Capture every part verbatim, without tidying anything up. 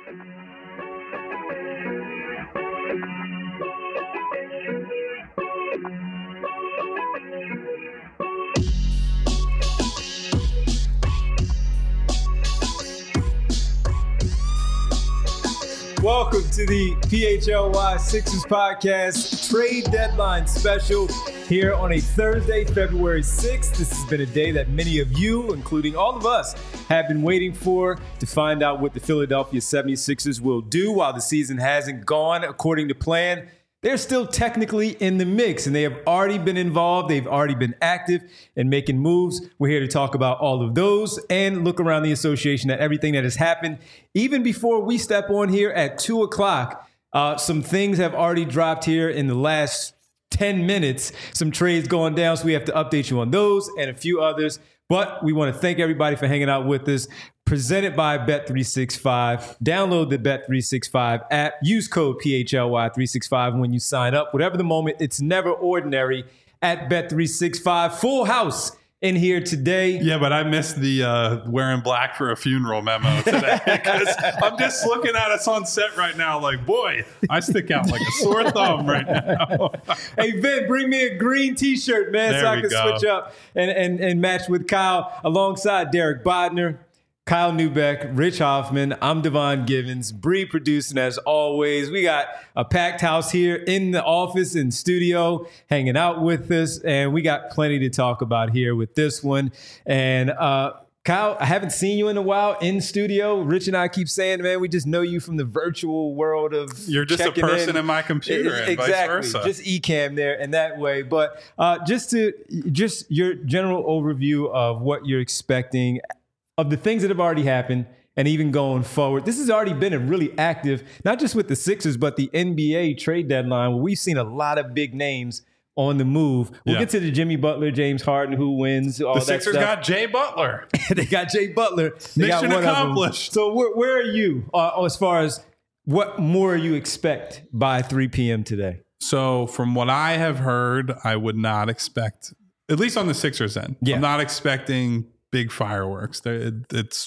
Welcome to the P H L Y Sixers Podcast Trade Deadline Special here on a Thursday, February sixth. This has been a day that many of you, including all of us, have been waiting for to find out what the Philadelphia seventy-sixers will do while the season hasn't gone according to plan. They're still technically in the mix, and they have already been involved. They've already been active in making moves. We're here to talk about all of those and look around the association at everything that has happened. Even before we step on here at two o'clock, uh, some things have already dropped here in the last ten minutes. Some trades going down, so we have to update you on those and a few others. But we want to thank everybody for hanging out with us. Presented by Bet three sixty-five. Download the Bet three sixty-five app. Use code P H L Y three sixty-five when you sign up. Whatever the moment, it's never ordinary at Bet three sixty-five. Full house in here today. Yeah, but I missed the uh, wearing black for a funeral memo today because I'm just looking at us on set right now like, boy, I stick out like a sore thumb right now. Hey, Vin, bring me a green T-shirt, man, there so I can go. switch up and, and, and match with Kyle alongside Derek Bodner, Kyle Neubeck, Rich Hoffman. I'm Devon Givens, Bree producing as always. We got a packed house here in the office and studio hanging out with us, and we got plenty to talk about here with this one. And uh, Kyle, I haven't seen you in a while in studio. Rich and I keep saying, man, we just know you from the virtual world of You're just a person in, in my computer and exactly, vice versa. Just eCam there in that way. But uh, just to just your general overview of what you're expecting of the things that have already happened and even going forward. This has already been a really active, not just with the Sixers, but the N B A trade deadline where we've seen a lot of big names on the move. We'll yeah. get to the Jimmy Butler, James Harden, who wins, all the that Sixers stuff. got Jay Butler. They got Jay Butler. They Mission got one accomplished. So where, where are you uh, as far as what more you expect by three p.m. today? So from what I have heard, I would not expect, at least on the Sixers end, yeah. I'm not expecting big fireworks. It's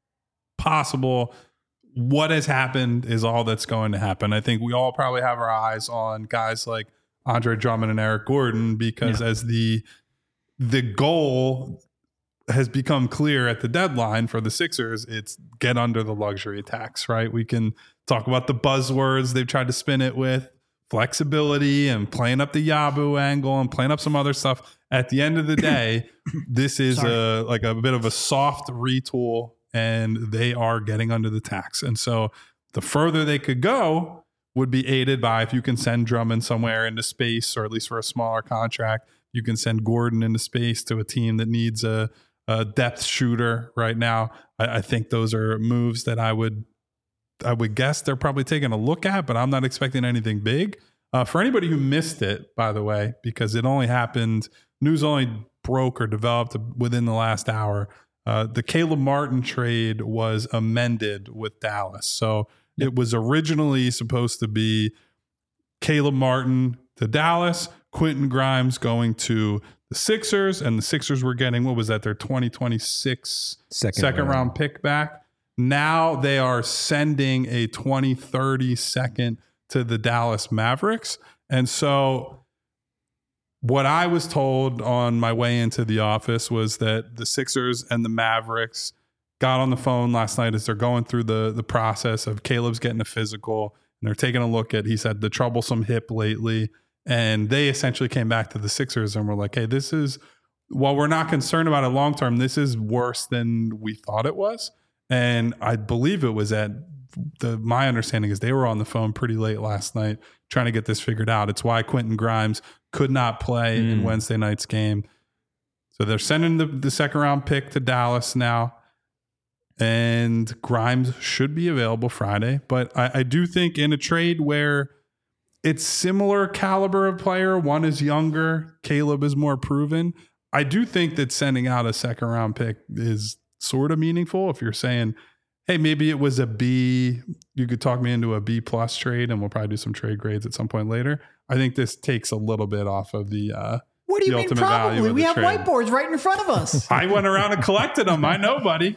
possible. What has happened is all that's going to happen. I think we all probably have our eyes on guys like Andre Drummond and Eric Gordon because yeah. as the the goal has become clear at the deadline for the Sixers, it's get under the luxury tax, right? We can talk about the buzzwords they've tried to spin it with, flexibility and playing up the Yabu angle and playing up some other stuff. At the end of the day, this is Sorry. a like a bit of a soft retool, and they are getting under the tax. And so the further they could go would be aided by if you can send Drummond somewhere into space, or at least for a smaller contract, you can send Gordon into space to a team that needs a, a depth shooter right now. I, I think those are moves that I would I would guess they're probably taking a look at, but I'm not expecting anything big. Uh, for anybody who missed it, by the way, because it only happened, news only broke or developed within the last hour, uh, the Caleb Martin trade was amended with Dallas. So yep. It was originally supposed to be Caleb Martin to Dallas, Quentin Grimes going to the Sixers, and the Sixers were getting, what was that, their twenty twenty-six second, second round. round pick back. Now they are sending a twenty thirty second to the Dallas Mavericks. And so what I was told on my way into the office was that the Sixers and the Mavericks got on the phone last night as they're going through the, the process of Caleb's getting a physical, and they're taking a look at, he said, the troublesome hip lately. And they essentially came back to the Sixers and were like, hey, this is, while we're not concerned about it long term, this is worse than we thought it was. And I believe it was at the, my understanding is they were on the phone pretty late last night trying to get this figured out. It's why Quentin Grimes could not play mm. in Wednesday night's game. So they're sending the, the second round pick to Dallas now. And Grimes should be available Friday. But I, I do think in a trade where it's similar caliber of player, one is younger, Caleb is more proven, I do think that sending out a second round pick is sort of meaningful. If you're saying, hey, maybe it was a B, you could talk me into a B plus trade, and we'll probably do some trade grades at some point later. I think this takes a little bit off of the uh, What do you the mean ultimate value probably? of We the have trade. whiteboards right in front of us. I went around and collected them. I know, buddy.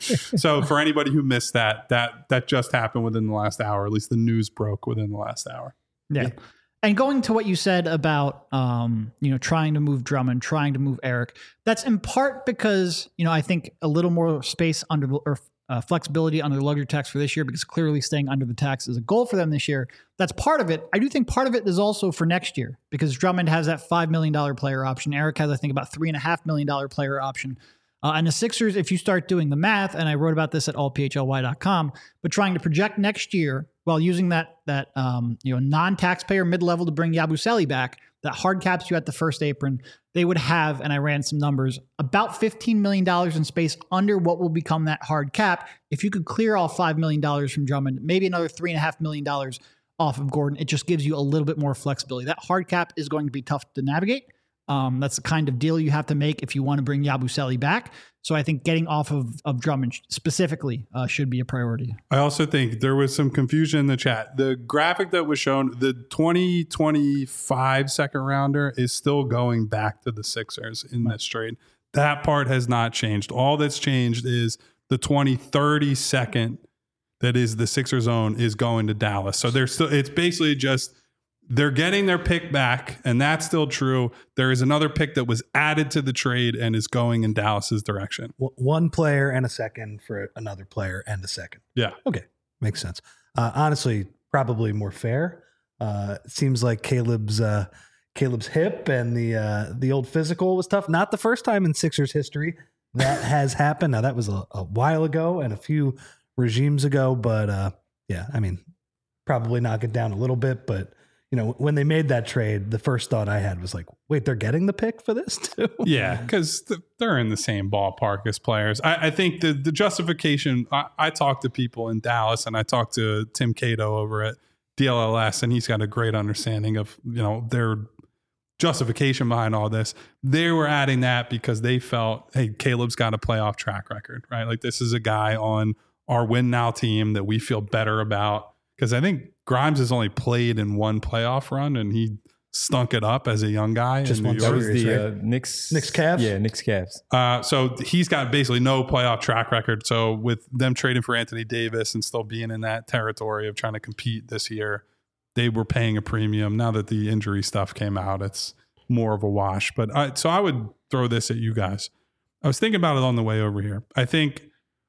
So for anybody who missed that, that that just happened within the last hour. At least the news broke within the last hour. Yeah. yeah. And going to what you said about, um, you know, trying to move Drummond, trying to move Eric, that's in part because, you know, I think a little more space under or uh, flexibility under the luxury tax for this year, because clearly staying under the tax is a goal for them this year. That's part of it. I do think part of it is also for next year, because Drummond has that five million dollars player option. Eric has, I think, about three point five million dollars player option. Uh, and the Sixers, if you start doing the math, and I wrote about this at all p h l y dot com, but trying to project next year while using that that um, you know non-taxpayer mid-level to bring Yabusele back, that hard caps you at the first apron, they would have, and I ran some numbers, about fifteen million dollars in space under what will become that hard cap. If you could clear off five million dollars from Drummond, maybe another three point five million dollars off of Gordon, it just gives you a little bit more flexibility. That hard cap is going to be tough to navigate. Um, that's the kind of deal you have to make if you want to bring Yabusele back. So I think getting off of, of Drummond specifically uh, should be a priority. I also think there was some confusion in the chat. The graphic that was shown, the twenty twenty-five second rounder is still going back to the Sixers in this trade. That part has not changed. All that's changed is the twenty thirty second that is the Sixers own is going to Dallas. So they're still, it's basically just, they're getting their pick back, and that's still true. There is another pick that was added to the trade and is going in Dallas's direction. One player and a second for another player and a second. Yeah. Okay. Makes sense. Uh, honestly, probably more fair. Uh, it seems like Caleb's uh, Caleb's hip and the uh, the old physical was tough. Not the first time in Sixers history that has happened. Now, that was a, a while ago and a few regimes ago, but uh, yeah, I mean, probably knock it down a little bit, but you know, when they made that trade, the first thought I had was like, wait, they're getting the pick for this too? Yeah, because th- they're in the same ballpark as players. I, I think the the justification, I, I talked to people in Dallas, and I talked to Tim Cato over at D L L S, and he's got a great understanding of, you know, their justification behind all this. They were adding that because they felt, hey, Caleb's got a playoff track record, right? Like, this is a guy on our win now team that we feel better about. Because I think Grimes has only played in one playoff run, and he stunk it up as a young guy. Just one That was series, the right? uh, Knicks. Knicks Cavs? Yeah, Knicks Cavs. Uh, so he's got basically no playoff track record. So with them trading for Anthony Davis and still being in that territory of trying to compete this year, they were paying a premium. Now that the injury stuff came out, it's more of a wash. But I, so I would throw this at you guys. I was thinking about it on the way over here. I think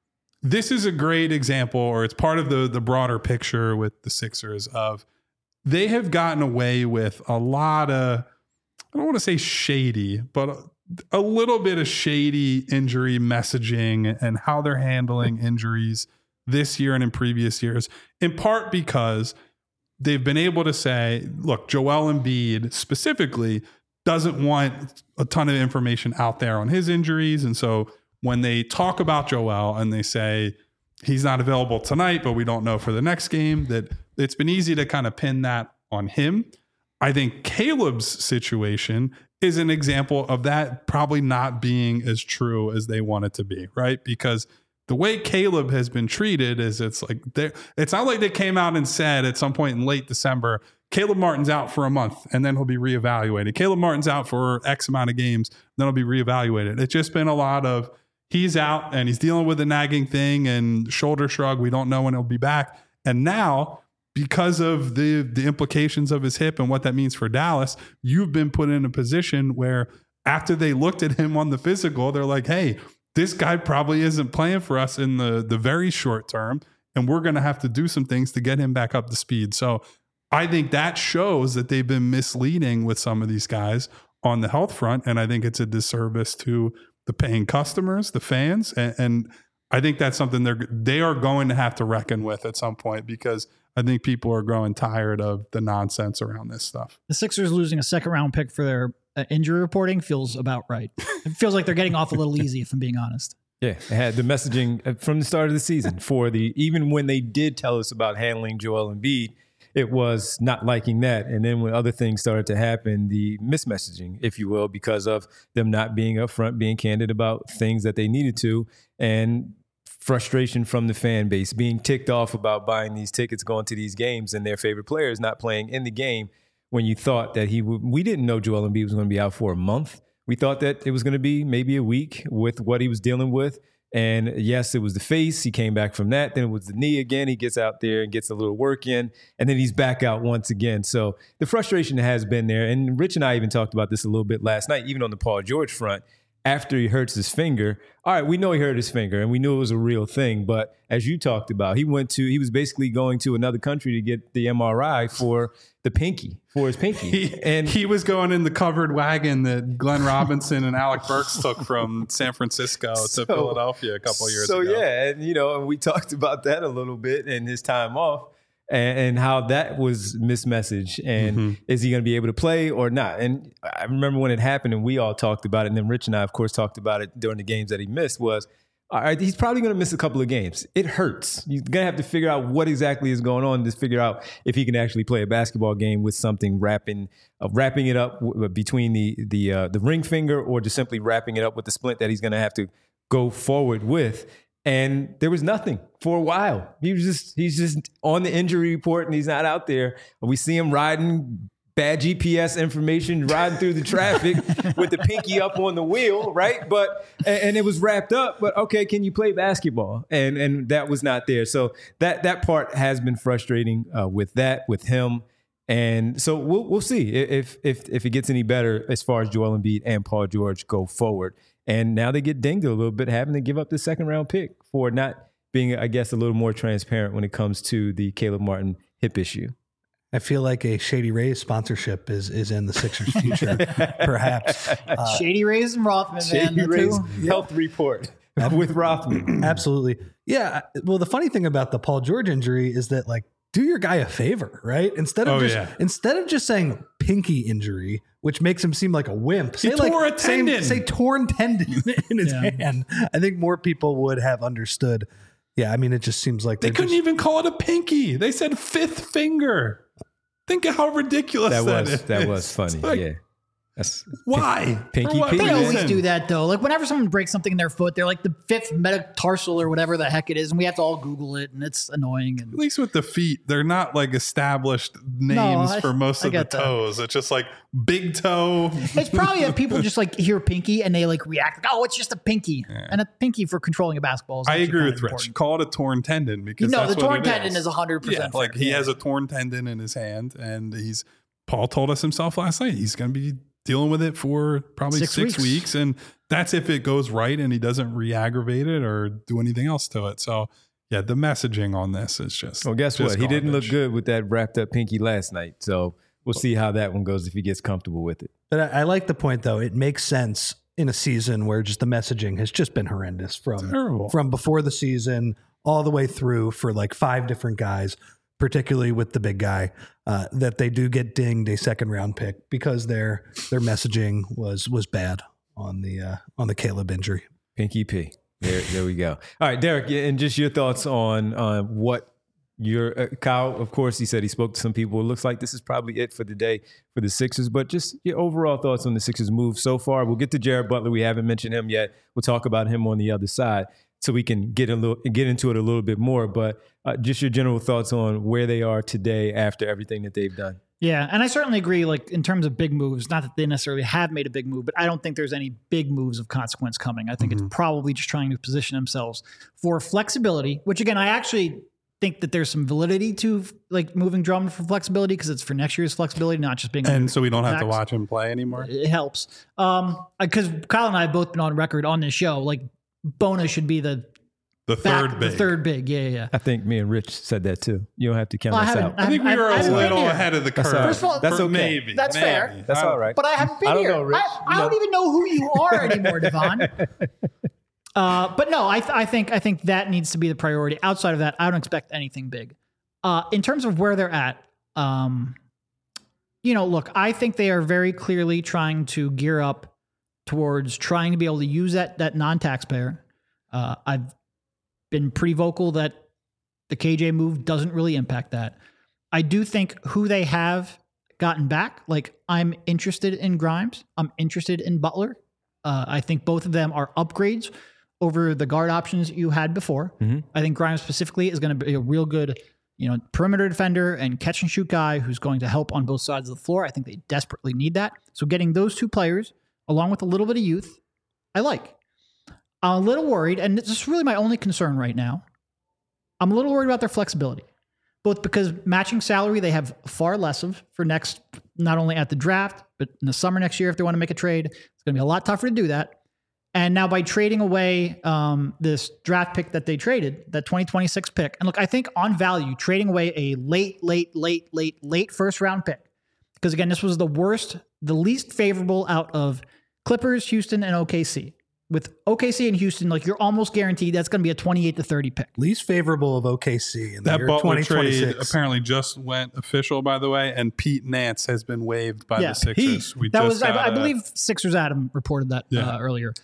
this is a great example, or it's part of the the broader picture with the Sixers of they have gotten away with a lot of, I don't want to say shady, but a, a little bit of shady injury messaging and how they're handling injuries this year and in previous years, in part because they've been able to say, look, Joel Embiid specifically doesn't want a ton of information out there on his injuries. And so when they talk about Joel and they say he's not available tonight, but we don't know for the next game, that it's been easy to kind of pin that on him. I think Caleb's situation is an example of that probably not being as true as they want it to be, right? Because the way Caleb has been treated is it's like, it's not like they came out and said at some point in late December, Caleb Martin's out for a month and then he'll be reevaluated. Caleb Martin's out for X amount of games, then he'll be reevaluated. It's just been a lot of, he's out and he's dealing with a nagging thing and shoulder shrug. We don't know when he'll be back. And now, because of the the implications of his hip and what that means for Dallas, you've been put in a position where after they looked at him on the physical, they're like, hey, this guy probably isn't playing for us in the, the very short term. And we're going to have to do some things to get him back up to speed. So I think that shows that they've been misleading with some of these guys on the health front. And I think it's a disservice to the paying customers, the fans. And, and I think that's something they're, they are going to have to reckon with at some point, because I think people are growing tired of the nonsense around this stuff. The Sixers losing a second round pick for their uh, injury reporting feels about right. It feels like they're getting off a little easy, if I'm being honest. Yeah, they had the messaging from the start of the season for the, even when they did tell us about handling Joel Embiid, it was not liking that. And then when other things started to happen, the mismessaging, if you will, because of them not being upfront, being candid about things that they needed to, and frustration from the fan base, being ticked off about buying these tickets, going to these games, and their favorite players not playing in the game when you thought that he would, we didn't know Joel Embiid was going to be out for a month. We thought that it was going to be maybe a week with what he was dealing with. And yes, it was the face. He came back from that. Then it was the knee again. He gets out there and gets a little work in, and then he's back out once again. So the frustration has been there. And Rich and I even talked about this a little bit last night, even on the Paul George front. After he hurts his finger, all right, we know he hurt his finger and we knew it was a real thing. But as you talked about, he went to, he was basically going to another country to get the M R I for the pinky, for his pinky. He, and he was going in the covered wagon that Glenn Robinson and Alec Burks took from San Francisco So- to Philadelphia a couple years so, ago. So yeah, and you know, and we talked about that a little bit and his time off. And, and how that was mismessaged, and Mm-hmm. is he going to be able to play or not? And I remember when it happened, and we all talked about it. And then Rich and I, of course, talked about it during the games that he missed. Was all right, he's probably going to miss a couple of games. It hurts. You're going to have to figure out what exactly is going on to figure out if he can actually play a basketball game with something wrapping uh, wrapping it up w- between the the uh, the ring finger, or just simply wrapping it up with the splint that he's going to have to go forward with. And there was nothing for a while. He was just, he's just on the injury report and he's not out there. We see him riding bad G P S information, riding through the traffic with the pinky up on the wheel, right? But, and, and it was wrapped up, but okay, can you play basketball? And and that was not there. So that, that part has been frustrating uh, with that, with him. And so we'll we'll see if if if it gets any better as far as Joel Embiid and Paul George go forward. And now they get dinged a little bit, having to give up the second round pick for not being, I guess, a little more transparent when it comes to the Caleb Martin hip issue. I feel like a Shady Rays sponsorship is is in the Sixers' future, perhaps. Uh, Shady Rays and Rothman, man. Shady the Rays two. health report with Rothman. Absolutely. Yeah. Well, the funny thing about the Paul George injury is that, like, do your guy a favor, right? Instead of Oh, just yeah. instead of just saying pinky injury, which makes him seem like a wimp. Say He like tore a say- tendon. Say, torn tendon in his Yeah. hand. I think more people would have understood. Yeah, I mean, it just seems like They they're couldn't just- even call it a pinky. They said fifth finger. Think of how ridiculous That that, was is. that was funny. It's like, Yeah. That's Why? Pinky For what P. They Reason. always do that though. Like whenever someone breaks something in their foot, they're like the fifth metatarsal or whatever the heck it is, and we have to all Google it, and it's annoying. At And least with the feet, they're not like established names I- for most I of the get that. toes. It's just like big toe. it's probably that people just like hear pinky and they like react like, oh, it's just a pinky, and a pinky for controlling a basketball. Is I actually agree kind with of Rich. important. Call it a torn tendon because No, that's the what torn it tendon is. is one hundred Yeah, percent. like he has a torn tendon in his hand, and he's Paul told us himself last night he's going to be dealing with it for probably Six six, weeks. weeks. and that's if it goes right and he doesn't re-aggravate it or do anything else to it. So yeah, the messaging on this is just Well, guess just what? He didn't look garbage. good with that wrapped up pinky last night. So we'll see how that one goes if he gets comfortable with it. But I, I like the point, though. It makes sense in a season where just the messaging has just been horrendous from Terrible. from before the season all the way through for like five different guys, particularly with the big guy, uh, that they do get dinged a second round pick because their their messaging was was bad on the uh, on the Caleb injury. Pinky P. There, there we go. All right, Derek, yeah, and just your thoughts on uh, what your uh, Kyle. Of course, he said he spoke to some people. It looks like this is probably it for the day for the Sixers. But just your overall thoughts on the Sixers' move so far. We'll get to Jared Butler. We haven't mentioned him yet. We'll talk about him on the other side, so we can get a little get into it a little bit more. But uh, just your general thoughts on where they are today after everything that they've done. Yeah, and I certainly agree. Like in terms of big moves, not that they necessarily have made a big move, but I don't think there's any big moves of consequence coming. I think Mm-hmm. it's probably just trying to position themselves for flexibility. Which again, I actually think that there's some validity to like moving Drummond for flexibility because it's for next year's flexibility, not just being. And so we don't have to Max. watch him play anymore. It helps. Um, because Kyle and I have both been on record on this show. Like Bona should be the The back, third big. the third big. Yeah, yeah. yeah. I think me and Rich said that too. You don't have to count Well, I us haven't- out. I think we I've- were I've a been little here. ahead of the That's curve. all right. First of all, That's For okay. Maybe. That's maybe. fair. That's I- all right. But I haven't been I don't here. know, Rich. I, I You don't know. even know who you are anymore, Devon. Uh, but no, I, th- I think I think that needs to be the priority. Outside of that, I don't expect anything big. Uh, in terms of where they're at, um, you know, look, I think they are very clearly trying to gear up towards trying to be able to use that that non-taxpayer. Uh, I've been pretty vocal that the K J move doesn't really impact that. I do think who they have gotten back, like I'm interested in Grimes. I'm interested in Butler. Uh, I think both of them are upgrades over the guard options you had before. Mhm. I think Grimes specifically is going to be a real good you know, perimeter defender and catch and shoot guy who's going to help on both sides of the floor. I think they desperately need that. So getting those two players, along with a little bit of youth, I like. I'm a little worried, and this is really my only concern right now. I'm a little worried about their flexibility, both because matching salary they have far less of for next, not only at the draft, but in the summer next year if they want to make a trade. It's going to be a lot tougher to do that. And now by trading away um, this draft pick that they traded, that twenty twenty-six pick, and look, I think on value, trading away a late, late, late, late, late first round pick, because again, this was the worst, the least favorable out of Clippers, Houston, and O K C. With O K C and Houston, like you're almost guaranteed that's going to be a twenty-eight to thirty pick. Least favorable of O K C in the That year Butler trade twenty twenty-six. apparently just went official, by the way, and Pete Nance has been waived by Yeah, the Sixers. We That just was, I, got I a- believe, Sixers Adam reported that Yeah. uh, earlier.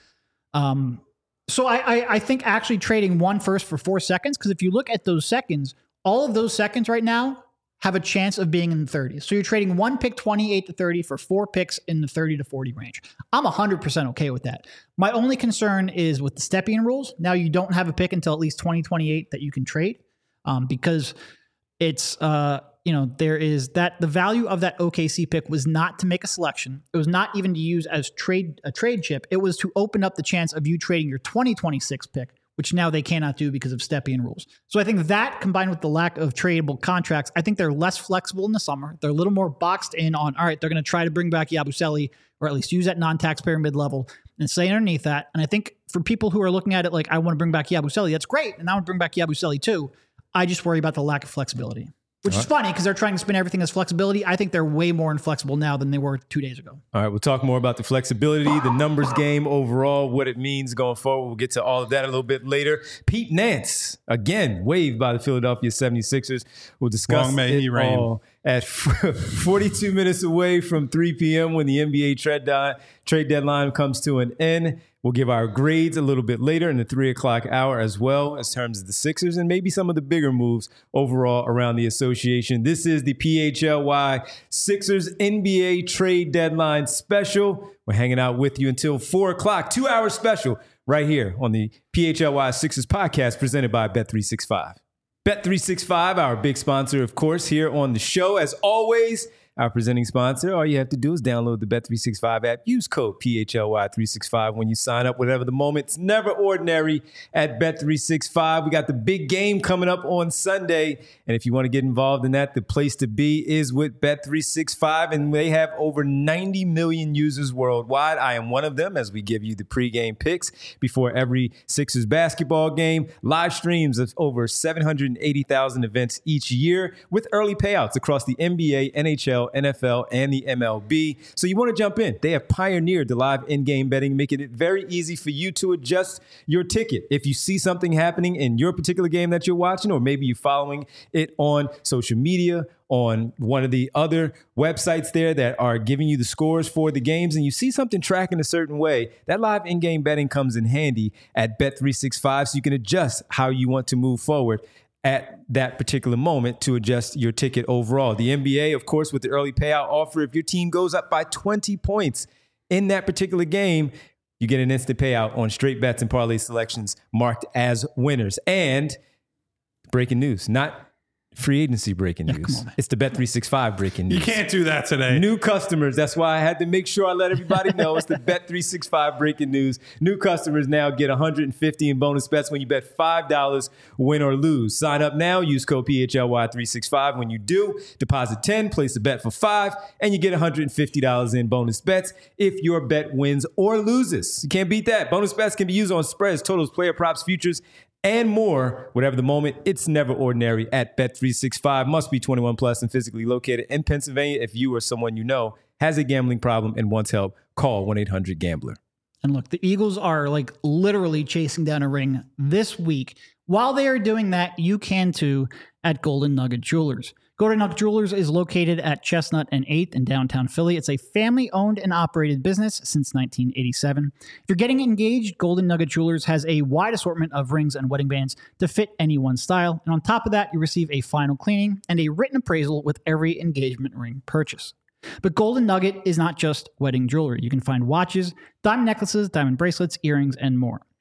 Um, so I, I, I think actually trading one first for four seconds, because if you look at those seconds, all of those seconds right now have a chance of being in the thirties. So you're trading one pick twenty-eight to thirty for four picks in the thirty to forty range. I'm one hundred percent okay with that. My only concern is with the Stepien rules. Now you don't have a pick until at least twenty twenty-eight that you can trade, um, because it's, uh, you know, there is that the value of that O K C pick was not to make a selection. It was not even to use as trade a trade chip. It was to open up the chance of you trading your twenty twenty-six pick, which now they cannot do because of Stepien rules. So I think that combined with the lack of tradable contracts, I think they're less flexible in the summer. They're a little more boxed in on, all right, they're going to try to bring back Yabusele, or at least use that non-taxpayer mid-level and stay underneath that. And I think for people who are looking at it like, I want to bring back Yabusele, that's great. And I want to bring back Yabusele too. I just worry about the lack of flexibility. Which is funny because they're trying to spin everything as flexibility. I think they're way more inflexible now than they were two days ago. All right, we'll talk more about the flexibility, the numbers game overall, what it means going forward. We'll get to all of that a little bit later. Pete Nance, again, waived by the Philadelphia seventy-sixers. We'll discuss Long may it he reign. all at forty-two minutes away from three p.m. when the N B A trade, di- trade deadline comes to an end. We'll give our grades a little bit later in the three o'clock hour as well as terms of the Sixers and maybe some of the bigger moves overall around the association. This is the P H L Y Sixers N B A trade deadline special. We're hanging out with you until four o'clock, two hour special right here on the P H L Y Sixers podcast presented by Bet three sixty-five. Bet three sixty-five, our big sponsor, of course, here on the show. As always, our presenting sponsor, all you have to do is download the Bet three sixty-five app. Use code P H L Y three sixty-five when you sign up. Whatever the moment, it's never ordinary at Bet three sixty-five. We got the big game coming up on Sunday. And if you want to get involved in that, the place to be is with Bet three sixty-five. And they have over ninety million users worldwide. I am one of them as we give you the pregame picks before every Sixers basketball game. Live streams of over seven hundred eighty thousand events each year with early payouts across the N B A, N H L, N F L, and the M L B. So you want to jump in. They have pioneered the live in-game betting, making it very easy for you to adjust your ticket. If you see something happening in your particular game that you're watching, or maybe you're following it on social media, on one of the other websites there that are giving you the scores for the games, and you see something tracking a certain way, that live in-game betting comes in handy at Bet three sixty-five so you can adjust how you want to move forward at that particular moment to adjust your ticket overall. The N B A, of course, with the early payout offer, if your team goes up by twenty points in that particular game, you get an instant payout on straight bets and parlay selections marked as winners. And breaking news, not free agency breaking Yeah, news. come on, man. It's the Bet three sixty-five breaking news. You can't do that today. New customers. That's why I had to make sure I let everybody know it's the Bet three sixty-five breaking news. New customers now get one hundred fifty in bonus bets when you bet five dollars, win or lose. Sign up now. Use code P H L Y three sixty-five. When you do, deposit ten, place a bet for five, and you get one hundred fifty dollars in bonus bets if your bet wins or loses. You can't beat that. Bonus bets can be used on spreads, totals, player props, futures, and more. Whatever the moment, it's never ordinary at Bet three sixty-five. Must be twenty-one plus and physically located in Pennsylvania. If you or someone you know has a gambling problem and wants help, call one eight hundred gambler. And look, the Eagles are like literally chasing down a ring this week. While they are doing that, you can too at Golden Nugget Jewelers. Golden Nugget Jewelers is located at Chestnut and eighth in downtown Philly. It's a family-owned and operated business since nineteen eighty-seven. If you're getting engaged, Golden Nugget Jewelers has a wide assortment of rings and wedding bands to fit anyone's style. And on top of that, you receive a final cleaning and a written appraisal with every engagement ring purchase. But Golden Nugget is not just wedding jewelry. You can find watches, diamond necklaces, diamond bracelets, earrings, and more.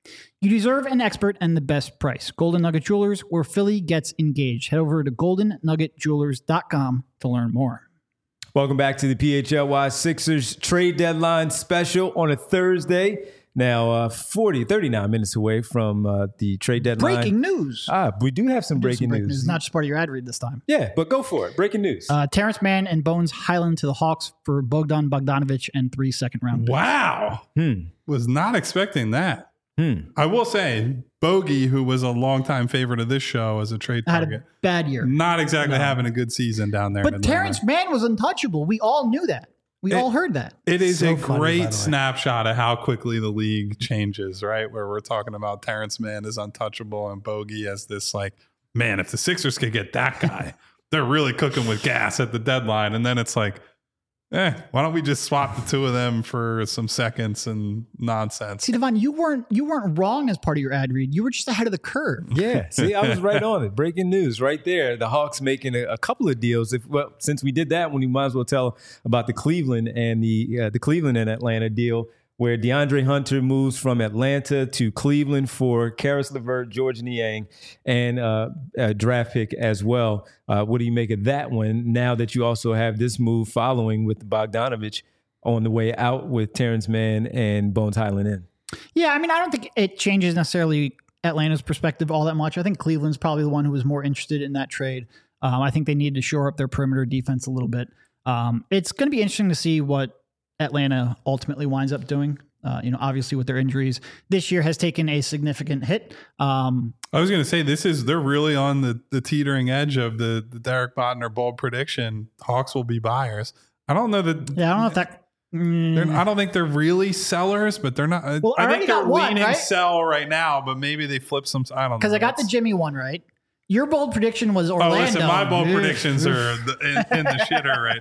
You deserve an expert and the best price. Golden Nugget Jewelers, where Philly gets engaged. Head over to golden nugget jewelers dot com to learn more. Welcome back to the P H L Y Sixers trade deadline special on a Thursday. Now, uh, forty, thirty-nine minutes away from uh, the trade deadline. Breaking news. Ah, we do have some Do breaking some breaking news. news. Not just part of your ad read this time. Yeah, but go for it. Breaking news. Uh, Terrence Mann and Bones Highland to the Hawks for Bogdan Bogdanovic and three second round picks. Wow. hmm. Was not expecting that. Hmm. I will say, Bogey, who was a longtime favorite of this show as a trade Had target, a bad year. not exactly No. having a good season down there. in But Atlanta. Terrence Mann was untouchable. We all knew that. We It- all heard that. It is So a funny, by the great way. snapshot of how quickly the league changes, right? Where we're talking about Terrence Mann is untouchable and Bogey as this, like, man, if the Sixers could get that guy, they're really cooking with gas at the deadline. And then it's like, eh, why don't we just swap the two of them for some seconds and nonsense? See, Devon, you weren't you weren't wrong as part of your ad read. You were just ahead of the curve. Yeah, see, I was right on it. Breaking news right there. The Hawks making a, a couple of deals. If well, since we did that one, you might as well tell about the Cleveland and the uh, the Cleveland and Atlanta deal, where DeAndre Hunter moves from Atlanta to Cleveland for Karis LeVert, George Niang, and uh, a draft pick as well. Uh, what do you make of that one now that you also have this move following with Bogdanovic on the way out with Terrence Mann and Bones Highland in? Yeah, I mean, I don't think it changes necessarily Atlanta's perspective all that much. I think Cleveland's probably the one who was more interested in that trade. Um, I think they need to shore up their perimeter defense a little bit. Um, it's going to be interesting to see what Atlanta ultimately winds up doing. Uh, you know, obviously with their injuries, this year has taken a significant hit. Um, I was going to say, this is, they're really on the, the teetering edge of the, the Derek Bodner bold prediction. Hawks will be buyers. I don't know that. yeah, I don't know if that. mm, They're, I don't think they're really sellers, but they're not. Well, I I already think they're got one, leaning right? sell right now, but maybe they flip some. I don't know. because I got the That's- Jimmy one right. Your bold prediction was Oh, Orlando. listen, my bold Oof, predictions oof. are the, in, in the shitter right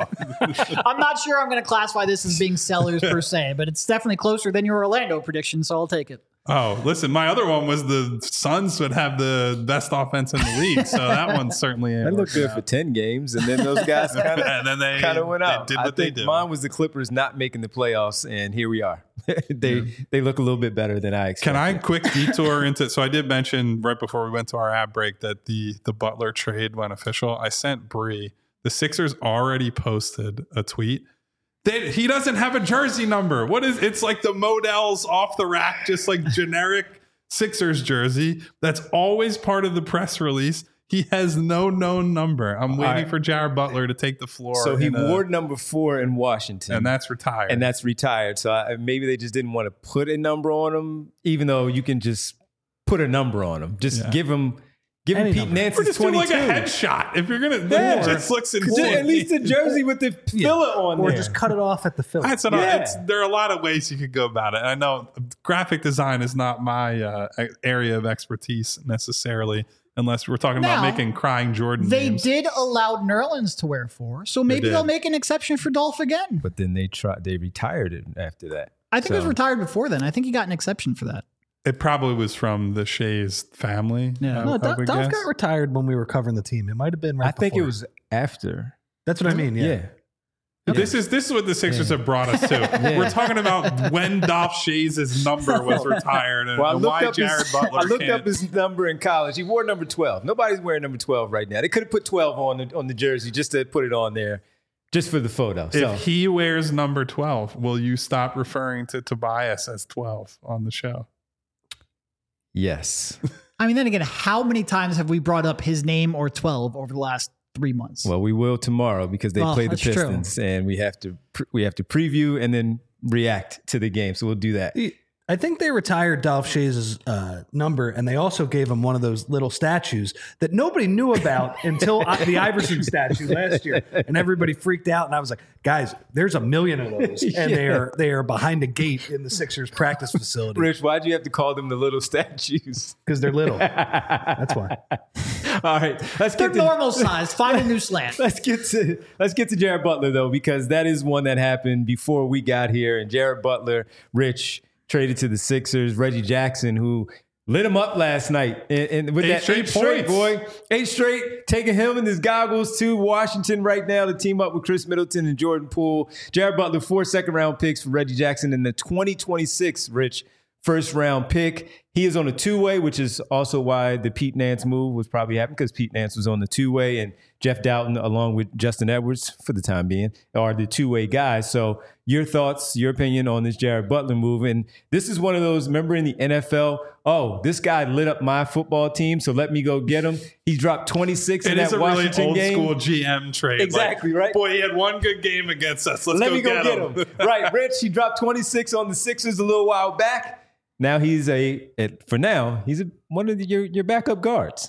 now. I'm not sure I'm going to classify this as being sellers per se, but it's definitely closer than your Orlando prediction, so I'll take it. Oh, listen, my other one was the Suns would have the best offense in the league, so that one certainly ain't That looked working good out. for ten games, and then those guys kind of And then they- kind of went they out. did I what they think do. mine was the Clippers not making the playoffs, and here we are. they they look a little bit better than I expected. Can I quick detour into? So I did mention right before we went to our ad break that the the Butler trade went official. I sent Bree. The Sixers already posted a tweet. They, he doesn't have a jersey number. What is? It's like the Modell's off the rack, just like generic Sixers jersey. That's always part of the press release. He has no known number. I'm waiting right. for Jared Butler to take the floor. So he in a- wore number four in Washington, and that's retired. and that's retired. So I, maybe they just didn't want to put a number on him, even though you can just put a number on him. Just Yeah. give him give him Any Pete number. or Nance's just do like twenty-two. a headshot. If you're gonna, like, Yeah. it just looks Just insane. at least a jersey with the filler on Or there. just cut it off at the fill. That's what Yeah. I, it's, there are a lot of ways you could go about it. I know graphic design is not my uh, area of expertise necessarily, unless we're talking Now, about making crying Jordan They names. did allow Nerlens to wear four, so maybe did. they'll make an exception for Dolph again. But then they tried. They retired it after that. I think it was So- retired before then. I think he got an exception for that. It probably was from the Shays family. Yeah. I, no, I Dolph would Dolph guess. got retired when we were covering the team. It might have been right I think it before. was after. That's what I mean. Yeah. Yeah. This is this is what the Sixers Yeah. have brought us to. We're talking about when Dolph Shays' number was retired and, Well, I and looked why up Jared his, Butler I looked can't. up his number in college. He wore number twelve. Nobody's wearing number twelve right now. They could have put twelve on the on the jersey just to put it on there, just for the photo. So If he wears number twelve, will you stop referring to Tobias as twelve on the show? yes. I mean, then again, how many times have we brought up his name or twelve over the last three months? Well, we will tomorrow because they Well, play the that's true. Pistons, and we have to pre- we have to preview and then react to the game. So we'll do that. I think they retired Dolph Shays' uh, number, and they also gave him one of those little statues that nobody knew about until I- the Iverson statue last year, and everybody freaked out. And I was like, "Guys, there's a million of those, and they are they are behind a gate in the Sixers practice facility Rich, why'd you have to call them the little statues? because they're little. That's why." All right, let's They're get to normal size. Find a new slant. Let's get to let's get to Jared Butler though, because that is one that happened before we got here. And Jared Butler, Rich, traded to the Sixers. Reggie Jackson, who lit him up last night, and, and with Eight that straight eight straight points. boy, eight straight, taking him and his goggles to Washington right now to team up with Chris Middleton and Jordan Poole. Jared Butler, four second round picks for Reggie Jackson in the twenty twenty-six, Rich, first round pick. He is on a two-way, which is also why the Pete Nance move was probably happening, because Pete Nance was on the two-way, and Jeff Doughton, along with Justin Edwards, for the time being, are the two-way guys. So your thoughts, your opinion on this Jared Butler move. And this is one of those, remember in the N F L, oh, this guy lit up my football team, so let me go get him. He dropped twenty-six in It is that a really Washington old game. school G M trade. Exactly, Like, right? Boy, he had one good game against us. Let's Let go me go get, get him. him. Right, Rich, he dropped twenty-six on the Sixers a little while back. Now he's a, at, for now, he's a, one of the, your, your backup guards.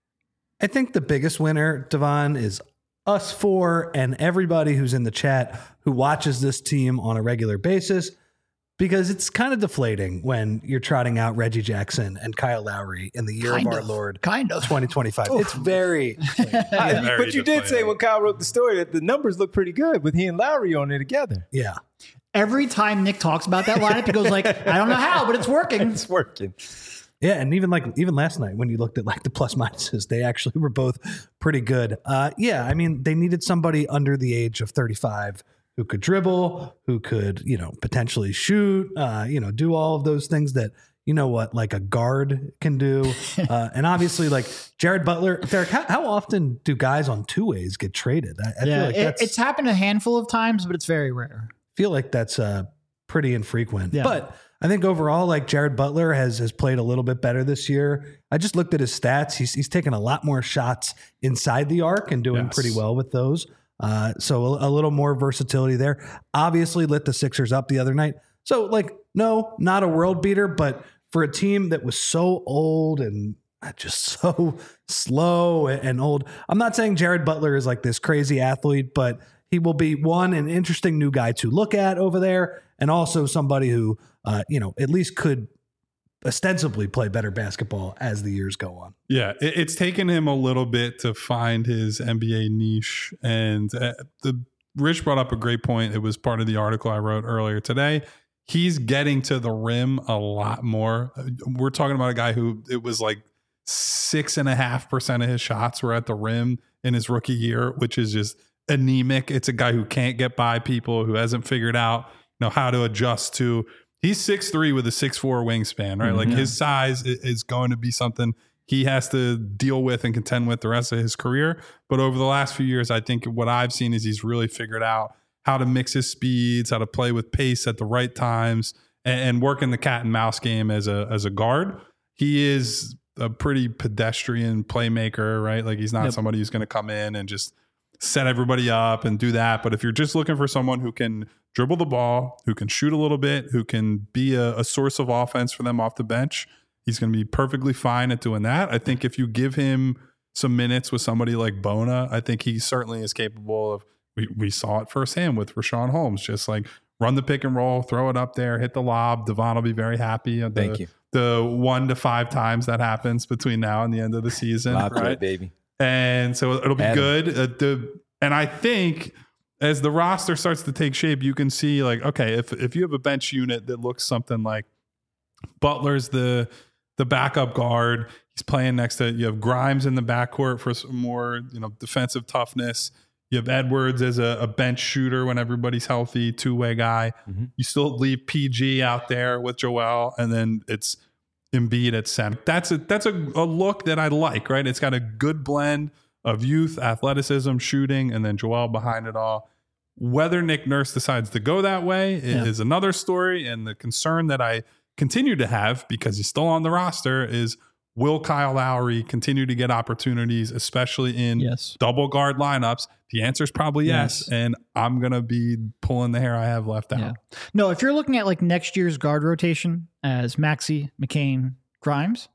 I think the biggest winner, Devon, is us four and everybody who's in the chat who watches this team on a regular basis, because it's kind of deflating when you're trotting out Reggie Jackson and Kyle Lowry in the year Kind of our of. Lord Kind of. twenty twenty-five. It's very I- very but you did say deflating. when Kyle wrote the story that the numbers look pretty good with he and Lowry on there together. yeah. Every time Nick talks about that lineup, he goes like, I don't know how, but it's working. It's working. Yeah, and even like even last night when you looked at like the plus minuses, they actually were both pretty good. Uh, yeah, I mean they needed somebody under the age of thirty-five who could dribble, who could you know potentially shoot, uh, you know do all of those things that you know what like a guard can do. Uh, and obviously like Jared Butler, Derek, how, how often do guys on two ways get traded? I, I Yeah, feel like it- that's it's happened a handful of times, but it's very rare. feel like that's uh, pretty infrequent. Yeah. But I think overall, like Jared Butler has has played a little bit better this year. I just looked at his stats. He's he's taken a lot more shots inside the arc and doing Yes. pretty well with those. Uh, so a, a little more versatility there. Obviously lit the Sixers up the other night. So like, no, not a world beater, but for a team that was so old and just so slow and old, I'm not saying Jared Butler is like this crazy athlete, but he will be one, an interesting new guy to look at over there, and also somebody who, uh, you know, at least could ostensibly play better basketball as the years go on. Yeah, it, it's taken him a little bit to find his N B A niche. And uh, the Rich brought up a great point. It was part of the article I wrote earlier today. He's getting to the rim a lot more. We're talking about a guy who it was like six and a half percent of his shots were at the rim in his rookie year, which is just anemic. It's a guy who can't get by people, who hasn't figured out you know how to adjust to. He's six three with a six four wingspan, right? Mm-hmm. Like his size is going to be something he has to deal with and contend with the rest of his career. But over the last few years, I think what I've seen is he's really figured out how to mix his speeds, how to play with pace at the right times, and, and working the cat and mouse game as a as a guard. He is a pretty pedestrian playmaker, right? Like he's not yep. somebody who's going to come in and just set everybody up and do that. But if you're just looking for someone who can dribble the ball, who can shoot a little bit, who can be a, a source of offense for them off the bench, he's going to be perfectly fine at doing that. I think if you give him some minutes with somebody like Bona, I think he certainly is capable of, we, we saw it firsthand with Rashawn Holmes, just like run the pick and roll, throw it up there, hit the lob. Devon will be very happy. The, Thank you. The one to five times that happens between now and the end of the season. Lob right? play, baby. And so it'll be Adam. good. Uh, the, and I think as the roster starts to take shape, you can see like, okay, if if you have a bench unit that looks something like Butler's the the backup guard, he's playing next to, you have Grimes in the backcourt for some more, you know, defensive toughness. You have Edwards as a, a bench shooter when everybody's healthy, two-way guy. Mm-hmm. You still leave P G out there with Joel, and then it's Embiid at center. That's a that's a, a look that I like, right? It's got a good blend of youth, athleticism, shooting, and then Joel behind it all. Whether Nick Nurse decides to go that way yeah. is another story. And the concern that I continue to have, because he's still on the roster, is will Kyle Lowry continue to get opportunities, especially in yes. double guard lineups? The answer is probably yes. yes. And I'm going to be pulling the hair I have left out. Yeah. No, if you're looking at like next year's guard rotation as Maxey, McCain, Grimes,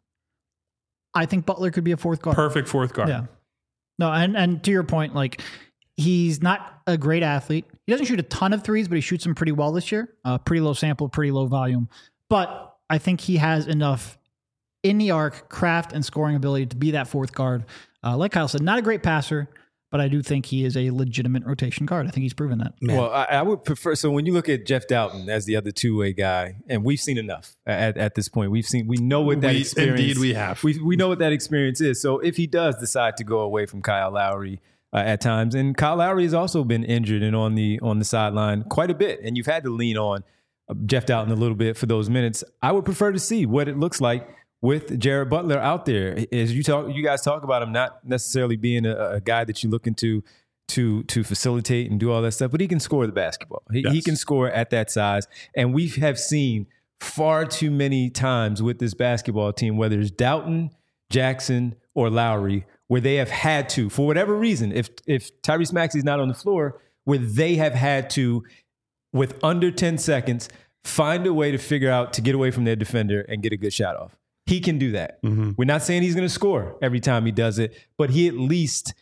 I think Butler could be a fourth guard. Perfect fourth guard. Yeah. No, and, and to your point, like he's not a great athlete. He doesn't shoot a ton of threes, but he shoots them pretty well this year. Uh, pretty low sample, pretty low volume. But I think he has enough in the arc, craft, and scoring ability to be that fourth guard. Uh, like Kyle said, not a great passer, but I do think he is a legitimate rotation guard. I think he's proven that. Man. Well, I, I would prefer, so when you look at Jeff Doughton as the other two-way guy, and we've seen enough at, at this point. We've seen, we know what that we, experience Indeed we have. We, we know what that experience is. So if he does decide to go away from Kyle Lowry uh, at times, and Kyle Lowry has also been injured and on the on the sideline quite a bit, and you've had to lean on Jeff Doughton a little bit for those minutes. I would prefer to see what it looks like with Jared Butler out there. As you talk, you guys talk about him not necessarily being a, a guy that you're looking to to to facilitate and do all that stuff, but he can score the basketball. He, Yes. he can score at that size. And we have seen far too many times with this basketball team, whether it's Doughton, Jackson, or Lowry, where they have had to, for whatever reason, if if Tyrese Maxey's not on the floor, where they have had to, with under ten seconds, find a way to figure out to get away from their defender and get a good shot off. He can do that. Mm-hmm. We're not saying he's going to score every time he does it, but he at least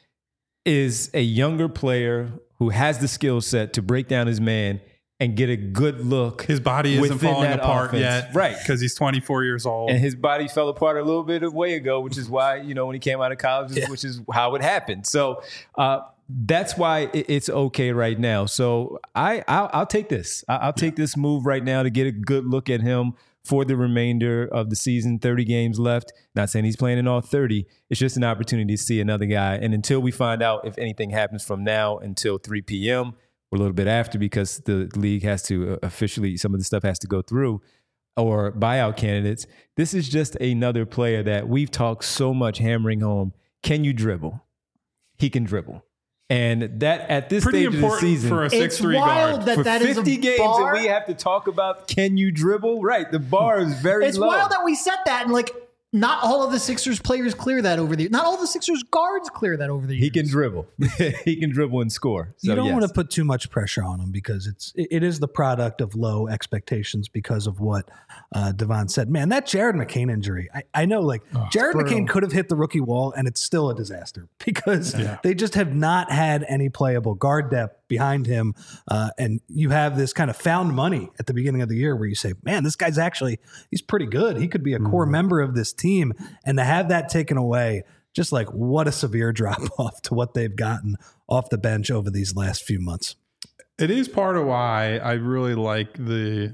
is a younger player who has the skill set to break down his man and get a good look. His body isn't within falling that apart offense. yet, Right? Because he's twenty-four years old. And his body fell apart a little bit a way ago, which is why, you know, when he came out of college, yeah. which is how it happened. So uh, that's why it's okay right now. So I, I'll, I'll take this. I'll take this move right now to get a good look at him for the remainder of the season. thirty games left. Not saying he's playing in all thirty. It's just an opportunity to see another guy. And until we find out if anything happens from now until three p.m., or a little bit after, because the league has to officially, some of the stuff has to go through, or buyout candidates. This is just another player that we've talked so much hammering home. Can you dribble? He can dribble. And that at this Pretty stage of the important season, for a It's six three wild guard. that for that is a fifty games bar. and we have to talk about can you dribble? Right. The bar is very It's low. wild that we said that, and like not all of the Sixers players clear that over the. Not all the Sixers guards clear that over the years. He can dribble. He can dribble and score. So, you don't yes. want to put too much pressure on him because it's it, it is the product of low expectations because of what uh, Devon said. Man, that Jared McCain injury, I, I know like Oh, Jared brutal. McCain could have hit the rookie wall and it's still a disaster because Yeah. they just have not had any playable guard depth behind him. Uh, and you have this kind of found money at the beginning of the year where you say, man, this guy's actually, he's pretty good. He could be a core member of this team. And to have that taken away, just like what a severe drop off to what they've gotten off the bench over these last few months. It is part of why I really like the,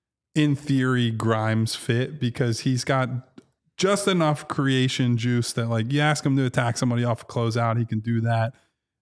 in theory, Grimes fit, because he's got just enough creation juice that, like, you ask him to attack somebody off a closeout, he can do that.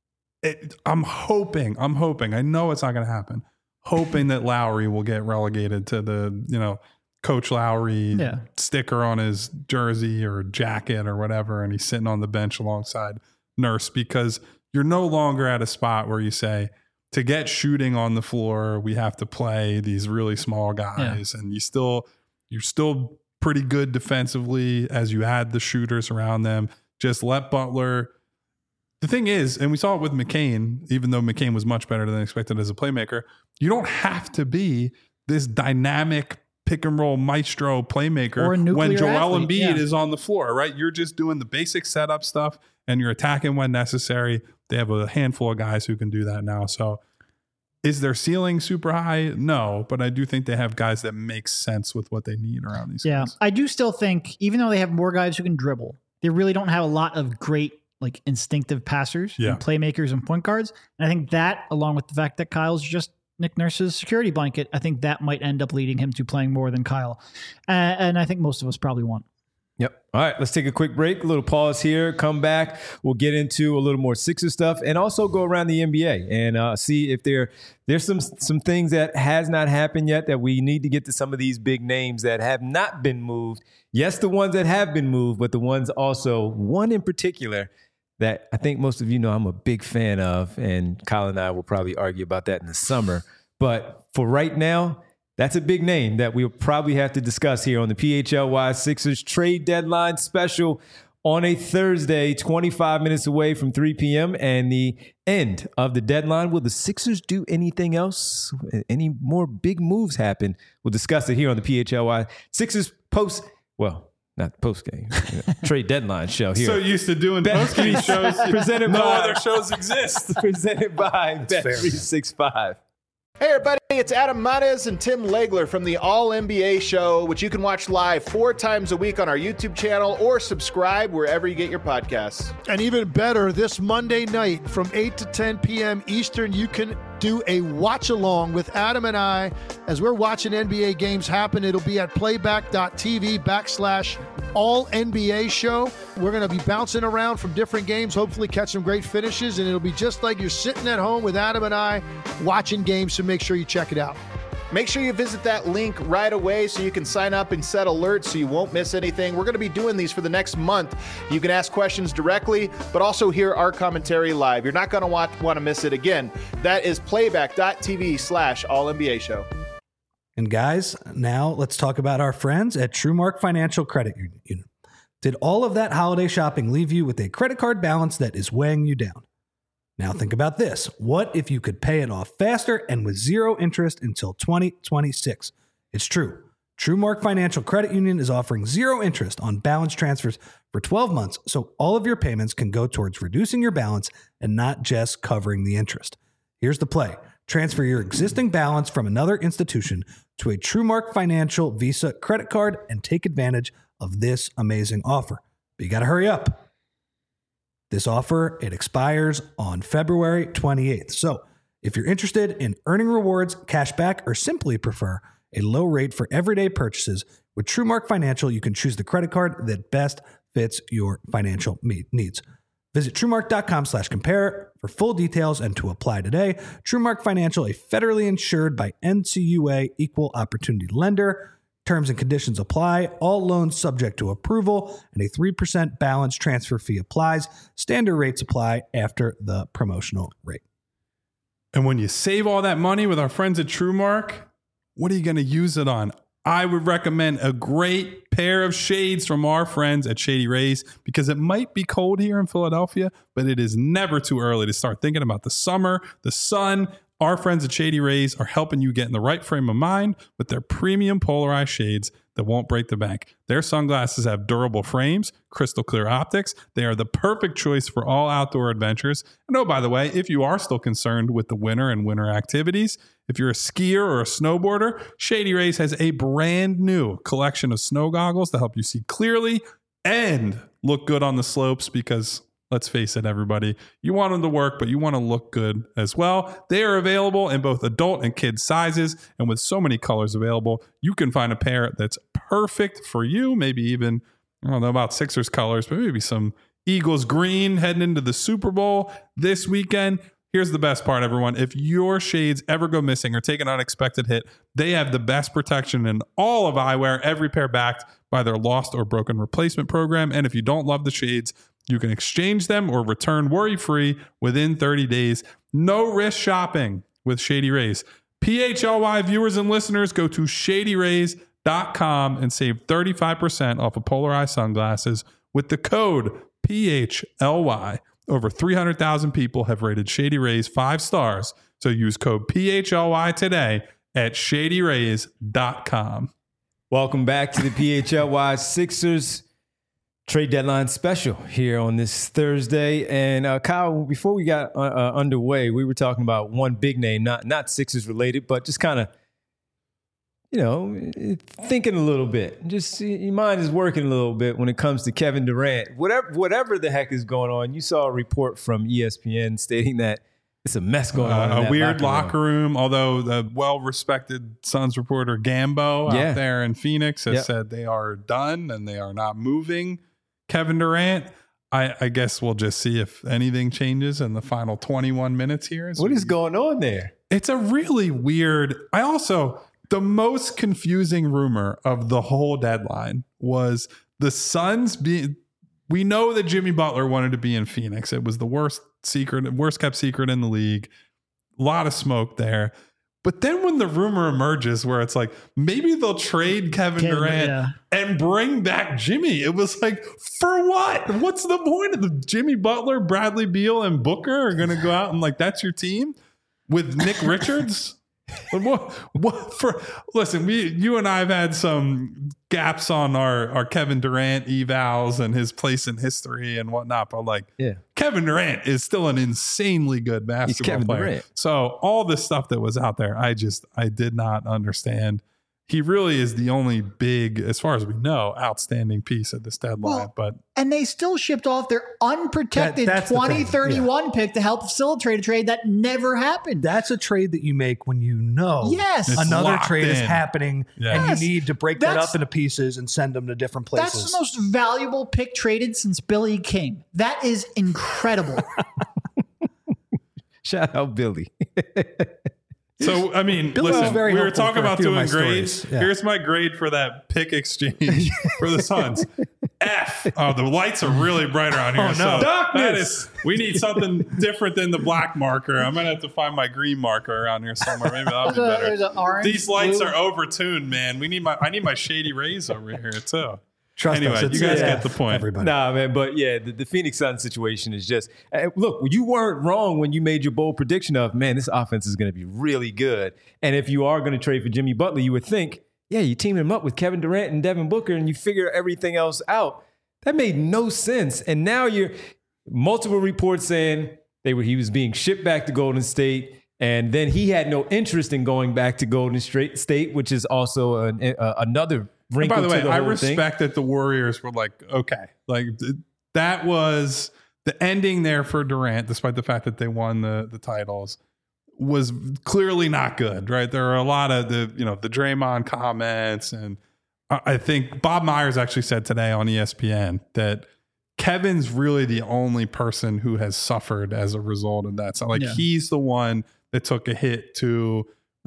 It, I'm hoping, I'm hoping, I know it's not going to happen, hoping that Lowry will get relegated to the, you know, Coach Lowry Yeah. sticker on his jersey or jacket or whatever, and he's sitting on the bench alongside Nurse, because you're no longer at a spot where you say, to get shooting on the floor, we have to play these really small guys, yeah. and you still, you're still pretty good defensively as you add the shooters around them. Just let Butler. The thing is, and we saw it with McCain, even though McCain was much better than expected as a playmaker, you don't have to be this dynamic pick and roll maestro playmaker Or a nuclear when Joel athlete, Embiid yeah. is on the floor, right? You're just doing the basic setup stuff and you're attacking when necessary. They have a handful of guys who can do that now. So is their ceiling super high? No, but I do think they have guys that make sense with what they need around these Yeah, guys. I do still think, even though they have more guys who can dribble, they really don't have a lot of great like instinctive passers Yeah. and playmakers and point guards. And I think that, along with the fact that Kyle's just Nick Nurse's security blanket, I think that might end up leading him to playing more than Kyle. Uh, and I think most of us probably want. Yep. All right, let's take a quick break, a little pause here, come back. We'll get into a little more Sixers stuff and also go around the N B A and uh, see if there there's some some things that has not happened yet that we need to get to some of these big names that have not been moved. Yes, the ones that have been moved, but the ones also, one in particular that I think most of you know I'm a big fan of, and Kyle and I will probably argue about that in the summer. But for right now, that's a big name that we'll probably have to discuss here on the P H L Y Sixers trade deadline special on a Thursday, twenty-five minutes away from three p.m. and the end of the deadline. Will the Sixers do anything else? Any more big moves happen? We'll discuss it here on the P H L Y Sixers post, well, not post game, trade deadline show here. So used to doing post game shows, presented no by, other shows exist. presented by Bet three sixty-five. Hey everybody, it's Adam Mares and Tim Legler from the All N B A Show, which you can watch live four times a week on our YouTube channel or subscribe wherever you get your podcasts. And even better, this Monday night from eight to ten p.m. Eastern, you can do a watch along with Adam and I as we're watching N B A games happen. It'll be at playback.tv backslash all N B A show. We're going to be bouncing around from different games, hopefully catch some great finishes, and it'll be just like you're sitting at home with Adam and I watching games, so make sure you check it out. Make sure you visit that link right away so you can sign up and set alerts so you won't miss anything. We're going to be doing these for the next month. You can ask questions directly, but also hear our commentary live. You're not going to want, want to miss it again. That is playback.tv slash all NBA show. And guys, now let's talk about our friends at TrueMark Financial Credit Union. Did all of that holiday shopping leave you with a credit card balance that is weighing you down? Now think about this. What if you could pay it off faster and with zero interest until twenty twenty-six? It's true. TrueMark Financial Credit Union is offering zero interest on balance transfers for twelve months, so all of your payments can go towards reducing your balance and not just covering the interest. Here's the play. Transfer your existing balance from another institution to a TrueMark Financial Visa credit card and take advantage of this amazing offer. But you got to hurry up. This offer, it expires on February twenty-eighth. So if you're interested in earning rewards, cash back, or simply prefer a low rate for everyday purchases, with TrueMark Financial, you can choose the credit card that best fits your financial needs. Visit TrueMark.com slash compare for full details and to apply today. TrueMark Financial, a federally insured by N C U A equal opportunity lender. Terms and conditions apply. All loans subject to approval, and a three percent balance transfer fee applies. Standard rates apply after the promotional rate. And when you save all that money with our friends at TrueMark, what are you going to use it on? I would recommend a great pair of shades from our friends at Shady Rays, because it might be cold here in Philadelphia, but it is never too early to start thinking about the summer, the sun. Our friends at Shady Rays are helping you get in the right frame of mind with their premium polarized shades that won't break the bank. Their sunglasses have durable frames, crystal clear optics. They are the perfect choice for all outdoor adventures. And oh, by the way, if you are still concerned with the winter and winter activities, if you're a skier or a snowboarder, Shady Rays has a brand new collection of snow goggles to help you see clearly and look good on the slopes, because let's face it, everybody, you want them to work, but you want to look good as well. They are available in both adult and kid sizes, and with so many colors available, you can find a pair that's perfect for you. Maybe even, I don't know about Sixers colors, but maybe some Eagles green heading into the Super Bowl this weekend. Here's the best part, everyone. If your shades ever go missing or take an unexpected hit, they have the best protection in all of eyewear, every pair backed by their lost or broken replacement program. And if you don't love the shades, you can exchange them or return worry-free within thirty days. No risk shopping with Shady Rays. P H L Y viewers and listeners, go to shady rays dot com and save thirty-five percent off of polarized sunglasses with the code P H L Y. Over three hundred thousand people have rated Shady Rays five stars. So use code P H L Y today at shady rays dot com. Welcome back to the P H L Y Sixers trade deadline special here on this Thursday. And uh, Kyle, before we got uh, uh, underway, we were talking about one big name, not not Sixers related, but just kind of, you know, thinking a little bit. Just your mind is working a little bit when it comes to Kevin Durant. Whatever, whatever the heck is going on, you saw a report from E S P N stating that it's a mess going on. Uh, in a that weird locker locker room. room, although the well-respected Suns reporter Gambo Yeah. out there in Phoenix has Yep. said they are done and they are not moving Kevin Durant. I, I guess we'll just see if anything changes in the final twenty-one minutes here. What is going on there? It's a really weird. I also, the most confusing rumor of the whole deadline was the Suns being, we know that Jimmy Butler wanted to be in Phoenix. It was the worst secret, worst kept secret in the league. A lot of smoke there. But then when the rumor emerges where it's like, maybe they'll trade Kevin Kevin, Durant yeah. and bring back Jimmy. It was like, for what? What's the point of the Jimmy Butler, Bradley Beal, and Booker are going to go out and like, that's your team with Nick Richards? What, what for? Listen, we, you and I have had some gaps on our, our Kevin Durant evals and his place in history and whatnot. But like, Yeah. Kevin Durant is still an insanely good basketball Kevin player. Durant. So all this stuff that was out there, I just, I did not understand. He really is the only big, as far as we know, outstanding piece of this deadline. Well, but And they still shipped off their unprotected That- that's the thing. twenty thirty-one pick to help facilitate a trade that never happened. That's a trade that you make when you know Yes. It's another locked trade is in. happening Yeah. Yes. and you need to break that That's- up into pieces and send them to different places. That's the most valuable pick traded since Billy King. That is incredible. Shout out Billy. So, I mean, Billy was listen, very we were helpful talking for a about few of doing my grades. stories. Yeah. Here's my grade for that pick exchange for the Suns. F. Oh, the lights are really bright around here. Oh, no. So Darkness. that is, we need something different than the black marker. I'm going to have to find my green marker around here somewhere. Maybe that'll be There's a- better. there's an orange, These lights blue. are overtuned, man. We need my, I need my shady rays over here too. Trust Anyway, us, it's you guys a get F, the point. Everybody. Nah, man, but yeah, the, the Phoenix Suns situation is just uh, look. You weren't wrong when you made your bold prediction of man, this offense is going to be really good. And if you are going to trade for Jimmy Butler, you would think, yeah, you team him up with Kevin Durant and Devin Booker, and you figure everything else out. That made no sense. And now you're multiple reports saying they were he was being shipped back to Golden State, and then he had no interest in going back to Golden State, which is also an, uh, another. And by the way, to the I whole respect thing. that the Warriors were like, okay, like th- that was the ending there for Durant, despite the fact that they won the the titles, was clearly not good, right? There are a lot of the, you know, the Draymond comments, and I, I think Bob Myers actually said today on E S P N that Kevin's really the only person who has suffered as a result of that. So like Yeah. he's the one that took a hit to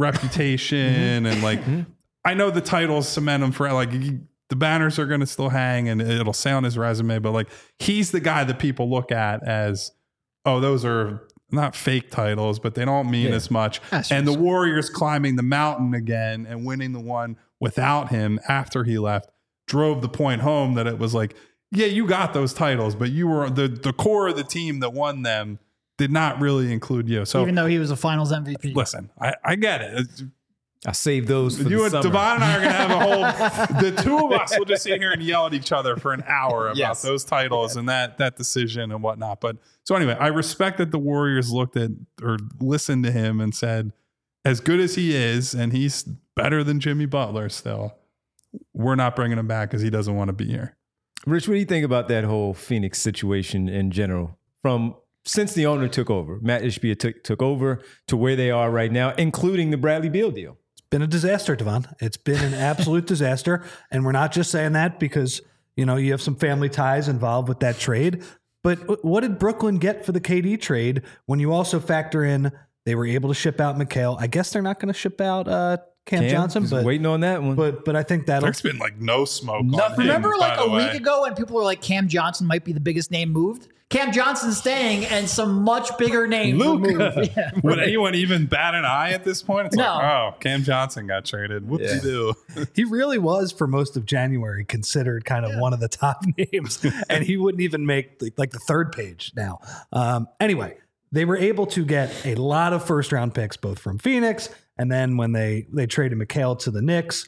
reputation and like. I know the titles cement him for like he, the banners are going to still hang and it'll say on his resume, but like he's the guy that people look at as, oh, those are not fake titles, but they don't mean Yeah. as much. That's and the just- Warriors climbing the mountain again and winning the one without him after he left drove the point home that it was like, yeah, you got those titles, but you were the, the core of the team that won them did not really include you. So Even though he was a Finals M V P. listen, I, I get it. It's, I saved those for you the and summer. Devon and I are going to have a whole. The two of us will just sit here and yell at each other for an hour about Yes. those titles and that that decision and whatnot. But so anyway, I respect that the Warriors looked at or listened to him and said, as good as he is, and he's better than Jimmy Butler still, we're not bringing him back because he doesn't want to be here. Rich, what do you think about that whole Phoenix situation in general? From since the owner took over, Matt Ishbia took took over to where they are right now, including the Bradley Beal deal. Been a disaster, Devon. It's been an absolute disaster. And we're not just saying that because, you know, you have some family ties involved with that trade. But what did Brooklyn get for the K D trade when you also factor in they were able to ship out McHale? I guess they're not going to ship out uh, Cam, Cam, Johnson, just but waiting on that one. but but I think that'll There's been like no smoke. Nothing. On him, Remember by like the a way. week ago when people were like Cam Johnson might be the biggest name moved? Cam Johnson's staying and some much bigger name Luka. moved. Yeah. Would anyone even bat an eye at this point? It's No. like, oh, Cam Johnson got traded. Whoopsie doo. he really was for most of January considered kind of one of the top names, and he wouldn't even make like, like the third page now. Um, anyway, they were able to get a lot of first round picks, both from Phoenix and then when they they traded McHale to the Knicks.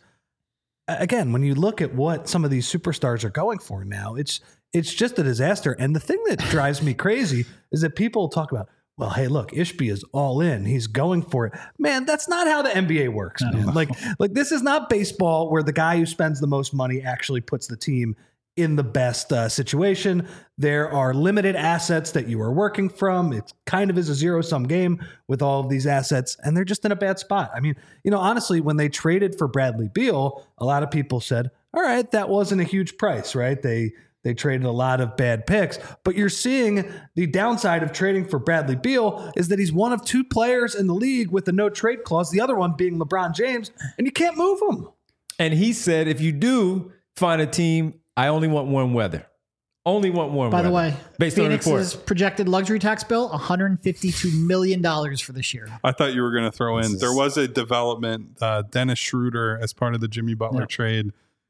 Again, when you look at what some of these superstars are going for now, it's it's just a disaster. And the thing that drives me crazy is that people talk about, well, hey, look, Ishbia is all in. He's going for it. Man, that's not how the N B A works, man. Like, like this is not baseball where the guy who spends the most money actually puts the team in the best uh, situation. There are limited assets that you are working from. It kind of is a zero-sum game with all of these assets, and they're just in a bad spot. I mean, you know, honestly, when they traded for Bradley Beal, a lot of people said, all right, that wasn't a huge price, right? They They traded a lot of bad picks, but you're seeing the downside of trading for Bradley Beal is that he's one of two players in the league with a no trade clause, the other one being LeBron James, and you can't move him. And he said, if you do find a team, I only want warm weather. Only want warm By weather. the way, based on the Phoenix's report. projected luxury tax bill, one hundred fifty-two million dollars for this year. I thought you were going to throw in. This There is- was a development. Uh, Dennis Schroeder, as part of the Jimmy Butler Yeah. trade,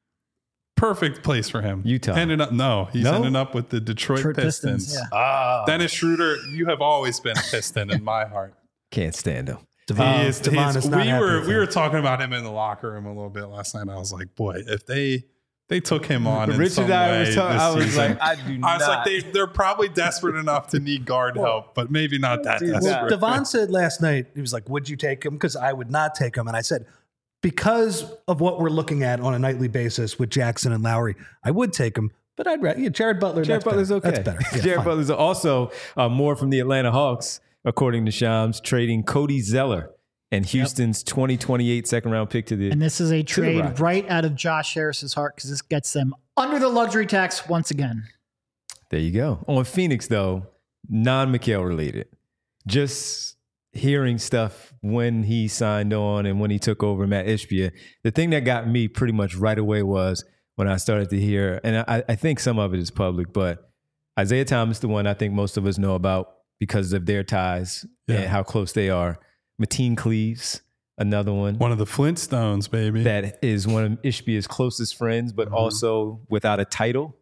perfect place for him. Utah. ended up no, he's No? ended up with the Detroit, Detroit Pistons. Pistons, Ah, Dennis Schroeder, you have always been a Piston in my heart. can't stand him. Devon, He is- Devon he's- is not we happy were with we him. were talking about him in the locker room a little bit last night. I was like, boy, if they they took him on in Richard some and I way was talking. this I was season, like, I do I not. was like, they they're probably desperate enough to need guard help, but maybe not that Dude, desperate. Well, Devon said last night, he was like, would you take him? Because I would not take him. And I said, because of what we're looking at on a nightly basis with Jackson and Lowry, I would take him. But I'd rather, yeah, Jared Butler. Jared that's Butler's better. okay. That's better. Yeah, Jared fine. Butler's also uh, more from the Atlanta Hawks, according to Shams, trading Cody Zeller and Houston's twenty twenty-eight second round pick to the. And this is a the trade Rockets. right out of Josh Harris's heart because this gets them under the luxury tax once again. There you go. On Phoenix, though, non McHale related. Just hearing stuff when he signed on and when he took over Matt Ishbia, the thing that got me pretty much right away was when I started to hear, and I, I think some of it is public, but Isaiah Thomas, the one I think most of us know about because of their ties Yeah. and how close they are. Mateen Cleaves, another one. One of the Flintstones, baby. That is one of Ishbia's closest friends, but Mhm. also without a title,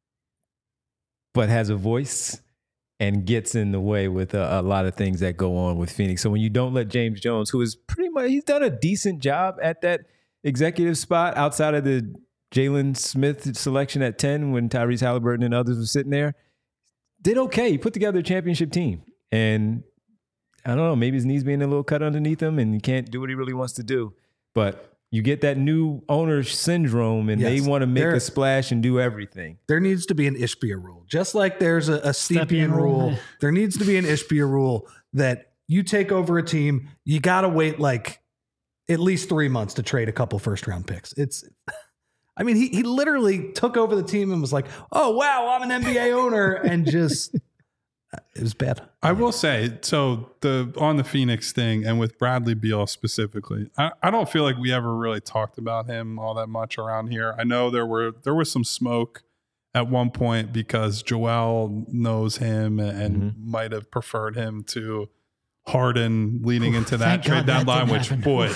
but has a voice and gets in the way with a, a lot of things that go on with Phoenix. So when you don't let James Jones, who is pretty much, he's done a decent job at that executive spot outside of the Jalen Smith selection at ten when Tyrese Halliburton and others were sitting there, did okay. He put together a championship team. And I don't know, maybe his knees being a little cut underneath him and he can't do what he really wants to do. But you get that new owner syndrome and Yes, they want to make there- a splash and do everything. There needs to be an Ishbia rule. Just like there's a, a Stepien Stepien rule, rule. there needs to be an Ishbia rule that you take over a team, you got to wait like at least three months to trade a couple first round picks. It's, I mean, he, he literally took over the team and was like, oh, wow, I'm an N B A owner. And just, it was bad. I will say, so the on the Phoenix thing and with Bradley Beal specifically, I, I don't feel like we ever really talked about him all that much around here. I know there were there was some smoke at one point because Joel knows him and Mhm. might have preferred him to Harden leading into that Thank trade God that deadline, didn't which happen. boy,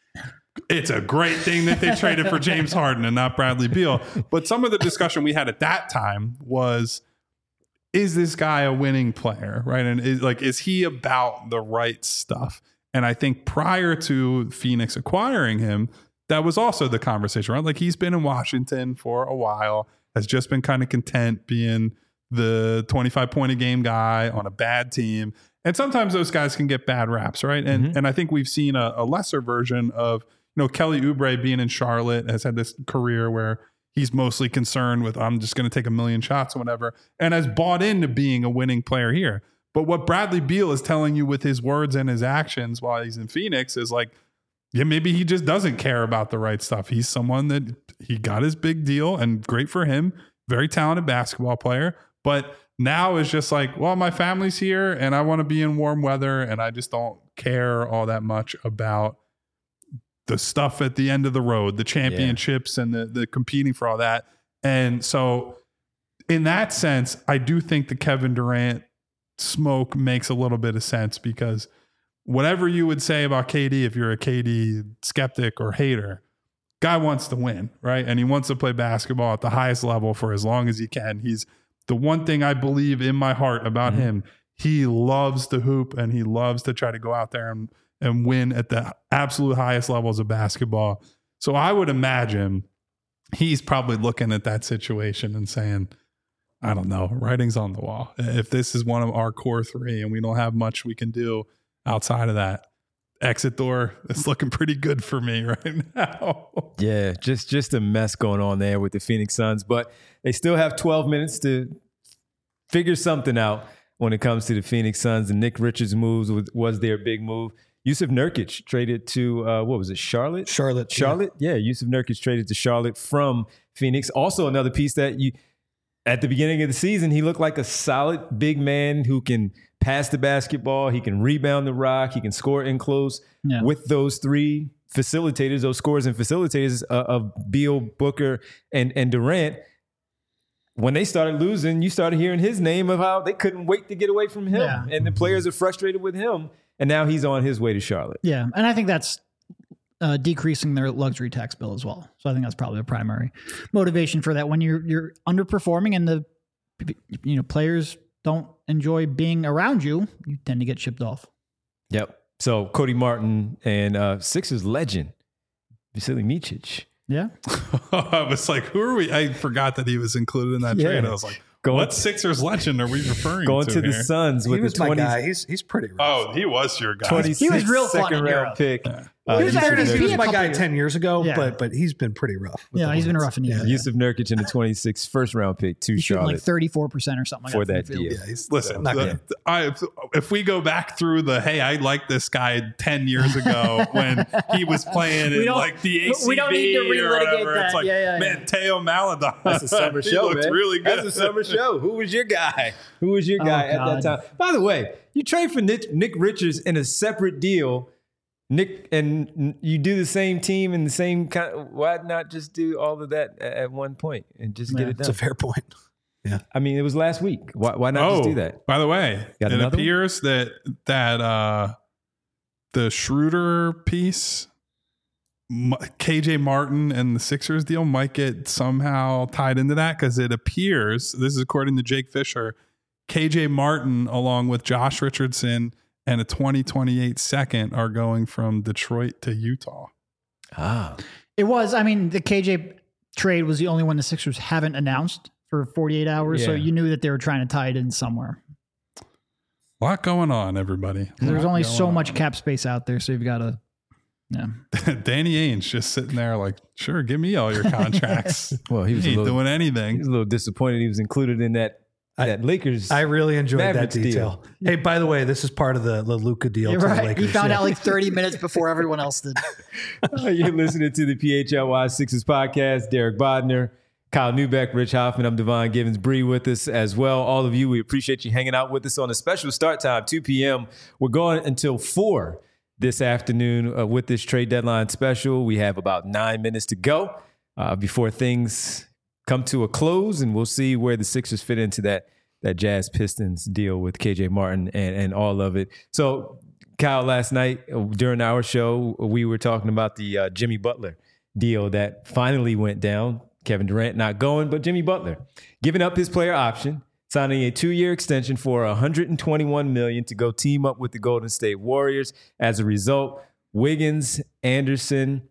it's a great thing that they traded for James Harden and not Bradley Beal. But some of the discussion we had at that time was, is this guy a winning player, right? And is, like, is he about the right stuff? And I think prior to Phoenix acquiring him, that was also the conversation, right? Like, he's been in Washington for a while, has just been kind of content being the twenty-five point a game guy on a bad team. And sometimes those guys can get bad raps, right? And Mhm. and I think we've seen a, a lesser version of, you know, Kelly Oubre being in Charlotte has had this career where he's mostly concerned with, I'm just going to take a million shots or whatever, and has bought into being a winning player here. But what Bradley Beal is telling you with his words and his actions while he's in Phoenix is like, yeah, maybe he just doesn't care about the right stuff. He's someone that he got his big deal and great for him, very talented basketball player. But now is just like, well, my family's here and I want to be in warm weather and I just don't care all that much about the stuff at the end of the road, the championships and the, the competing for all that. And so in that sense, I do think the Kevin Durant smoke makes a little bit of sense because whatever you would say about K D, if you're a K D skeptic or hater, guy wants to win, right? And he wants to play basketball at the highest level for as long as he can. He's the one thing I believe in my heart about Mm-hmm. him. He loves to hoop and he loves to try to go out there and, and win at the absolute highest levels of basketball. So I would imagine he's probably looking at that situation and saying, I don't know, writing's on the wall. If this is one of our core three and we don't have much we can do outside of that, exit door is looking pretty good for me right now. Yeah, just just a mess going on there with the Phoenix Suns, but they still have twelve minutes to figure something out when it comes to the Phoenix Suns. And Nick Richards' moves was, was their big move. Yusuf Nurkic traded to, uh, what was it, Charlotte? Charlotte. Charlotte? Yeah, Yusuf Nurkic traded to Charlotte from Phoenix. Also another piece that you, at the beginning of the season, he looked like a solid big man who can pass the basketball, he can rebound the rock, he can score in close. Yeah. With those three facilitators, those scorers and facilitators uh, of Beal, Booker, and, and Durant, when they started losing, you started hearing his name of how they couldn't wait to get away from him. Yeah. And the players are frustrated with him. And now he's on his way to Charlotte. Yeah, and I think that's uh, decreasing their luxury tax bill as well. So I think that's probably a primary motivation for that. When you're you're underperforming and the you know players don't enjoy being around you, you tend to get shipped off. Yep. So Cody Martin and uh, Sixers legend Vasily Micic. Yeah, I was like, who are we? I forgot that he was included in that Yeah. trade. I was like, Going- what Sixers legend are we referring Going to to the here? Suns He with was the my twenty, guy. He's he's pretty rough. Oh, he was your guy. twenty-six He was real fun second in round Europe. pick Uh, He was, Yusuf fairness, he Nurkic- was my couple guy years. ten years ago, Yeah. but but he's been pretty rough. with Yeah, the he's been Hornets. rough in the year. Yusuf Nurkic in the twenty-six first round pick to He's shooting Charlotte like thirty-four percent or something like for that. that from the deal. field. Yeah, he's Listen, not the- good. I, if we go back through the, hey, I liked this guy ten years ago when he was playing We in don't- like the A C B we don't need to or relitigate whatever. that. It's like, Yeah, yeah, yeah. man, Teo Maladon. That's a summer he show, looked man. really good. That's a summer show. Who was your guy? Who was your Oh, guy at God. that time? By the way, you trade for Nick, Nick Richards in a separate deal. Nick, and you do the same team and the same kind. Why not just do all of that a- at one point and just get Yeah. it It's done? a fair point. I mean, it was last week. Why, why not Oh, just do that? by the way, Got it another one? appears that that uh, the Schroeder piece, M- K J Martin and the Sixers deal might get somehow tied into that because it appears, this is according to Jake Fisher, K J Martin along with Josh Richardson and a twenty twenty-eight second are going from Detroit to Utah. Ah, It was. I mean, the K J trade was the only one the Sixers haven't announced for forty-eight hours, so Yeah. you knew that they were trying to tie it in somewhere. A lot going on, everybody. There's Lot only going so much on. cap space out there, so you've got to. Yeah. Danny Ainge just sitting there like, sure, give me all your contracts. well, he was a He ain't little, doing he anything. was a little disappointed. He was included in that that Lakers. I really enjoyed Mavericks that detail. Hey, by the way, this is part of the, the Luka deal You're to the right. Lakers. He found Yeah. out like thirty minutes before everyone else did. You're listening to the P H L Y Sixers podcast. Derek Bodner, Kyle Newbeck, Rich Hoffman. I'm Devon Givens. Bree with us as well. All of you, we appreciate you hanging out with us on a special start time, two p.m. We're going until four this afternoon uh, with this trade deadline special. We have about nine minutes to go uh, before things come to a close, and we'll see where the Sixers fit into that that Jazz Pistons deal with K J Martin and, and all of it. So, Kyle, last night uh, during our show, we were talking about the uh, Jimmy Butler deal that finally went down. Kevin Durant not going, but Jimmy Butler giving up his player option, signing a two-year extension for one hundred twenty-one million dollars to go team up with the Golden State Warriors. As a result, Wiggins, Anderson,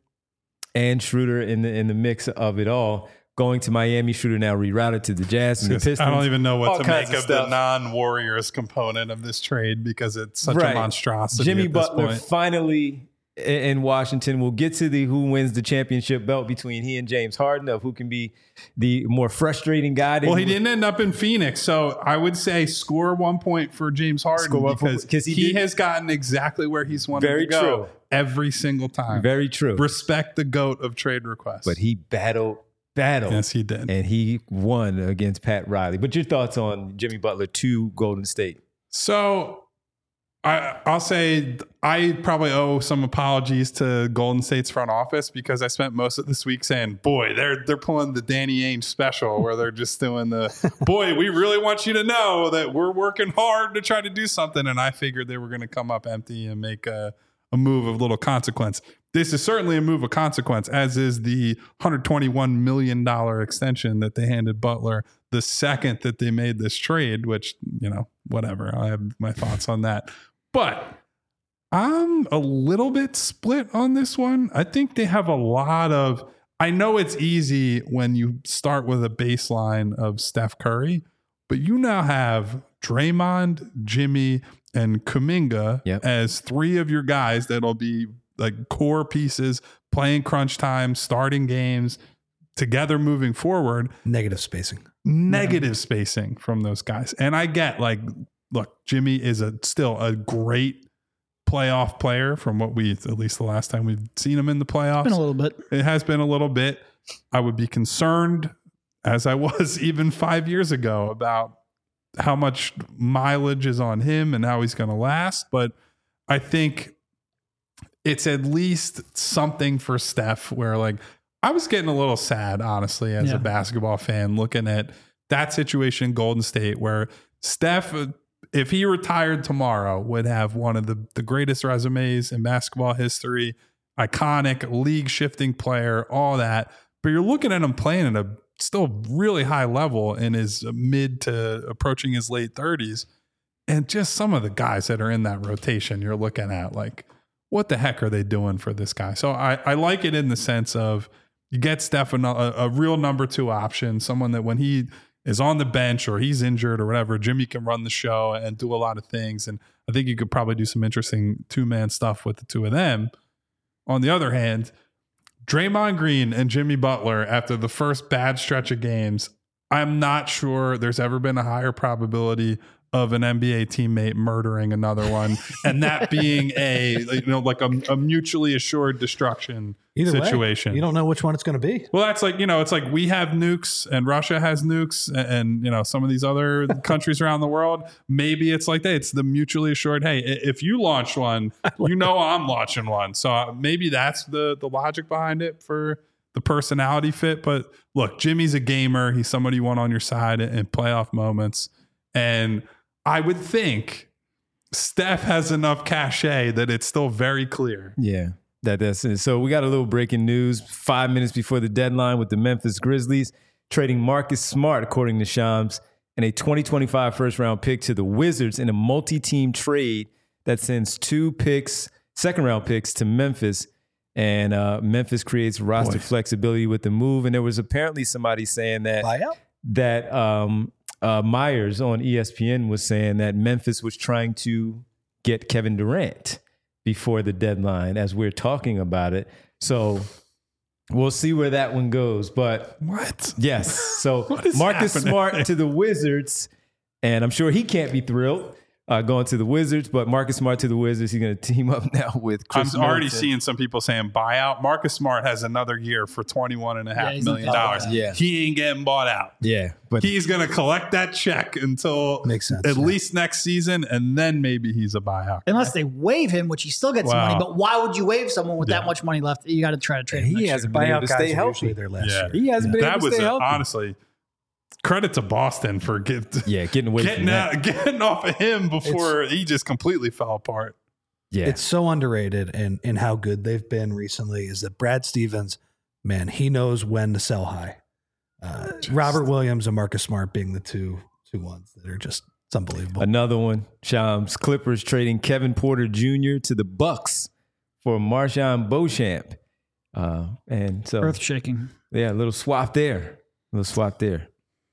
and Schroeder in the in the mix of it all. Going to Miami, Schroeder now rerouted to the Jazz and the Pistons. I don't even know all what to kinds make of of the stuff. non-Warriors component of this trade because it's such Right. a monstrosity. Jimmy at this Butler point. finally i- in Washington. We'll get to the who wins the championship belt between he and James Harden of who can be the more frustrating guy. Well, he didn't end up in Phoenix, so I would say score one point for James Harden Score one point- because 'cause he he, did- has gotten exactly where he's wanted Very to go true. every single time. Very true. Respect the GOAT of trade requests. But he battled, battled. yes, he did. And he won against Pat Riley. But your thoughts on Jimmy Butler to Golden State? So I, I'll say I probably owe some apologies to Golden State's front office because I spent most of this week saying, boy, they're they're pulling the Danny Ainge special where they're just doing the, boy, we really want you to know that we're working hard to try to do something. And I figured they were going to come up empty and make a, a move of little consequence. This is certainly a move of consequence, as is the one hundred twenty-one million dollars extension that they handed Butler the second that they made this trade, which, you know, whatever. I have my thoughts on that. But I'm a little bit split on this one. I think they have a lot of, I know it's easy when you start with a baseline of Steph Curry, but you now have Draymond, Jimmy, and Kuminga Yep. as three of your guys that'll be like core pieces, playing crunch time, starting games together moving forward. Negative spacing. Negative spacing from those guys. And I get like, look, Jimmy is a still a great playoff player from what we, at least the last time we've seen him in the playoffs. Been a little bit. It has been a little bit. I would be concerned, as I was even five years ago, about how much mileage is on him and how he's going to last. But I think it's at least something for Steph where, like, I was getting a little sad, honestly, as Yeah. a basketball fan, looking at that situation in Golden State where Steph, if he retired tomorrow, would have one of the, the greatest resumes in basketball history, iconic, league-shifting player, all that. But you're looking at him playing at a still really high level in his mid to approaching his late thirties. And just some of the guys that are in that rotation, you're looking at like, what the heck are they doing for this guy? So I, I like it in the sense of you get Steph a, a real number two option, someone that when he is on the bench or he's injured or whatever, Jimmy can run the show and do a lot of things. And I think you could probably do some interesting two-man stuff with the two of them. on the other hand, Draymond Green and Jimmy Butler, after the first bad stretch of games, I'm not sure there's ever been a higher probability of an N B A teammate murdering another one, and that being a you know like a, a mutually assured destruction Either situation. Way, you don't know which one it's going to be. Well, that's like you know, it's like we have nukes and Russia has nukes, and, and you know some of these other countries around the world. Maybe it's like that. It's the mutually assured. Hey, if you launch one, you know I'm launching one. So maybe that's the the logic behind it for the personality fit. But look, Jimmy's a gamer. He's somebody you want on your side in playoff moments, and I would think Steph has enough cachet that it's still very clear. Yeah, that that's it. So we got a little breaking news five minutes before the deadline with the Memphis Grizzlies trading Marcus Smart, according to Shams, and a twenty twenty-five first round pick to the Wizards in a multi-team trade that sends two picks, second round picks to Memphis. And uh, Memphis creates roster Boy. flexibility with the move. And there was apparently somebody saying that Buyout? that um, uh, Myers on E S P N was saying that Memphis was trying to get Kevin Durant before the deadline as we're talking about it. So we'll see where that one goes. But what? Yes. So Marcus happening? Smart to the Wizards. And I'm sure he can't be thrilled uh, going to the Wizards, but Marcus Smart to the Wizards. He's going to team up now with Chris I'm already Middleton. seeing some people saying buyout. Marcus Smart has another year for twenty-one and a half Yeah, he's million not dollars. buying out. Yeah. He ain't getting bought out. Yeah. But He's going to collect that check until Makes sense, at yeah. least next season, and then maybe he's a buyout. Unless they waive him, which he still gets some Wow. money. But why would you waive someone with Yeah. that much money left? You got to try to trade him. he next hasn't year. been able Buyout to guys stay are healthy. usually their last Yeah. year. He hasn't been That able to was stay a, healthy. honestly credit to Boston for get, Yeah, getting away getting from that. out, getting off of him before he just completely fell apart. Yeah. It's so underrated in, in how good they've been recently is that Brad Stevens, man, he knows when to sell high. Uh, Robert Williams and Marcus Smart being the two two ones that are just it's unbelievable. Another one. Shams Clippers trading Kevin Porter Junior to the Bucks for Marshawn Beauchamp. Uh, and so, Earth shaking. yeah, a little swap there. A little swap there.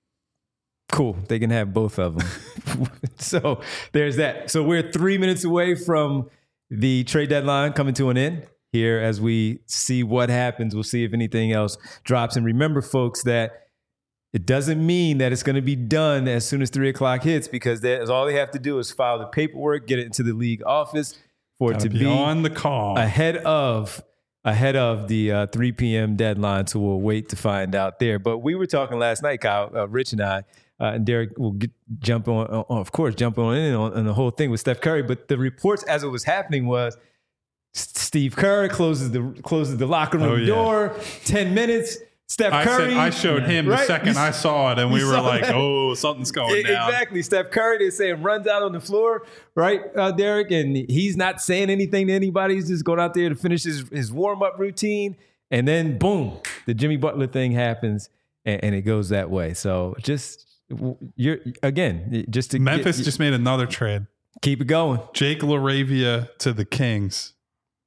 Cool. They can have both of them. So there's that. So we're three minutes away from the trade deadline coming to an end here as we see what happens. We'll see if anything else drops. And remember, folks, that it doesn't mean that it's going to be done as soon as three o'clock hits, because that's all they have to do is file the paperwork, get it into the league office for it Gotta to be be on the call. ahead of ahead of the uh, three p.m. deadline. So we'll wait to find out there. But we were talking last night, Kyle, uh, Rich and I, uh, and Derek will get, jump on, uh, of course, jump on in on, on the whole thing with Steph Curry. But the reports as it was happening was S- Steve Kerr closes the closes the locker room Oh, yeah. door, ten minutes. Steph I, Curry. said, I showed him right? the second You- I saw it, and you we were saw like, that? oh, something's going down. Exactly. Steph Curry, they're saying, runs out on the floor, right, uh, Derek? And he's not saying anything to anybody. He's just going out there to finish his, his warm-up routine. And then, boom, the Jimmy Butler thing happens, and, and it goes that way. So just, you're again, just to Memphis get, just made another trade. keep it going. Jake LaRavia to the Kings.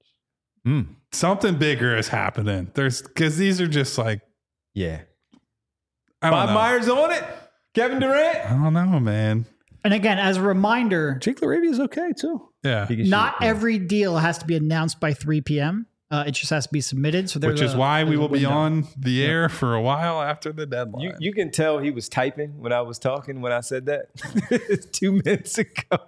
Mm. Something bigger is happening. There's because these are just like Yeah. I don't Bob know. Myers on it? Kevin Durant? I don't know, man. And again, as a reminder, Jake LaRavia is okay too. Yeah, He can not shoot, yeah. every deal has to be announced by three p.m. Uh, it just has to be submitted. So there's which is a- why we there's a will be window. on the air for a while after the deadline. You, you can tell he was typing when I was talking when I said that two minutes ago.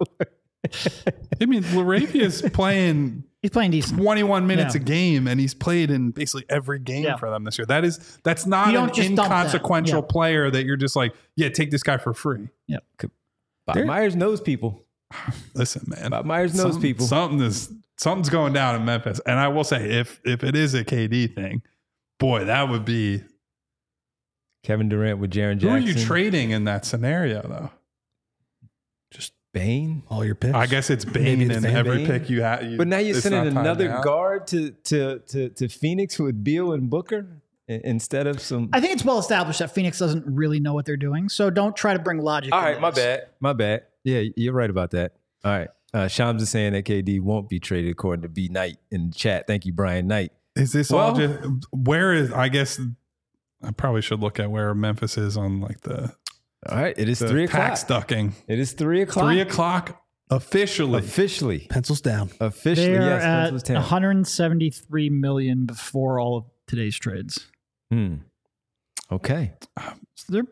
I mean, LaRavia is playing He's playing decent. twenty-one minutes Yeah. a game, and he's played in basically every game Yeah. for them this year. That is that's not You an don't just dump that. inconsequential Yeah. player that you're just like, yeah, take this guy for free. Bob There- Myers knows people. Listen, man, Bob Myers knows Some- people. Something is something's going down in Memphis, and I will say, if if it is a K D thing, boy, that would be. Kevin Durant with Jaren Who Jackson. are you trading in that scenario, though? Just Bane? all your picks. I guess it's Maybe Bane the in same every Bane. pick you have. But now you're it's sending not timed another out. guard to, to to to Phoenix with Beal and Booker i- instead of some. I think it's well established that Phoenix doesn't really know what they're doing. So don't try to bring logic. All into right, my this. bad. My bad. Yeah, you're right about that. All right. Uh, Shams is saying that K D won't be traded according to B Knight in the chat. Thank you, Brian Knight. Is this all Well- just where is? I guess I probably should look at where Memphis is on like the, All right, it is the three tax o'clock. ducking. It is three o'clock. Three o'clock. Officially. Officially. Pencils down. Officially, They're yes. at Pencils down. one hundred seventy-three million before all of today's trades. Hmm. Okay. So they're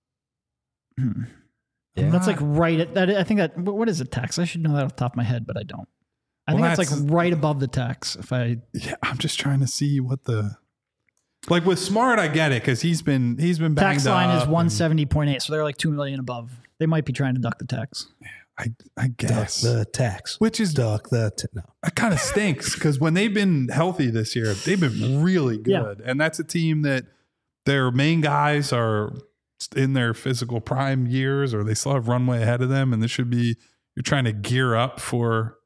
hmm. Yeah. That's like right at that. I think that what is the tax? I should know that off the top of my head, but I don't. I Well, think that's, that's- like right above the tax. If I Yeah, I'm just trying to see what the like with Smart. I get it because he's been he's been banged tax line up is and- one seventy point eight, so they're like two million above. They might be trying to duck the tax. I I Duck guess the tax. which is Duck the t- no. it kind of stinks because when they've been healthy this year, they've been really Yeah. good, and that's a team that their main guys are in their physical prime years, or they still have runway ahead of them, and this should be you're trying to gear up for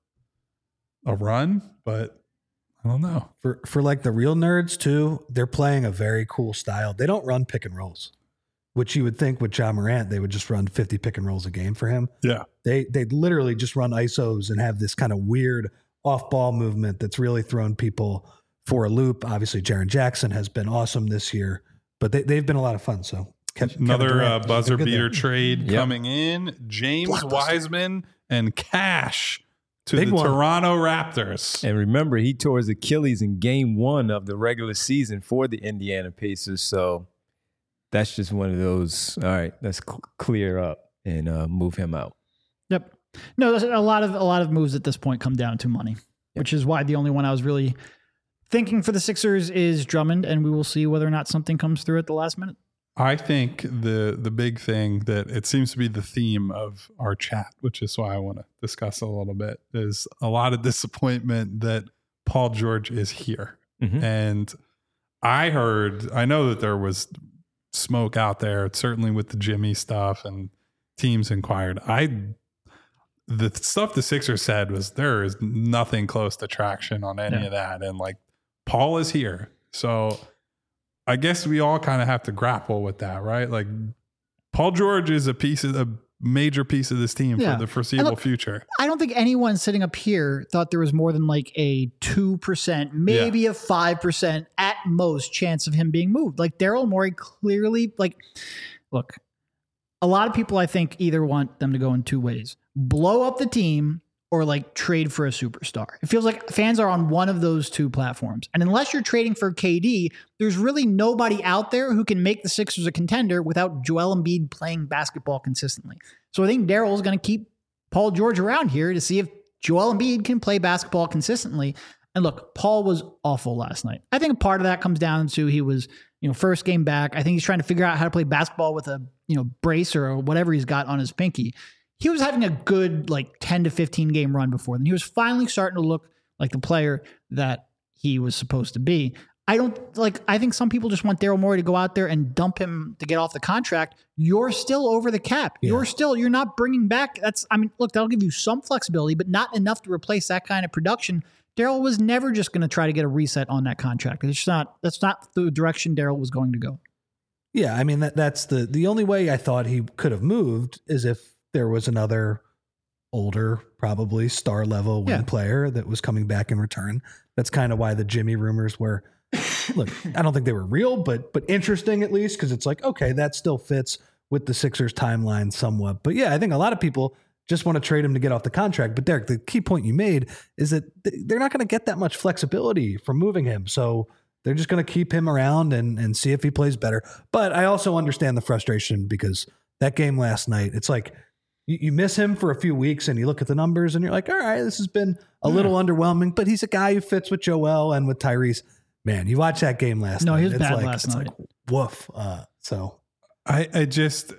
a run, but I don't know. For for like the real nerds too, they're playing a very cool style. They don't run pick and rolls, which you would think with John Morant they would just run fifty pick and rolls a game for him. Yeah, They they literally just run I S Os and have this kind of weird off ball movement that's really thrown people for a loop. Obviously, Jaren Jackson has been awesome this year, but they they've been a lot of fun. So Kev- Kevin another Durant uh, has buzzer been good beater there. trade Yep. coming in: James Blockbuster. Wiseman and Cash to Big the one. Toronto Raptors. And remember, he tore his Achilles in game one of the regular season for the Indiana Pacers. So that's just one of those. All right, let's cl- clear up and uh, move him out. Yep. No, there's a lot of a lot of moves at this point come down to money, which is why the only one I was really thinking for the Sixers is Drummond, and we will see whether or not something comes through at the last minute. I think the the big thing that it seems to be the theme of our chat, which is why I want to discuss a little bit, is a lot of disappointment that Paul George is here. Mhm. And I heard, I know that there was smoke out there, certainly with the Jimmy stuff and teams inquired. I the stuff the Sixers said was there is nothing close to traction on any Yeah. of that. And like Paul is here. So I guess we all kind of have to grapple with that, right? Like Paul George is a piece of a major piece of this team Yeah. for the foreseeable And look, future. I don't think anyone sitting up here thought there was more than like a two percent, maybe a five percent at most chance of him being moved. Like Daryl Morey clearly, like, look, a lot of people I think either want them to go in two ways: blow up the team or like trade for a superstar. It feels like fans are on one of those two platforms. And unless you're trading for K D, there's really nobody out there who can make the Sixers a contender without Joel Embiid playing basketball consistently. So I think Daryl is going to keep Paul George around here to see if Joel Embiid can play basketball consistently. And look, Paul was awful last night. I think part of that comes down to he was, you know, first game back. I think he's trying to figure out how to play basketball with a, you know, brace or whatever he's got on his pinky. He was having a good like ten to fifteen game run before then. He was finally starting to look like the player that he was supposed to be. I don't like, I think some people just want Daryl Morey to go out there and dump him to get off the contract. You're still over the cap. Yeah. You're still, you're not bringing back. That's, I mean, look, that'll give you some flexibility, but not enough to replace that kind of production. Daryl was never just going to try to get a reset on that contract. It's just not, that's not the direction Daryl was going to go. Yeah, I mean that that's the the only way I thought he could have moved is if there was another older, probably star level wing Yeah. player that was coming back in return. That's kind of why the Jimmy rumors were. Look, I don't think they were real, but but interesting at least because it's like okay, that still fits with the Sixers timeline somewhat. But yeah, I think a lot of people just want to trade him to get off the contract. But Derek, the key point you made is that th- they're not going to get that much flexibility from moving him. So they're just going to keep him around and, and see if he plays better. But I also understand the frustration because that game last night, it's like you, you miss him for a few weeks and you look at the numbers and you're like, all right, this has been a little underwhelming, but he's a guy who fits with Joel and with Tyrese. Man, you watch that game last No, night. he was it's bad like, last it's night. like woof. Uh, so I, I just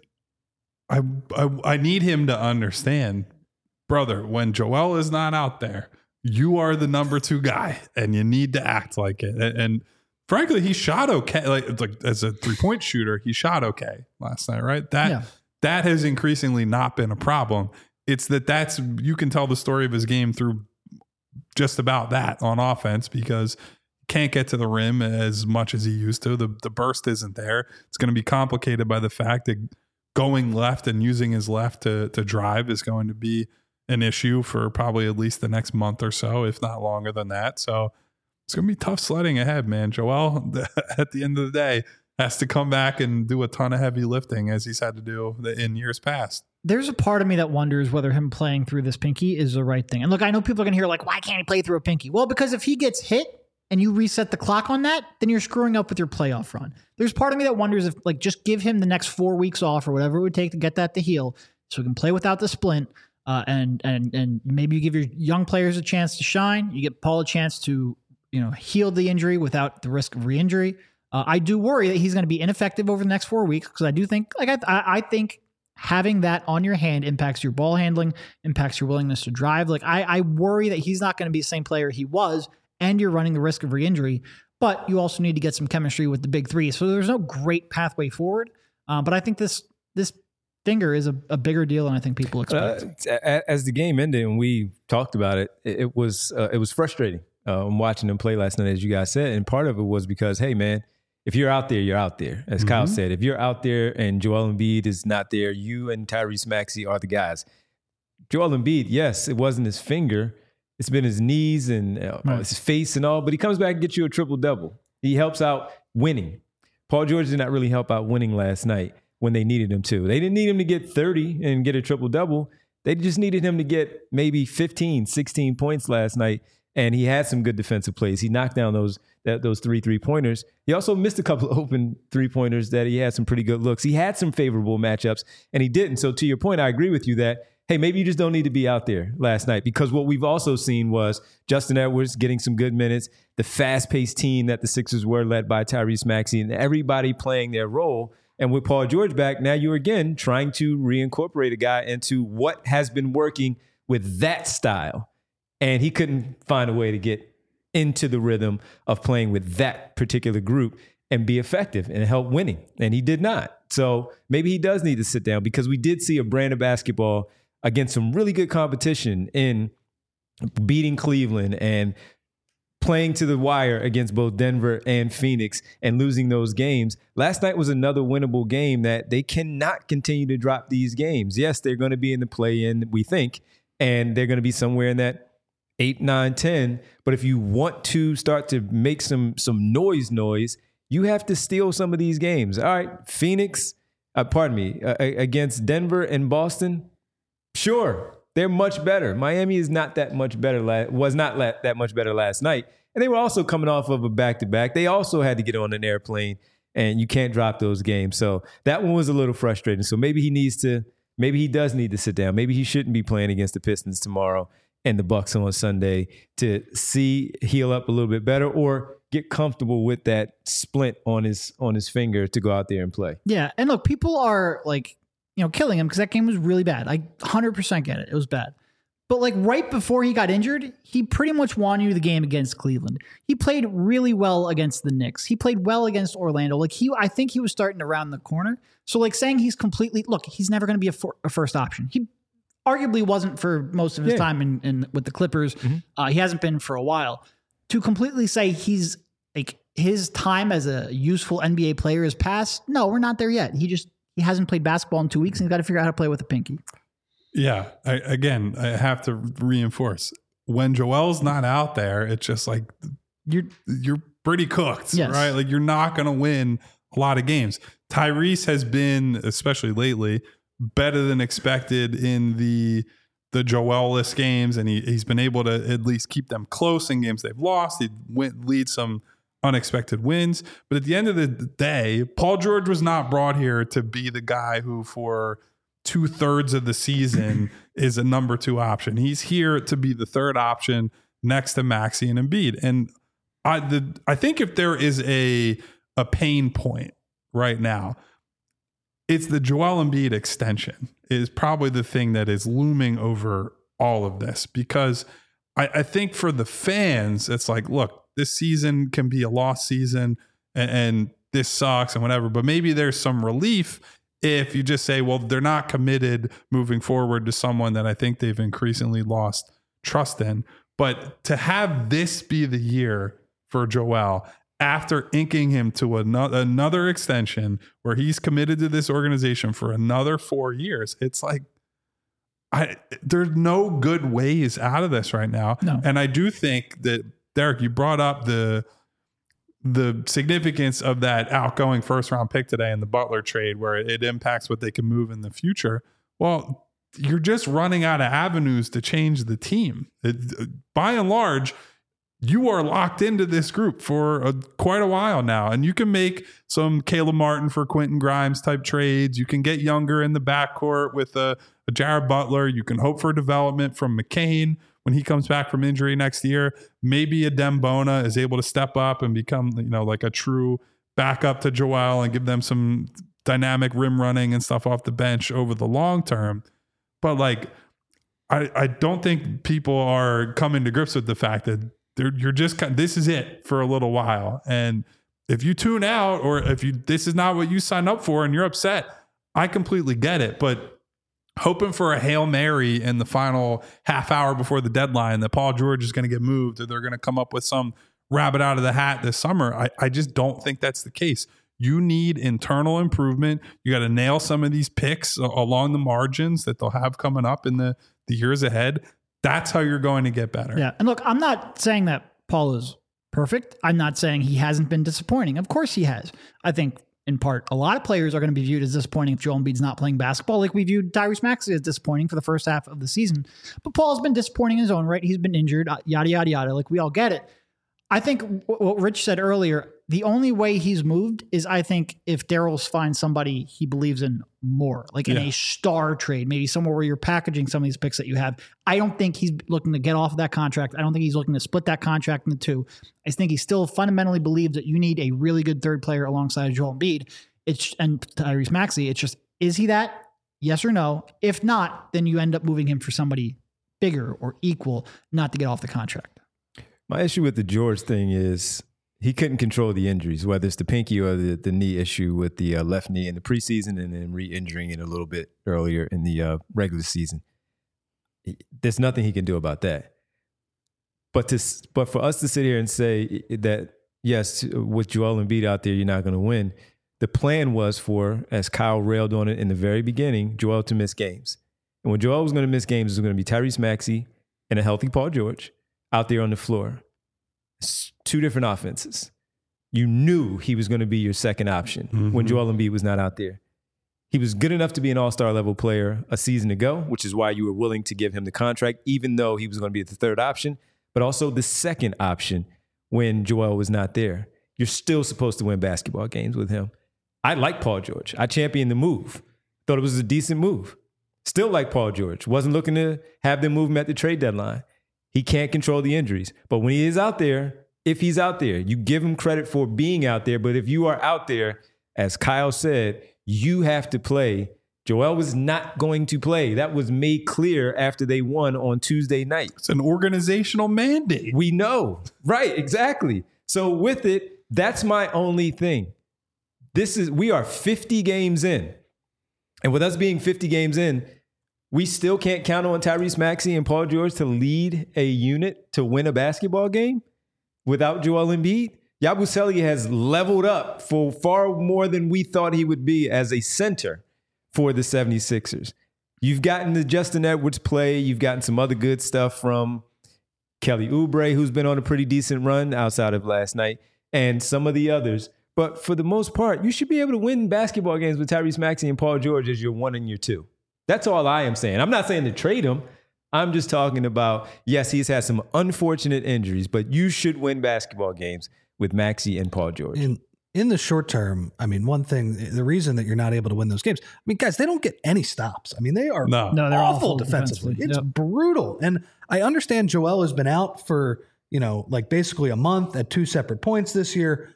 I, I I need him to understand, brother, when Joel is not out there, you are the number two guy and you need to act like it. And, and frankly, he shot okay. Like, like as a three-point shooter, he shot okay last night, right? That Yeah. that has increasingly not been a problem. It's that that's you can tell the story of his game through just about that on offense because can't get to the rim as much as he used to. The the burst isn't there. It's going to be complicated by the fact that going left and using his left to to drive is going to be an issue for probably at least the next month or so, if not longer than that. So it's going to be tough sledding ahead, man. Joel, at the end of the day, has to come back and do a ton of heavy lifting as he's had to do in years past. there's a part of me that wonders whether him playing through this pinky is the right thing. And look, I know people are going to hear like, why can't he play through a pinky? Well, because if he gets hit and you reset the clock on that, then you're screwing up with your playoff run. There's part of me that wonders if like just give him the next four weeks off or whatever it would take to get that to heal so he can play without the splint. Uh, and and and maybe you give your young players a chance to shine. You get Paul a chance to, you know, heal the injury without the risk of re-injury. Uh, I do worry that he's going to be ineffective over the next four weeks because I do think, like I, I think having that on your hand impacts your ball handling, impacts your willingness to drive. Like I, I worry that he's not going to be the same player he was, and you're running the risk of re-injury. But you also need to get some chemistry with the big three. So there's no great pathway forward. Uh, but I think this this. finger is a, a bigger deal than I think people expect. Uh, as the game ended and we talked about it, it, it was uh, it was frustrating. Uh, I'm watching them play last night, as you guys said, and part of it was because, hey, man, if you're out there, you're out there. As mm-hmm. Kyle said, if you're out there and Joel Embiid is not there, you and Tyrese Maxey are the guys. Joel Embiid, yes, it wasn't his finger. It's been his knees and uh, right. his face and all, but he comes back and gets you a triple-double. He helps out winning. Paul George did not really help out winning last night when they needed him to. They didn't need him to get thirty and get a triple-double. They just needed him to get maybe fifteen, sixteen points last night, and he had some good defensive plays. He knocked down those that, those three three-pointers. He also missed a couple of open three-pointers that he had some pretty good looks. He had some favorable matchups, and he didn't. So to your point, I agree with you that, hey, maybe you just don't need to be out there last night, because what we've also seen was Justin Edwards getting some good minutes, the fast-paced team that the Sixers were led by Tyrese Maxey, and everybody playing their role. And with Paul George back, now you're again trying to reincorporate a guy into what has been working with that style. And he couldn't find a way to get into the rhythm of playing with that particular group and be effective and help winning. And he did not. So maybe he does need to sit down, because we did see a brand of basketball against some really good competition in beating Cleveland and playing to the wire against both Denver and Phoenix and losing those games. Last night was another winnable game that they cannot continue to drop these games. Yes, they're going to be in the play-in, we think, and they're going to be somewhere in that eight, nine, ten. But if you want to start to make some some noise noise, you have to steal some of these games. All right, Phoenix, uh, pardon me, uh, against Denver and Boston, sure. They're much better. Miami is not that much better. La- was not la- that much better last night. And they were also coming off of a back-to-back. They also had to get on an airplane, and you can't drop those games. So that one was a little frustrating. So maybe he needs to, maybe he does need to sit down. Maybe he shouldn't be playing against the Pistons tomorrow and the Bucks on Sunday to see, heal up a little bit better, or get comfortable with that splint on his on his finger to go out there and play. Yeah. And look, people are like, you know, killing him because that game was really bad. I one hundred percent get it. It was bad. But like right before he got injured, he pretty much won you the game against Cleveland. He played really well against the Knicks. He played well against Orlando. Like he, I think he was starting to round the corner. So like saying he's completely, look, he's never going to be a, for, a first option. He arguably wasn't for most of his yeah. time in, in with the Clippers. Mm-hmm. Uh, he hasn't been for a while. To completely say he's like his time as a useful N B A player is past. No, we're not there yet. He just, He hasn't played basketball in two weeks, and he's got to figure out how to play with a pinky. Yeah. I, again, I have to reinforce, when Joel's not out there, it's just like you're you're pretty cooked, yes. right? Like you're not going to win a lot of games. Tyrese has been, especially lately, better than expected in the the Joel-less games, and he he's been able to at least keep them close in games they've lost. He went lead some unexpected wins. But at the end of the day, Paul George was not brought here to be the guy who for two thirds of the season is a number two option. He's here to be the third option next to Maxey and Embiid. And I, the, I think if there is a, a pain point right now, it's the Joel Embiid extension is probably the thing that is looming over all of this, because I, I think for the fans, it's like, look, this season can be a lost season and, and this sucks and whatever, but maybe there's some relief if you just say, well, they're not committed moving forward to someone that I think they've increasingly lost trust in. But to have this be the year for Joel after inking him to another, another extension where he's committed to this organization for another four years, it's like, I there's no good ways out of this right now. No. And I do think that, Derek, you brought up the the significance of that outgoing first round pick today in the Butler trade, where it impacts what they can move in the future. Well, you're just running out of avenues to change the team. It, by and large, you are locked into this group for a, quite a while now, and you can make some Caleb Martin for Quentin Grimes type trades. You can get younger in the backcourt with a, a Jared Butler. You can hope for development from McCain when he comes back from injury next year. Maybe a Dembona is able to step up and become, you know, like a true backup to Joel and give them some dynamic rim running and stuff off the bench over the long term. But like, I, I don't think people are coming to grips with the fact that They're, you're just kind of, this is it for a little while. And if you tune out, or if you this is not what you signed up for and you're upset, I completely get it. But hoping for a Hail Mary in the final half hour before the deadline that Paul George is going to get moved or they're going to come up with some rabbit out of the hat this summer, I, I just don't think that's the case. You need internal improvement. You got to nail some of these picks along the margins that they'll have coming up in the, the years ahead. That's how you're going to get better. Yeah. And look, I'm not saying that Paul is perfect. I'm not saying he hasn't been disappointing. Of course he has. I think in part, a lot of players are going to be viewed as disappointing if Joel Embiid's not playing basketball, like we viewed Tyrese Maxey as disappointing for the first half of the season. But Paul's been disappointing in his own right. He's been injured, yada, yada, yada. Like we all get it. I think what Rich said earlier, the only way he's moved is, I think, if Daryl finds somebody he believes in more, like in yeah. a star trade, maybe somewhere where you're packaging some of these picks that you have. I don't think he's looking to get off of that contract. I don't think he's looking to split that contract into two. I think he still fundamentally believes that you need a really good third player alongside Joel Embiid. It's and Tyrese Maxey. It's just, is he that? Yes or no? If not, then you end up moving him for somebody bigger or equal, not to get off the contract. My issue with the George thing is he couldn't control the injuries, whether it's the pinky or the, the knee issue with the uh, left knee in the preseason and then re-injuring it a little bit earlier in the uh, regular season. There's nothing he can do about that. But to but for us to sit here and say that, yes, with Joel Embiid out there, you're not going to win. The plan was for, as Kyle railed on it in the very beginning, Joel to miss games. And when Joel was going to miss games, it was going to be Tyrese Maxey and a healthy Paul George out there on the floor. It's two different offenses. You knew he was going to be your second option mm-hmm. when Joel Embiid was not out there. He was good enough to be an all-star level player a season ago, which is why you were willing to give him the contract, even though he was going to be the third option, but also the second option when Joel was not there. You're still supposed to win basketball games with him. I like Paul George. I championed the move. Thought it was a decent move. Still like Paul George. Wasn't looking to have them move him at the trade deadline. He can't control the injuries. But when he is out there, if he's out there, you give him credit for being out there. But if you are out there, as Kyle said, you have to play. Joel was not going to play. That was made clear after they won on Tuesday night. It's an organizational mandate. We know. Right, exactly. So with it, that's my only thing. This is, we are fifty games in. And with us being fifty games in, we still can't count on Tyrese Maxey and Paul George to lead a unit to win a basketball game without Joel Embiid. Yabusele has leveled up for far more than we thought he would be as a center for the seventy-sixers. You've gotten the Justin Edwards play. You've gotten some other good stuff from Kelly Oubre, who's been on a pretty decent run outside of last night, and some of the others. But for the most part, you should be able to win basketball games with Tyrese Maxey and Paul George as your one and your two. That's all I am saying. I'm not saying to trade him. I'm just talking about, yes, he's had some unfortunate injuries, but you should win basketball games with Maxey and Paul George. In, in the short term, I mean, one thing, the reason that you're not able to win those games, I mean, guys, they don't get any stops. I mean, they are no. No, they're awful, awful defensively. defensively. It's Yep. brutal. And I understand Joel has been out for, you know, like basically a month at two separate points this year.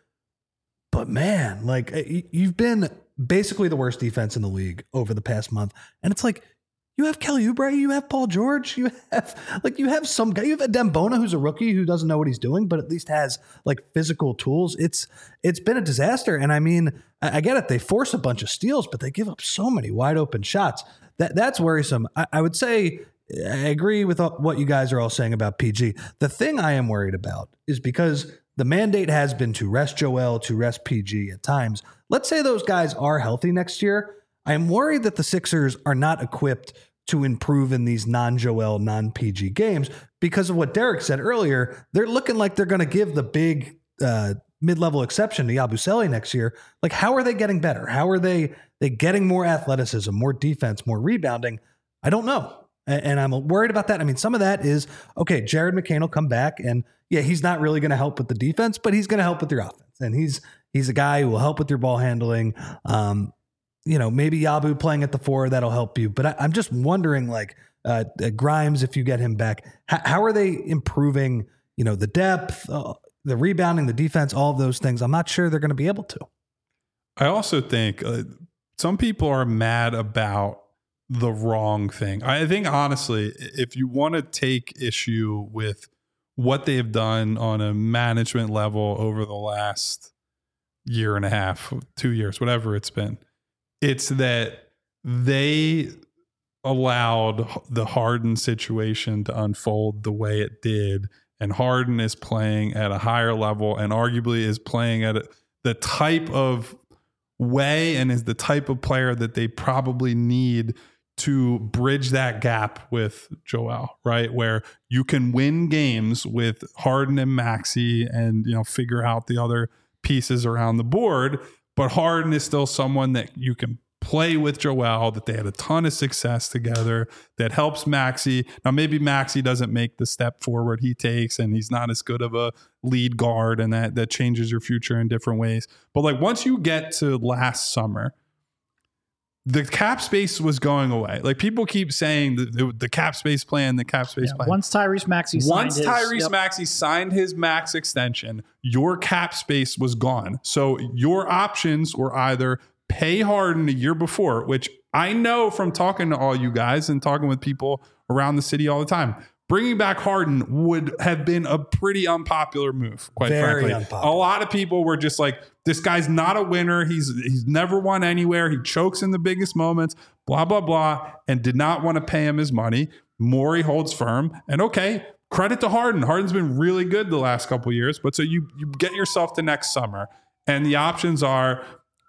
But man, like you've been basically the worst defense in the league over the past month. And it's like, you have Kelly Oubre, you have Paul George, you have like you have some guy, you have a Dembona who's a rookie who doesn't know what he's doing, but at least has like physical tools. It's it's been a disaster. And I mean, I, I get it. They force a bunch of steals, but they give up so many wide open shots. That that's worrisome. I, I would say I agree with what you guys are all saying about P G. The thing I am worried about is because the mandate has been to rest Joel, to rest P G at times. Let's say those guys are healthy next year. I am worried that the Sixers are not equipped to improve in these non-Joel, non-P G games because of what Derek said earlier. They're looking like they're going to give the big uh, mid-level exception to Yabusele next year. Like, how are they getting better? How are they they getting more athleticism, more defense, more rebounding? I don't know. And, and I'm worried about that. I mean, some of that is, okay, Jared McCain will come back, and yeah, he's not really going to help with the defense, but he's going to help with your offense. And he's he's a guy who will help with your ball handling. Um, you know, maybe Yabu playing at the four, that'll help you. But I, I'm just wondering, like, uh, Grimes, if you get him back, how, how are they improving, you know, the depth, uh, the rebounding, the defense, all of those things? I'm not sure they're going to be able to. I also think uh, some people are mad about the wrong thing. I think, honestly, if you want to take issue with what they've done on a management level over the last year and a half, two years, whatever it's been, it's that they allowed the Harden situation to unfold the way it did. And Harden is playing at a higher level and arguably is playing at a, the type of way and is the type of player that they probably need to bridge that gap with Joel, right? Where you can win games with Harden and Maxey and, you know, figure out the other pieces around the board. But Harden is still someone that you can play with Joel, that they had a ton of success together, that helps Maxey. Now, maybe Maxey doesn't make the step forward he takes, and he's not as good of a lead guard, and that, that changes your future in different ways. But like once you get to last summer, the cap space was going away. Like people keep saying the, the, the cap space plan, the cap space Yeah, plan. once Tyrese Maxey signed Once his, Tyrese yep. Maxey signed his max extension, your cap space was gone. So your options were either pay Harden a year before, which I know from talking to all you guys and talking with people around the city all the time. Bringing back Harden would have been a pretty unpopular move, quite Very frankly. unpopular. A lot of people were just like, this guy's not a winner. He's he's never won anywhere. He chokes in the biggest moments, blah, blah, blah, and did not want to pay him his money. Morey holds firm. And okay, credit to Harden. Harden's been really good the last couple of years. But so you you get yourself to next summer, and the options are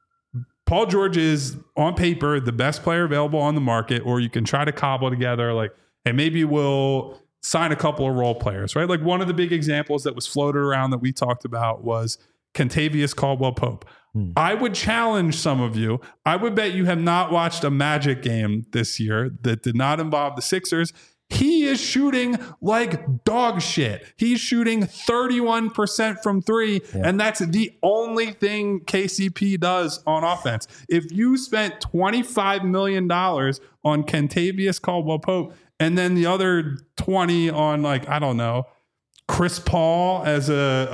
Paul George is on paper the best player available on the market, or you can try to cobble together like, hey, maybe we'll sign a couple of role players, right? Like one of the big examples that was floated around that we talked about was Kentavious Caldwell-Pope. Hmm. I would challenge some of you. I would bet you have not watched a Magic game this year that did not involve the Sixers. He is shooting like dog shit. He's shooting thirty-one percent from three, yeah. and that's the only thing K C P does on offense. If you spent twenty-five million dollars on Kentavious Caldwell-Pope and then the other twenty on, like, I don't know, Chris Paul as a,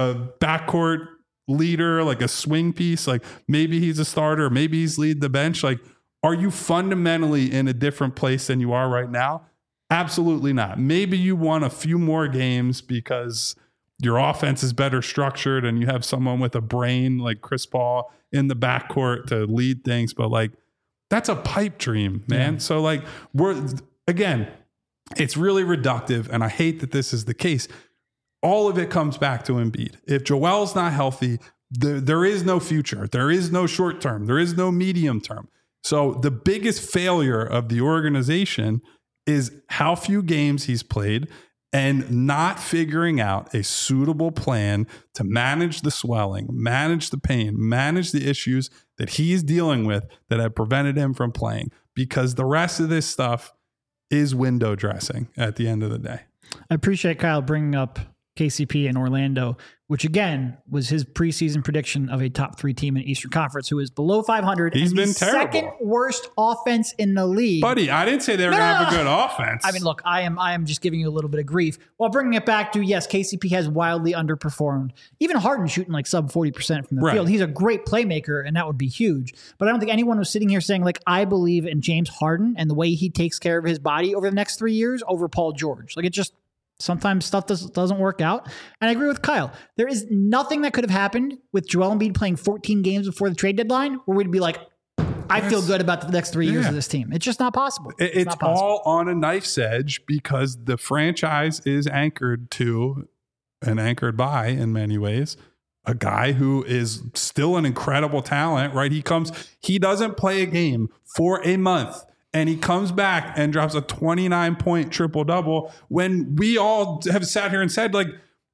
a backcourt leader, like a swing piece, like maybe he's a starter, maybe he's lead the bench. Like, are you fundamentally in a different place than you are right now? Absolutely not. Maybe you won a few more games because your offense is better structured and you have someone with a brain like Chris Paul in the backcourt to lead things. But like, that's a pipe dream, man. Yeah. So like, we're, again, it's really reductive. And I hate that this is the case. All of it comes back to Embiid. If Joel's not healthy, there, there is no future. There is no short term. There is no medium term. So the biggest failure of the organization is how few games he's played and not figuring out a suitable plan to manage the swelling, manage the pain, manage the issues that he's dealing with that have prevented him from playing, because the rest of this stuff is window dressing at the end of the day. I appreciate Kyle bringing up K C P in Orlando, which again was his preseason prediction of a top three team in Eastern Conference who is below five hundred. He's and been the terrible. Second worst offense in the league. Buddy, I didn't say they were no, going to no, have a no. good offense. I mean, look, I am I am just giving you a little bit of grief while bringing it back to, yes, K C P has wildly underperformed. Even Harden shooting like sub forty percent from the right. field. He's a great playmaker, and that would be huge. But I don't think anyone was sitting here saying, like, I believe in James Harden and the way he takes care of his body over the next three years over Paul George. Like, it just... Sometimes stuff does, doesn't work out. And I agree with Kyle. There is nothing that could have happened with Joel Embiid playing fourteen games before the trade deadline where we'd be like, I feel good about the next three years yeah. of this team. It's just not possible. It's, it's not possible. all on a knife's edge because the franchise is anchored to and anchored by, in many ways, a guy who is still an incredible talent, right? He comes, he doesn't play a game for a month. And he comes back and drops a twenty-nine point triple double when we all have sat here and said, like,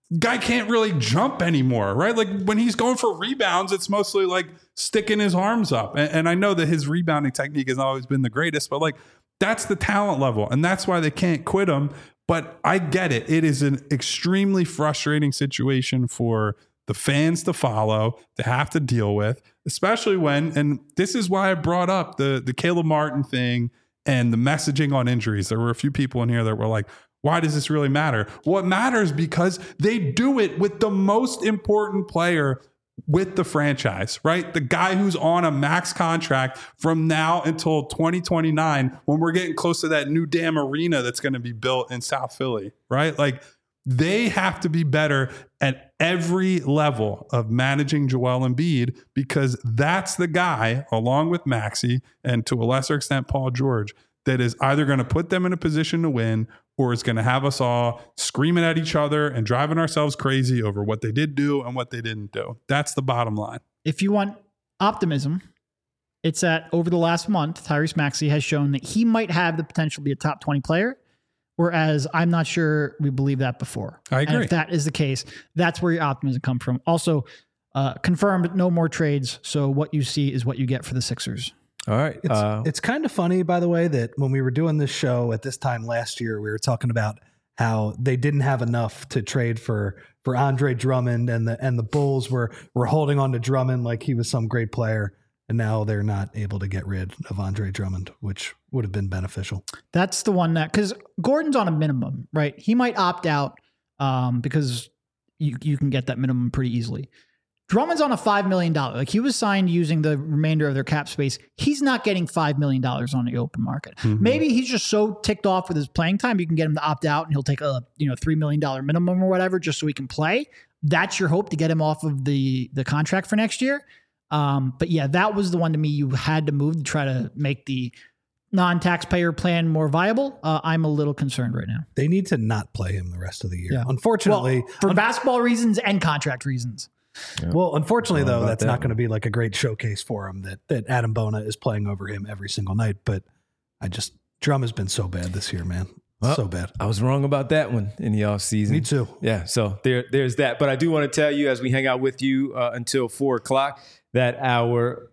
guy can't really jump anymore, right? Like when he's going for rebounds, it's mostly like sticking his arms up. And, and I know that his rebounding technique has always been the greatest, but like that's the talent level. And that's why they can't quit him. But I get it. It is an extremely frustrating situation for the fans to follow, to have to deal with, especially when, and this is why I brought up the, the Caleb Martin thing and the messaging on injuries. There were a few people in here that were like, why does this really matter? Well, it matters because they do it with the most important player with the franchise, right? The guy who's on a max contract from now until twenty twenty-nine, when we're getting close to that new damn arena that's going to be built in South Philly, right? Like they have to be better at every level of managing Joel Embiid because that's the guy, along with Maxey and to a lesser extent Paul George, that is either going to put them in a position to win or is going to have us all screaming at each other and driving ourselves crazy over what they did do and what they didn't do. That's the bottom line. If you want optimism, it's that over the last month, Tyrese Maxey has shown that he might have the potential to be a top twenty player, whereas I'm not sure we believe that before. I agree. And if that is the case, that's where your optimism comes from. Also, uh, confirmed no more trades, so what you see is what you get for the Sixers. All right. It's, Uh, it's kind of funny, by the way, that when we were doing this show at this time last year, we were talking about how they didn't have enough to trade for for Andre Drummond, and the and the Bulls were were holding on to Drummond like he was some great player, and now they're not able to get rid of Andre Drummond, which would have been beneficial. That's the one that, because Gordon's on a minimum, right? He might opt out um, because you you can get that minimum pretty easily. Drummond's on a five million dollars. Like he was signed using the remainder of their cap space. He's not getting five million dollars on the open market. Mm-hmm. Maybe he's just so ticked off with his playing time, you can get him to opt out and he'll take a you know three million dollars minimum or whatever just so he can play. That's your hope to get him off of the, the contract for next year. Um, but yeah, that was the one to me you had to move to try to make the non-taxpayer plan more viable. Uh, I'm a little concerned right now. They need to not play him the rest of the year. Yeah. Unfortunately. Well, for un- basketball reasons and contract reasons. Yeah. Well, unfortunately, though, that's that not going to be like a great showcase for him that that Adam Bona is playing over him every single night. But I just, Drum has been so bad this year, man. Well, so bad. I was wrong about that one in the offseason. Me too. Yeah, so there, there's that. But I do want to tell you, as we hang out with you uh, until four o'clock, that our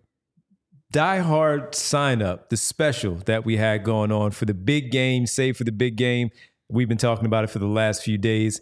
diehard sign up, the special that we had going on for the big game, save for the big game, we've been talking about it for the last few days.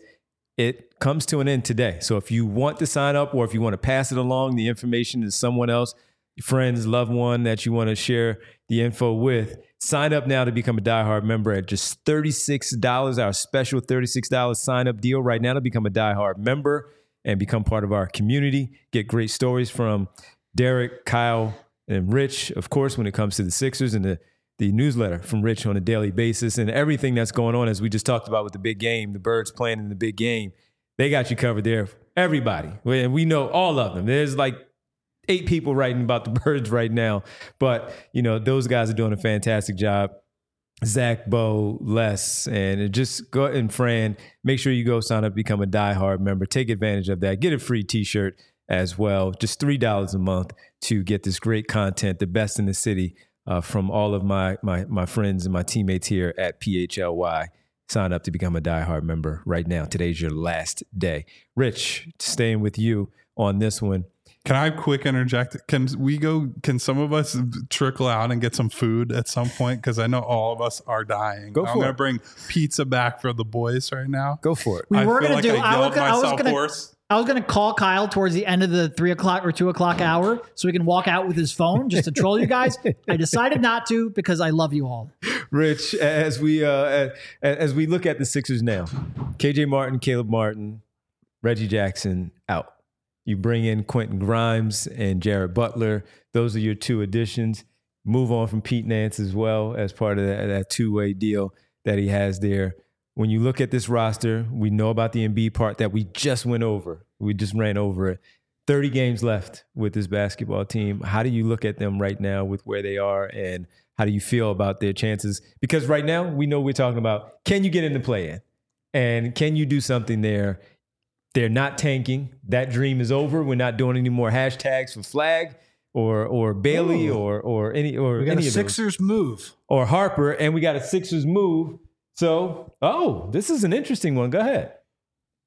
It comes to an end today. So if you want to sign up or if you want to pass it along, the information to someone else, your friends, loved one that you want to share the info with, sign up now to become a diehard member at just thirty-six dollars, our special thirty-six dollars sign up deal right now to become a diehard member and become part of our community. Get great stories from Derek, Kyle, and Rich, of course, when it comes to the Sixers, and the the newsletter from Rich on a daily basis, and everything that's going on, as we just talked about with the big game, the Birds playing in the big game. They got you covered there. Everybody. And we know all of them. There's like eight people writing about the Birds right now. But, you know, those guys are doing a fantastic job. Zach, Bo, Les, and just go and Fran, make sure you go sign up, become a diehard member. Take advantage of that. Get a free t-shirt as well. Just three dollars a month to get this great content, the best in the city. Uh, from all of my, my my friends and my teammates here at P H L Y. Sign up to become a diehard member right now. Today's your last day. Rich, staying with you on this one. Can I quick interject? Can we go, can some of us trickle out and get some food at some point? Because I know all of us are dying. Go for I'm going to it. bring pizza back for the boys right now. Go for it. We I were feel going like to do, I I was yelled gonna, I was myself going hoarse. to, I was going to call Kyle towards the end of the three o'clock or two o'clock hour so he can walk out with his phone just to troll you guys. I decided not to because I love you all. Rich, as we uh, as we look at the Sixers now, K J Martin, Caleb Martin, Reggie Jackson out. You bring in Quentin Grimes and Jared Butler. Those are your two additions. Move on from Pete Nance as well as part of that, that two-way deal that he has there. When you look at this roster, we know about the Embiid part that we just went over. We just ran over it. thirty games left with this basketball team. How do you look at them right now with where they are, and how do you feel about their chances? Because right now, we know we're talking about, can you get in the play-in? And can you do something there? They're not tanking. That dream is over. We're not doing any more hashtags for Flag or or Bailey Ooh. or or any or We got any a of those. Sixers move. Or Harper, and we got a Sixers move. So, oh, this is an interesting one. Go ahead.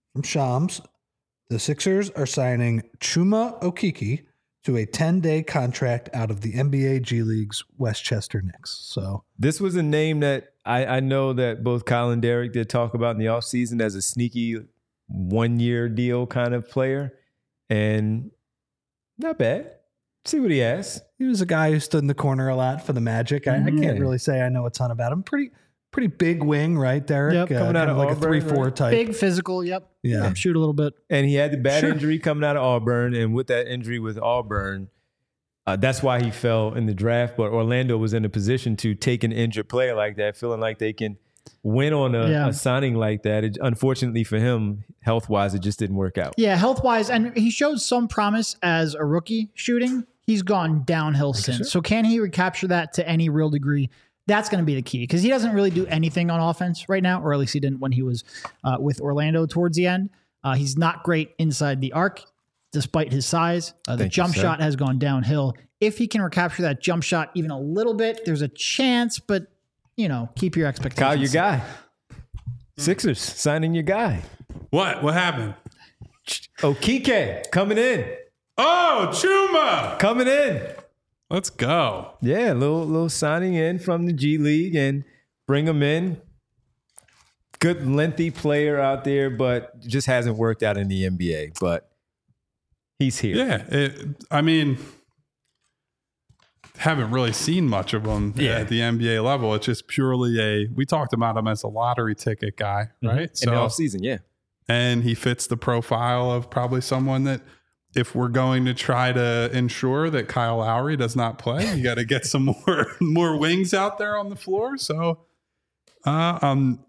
from Shams, the Sixers are signing Chuma Okeke to a ten-day contract out of the N B A G League's Westchester Knicks. So This was a name that I, I know that both Kyle and Derek did talk about in the offseason as a sneaky one-year deal kind of player. And not bad. See what he has. he was a guy who stood in the corner a lot for the Magic. I, I can't Yeah. really say I know a ton about him. Pretty pretty big wing, right, Derek? Yep. Coming out kind of like Auburn, a three four right? type. Big physical. Yep. Yeah. Shoot a little bit. And he had the bad Sure. injury coming out of Auburn. And with that injury with Auburn, uh, that's why he fell in the draft. But Orlando was in a position to take an injured player like that, feeling like they can win on a, Yeah. a signing like that. It, unfortunately for him, health-wise, it just didn't work out. Yeah, health wise, and he showed some promise as a rookie shooting. He's gone downhill since. So can he recapture that to any real degree? That's going to be the key because he doesn't really do anything on offense right now, or at least he didn't when he was uh, with Orlando towards the end. Uh, he's not great inside the arc, despite his size. Uh, the Thank you, jump sir. shot has gone downhill. If he can recapture that jump shot even a little bit, there's a chance, but, you know, keep your expectations. Kyle, your guy. Sixers signing your guy. What? What happened? Okeke coming in. Oh, Chuma. Coming in. Let's go. Yeah, a little little signing in from the G League and bring him in. Good lengthy player out there, but just hasn't worked out in the N B A. But he's here. Yeah. It, I mean, haven't really seen much of him Yeah. at the N B A level. It's just purely a, we talked about him as a lottery ticket guy, right? In the offseason, yeah. and he fits the profile of probably someone that if we're going to try to ensure that Kyle Lowry does not play, you got to get some more more wings out there on the floor. So uh, I'm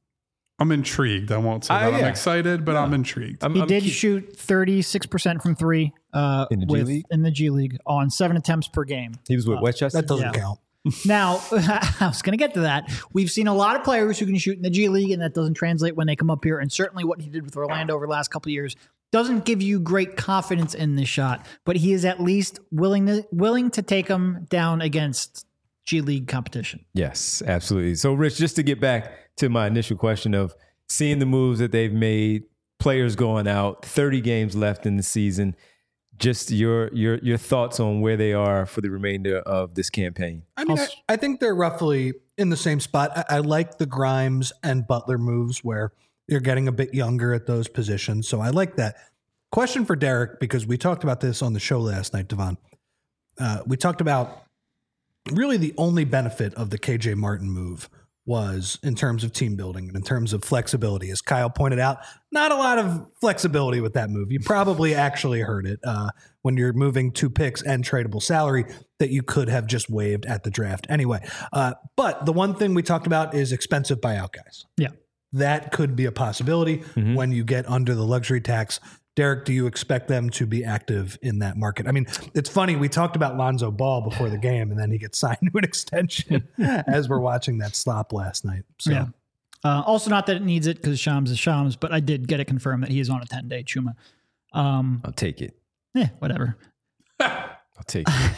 I'm intrigued. I won't say Ah, that I'm yeah. excited, but I'm intrigued. I'm, He I'm did keep- shoot thirty-six percent from three uh, In the G with, League? in the G League on seven attempts per game. He was with Westchester. That doesn't Yeah. count. Now, I was going to get to that. We've seen a lot of players who can shoot in the G League, and that doesn't translate when they come up here. And certainly what he did with Orlando over the last couple of years doesn't give you great confidence in this shot, but he is at least willing to, willing to take them down against G League competition. Yes, absolutely. So, Rich, just to get back to my initial question of seeing the moves that they've made, players going out, thirty games left in the season. Just your your your thoughts on where they are for the remainder of this campaign. I mean, I, I think they're roughly in the same spot. I, I like the Grimes and Butler moves where you're getting a bit younger at those positions. So I like that. Question for Derek, because we talked about this on the show last night, Devon. Uh, we talked about really the only benefit of the K J Martin move was in terms of team building and in terms of flexibility. As Kyle pointed out, not a lot of flexibility with that move. You probably actually heard it uh, when you're moving two picks and tradable salary that you could have just waived at the draft anyway. Uh, but the one thing we talked about is expensive buyout guys. Yeah. That could be a possibility when you get under the luxury tax. Derek, do you expect them to be active in that market? I mean, it's funny. We talked about Lonzo Ball before the game, and then he gets signed to an extension as we're watching that stop last night. So, Yeah. Uh, also, not that it needs it because Shams is Shams, but I did get it confirmed that he is on a ten-day Chuma. Um, I'll take it. eh, whatever. I'll take it.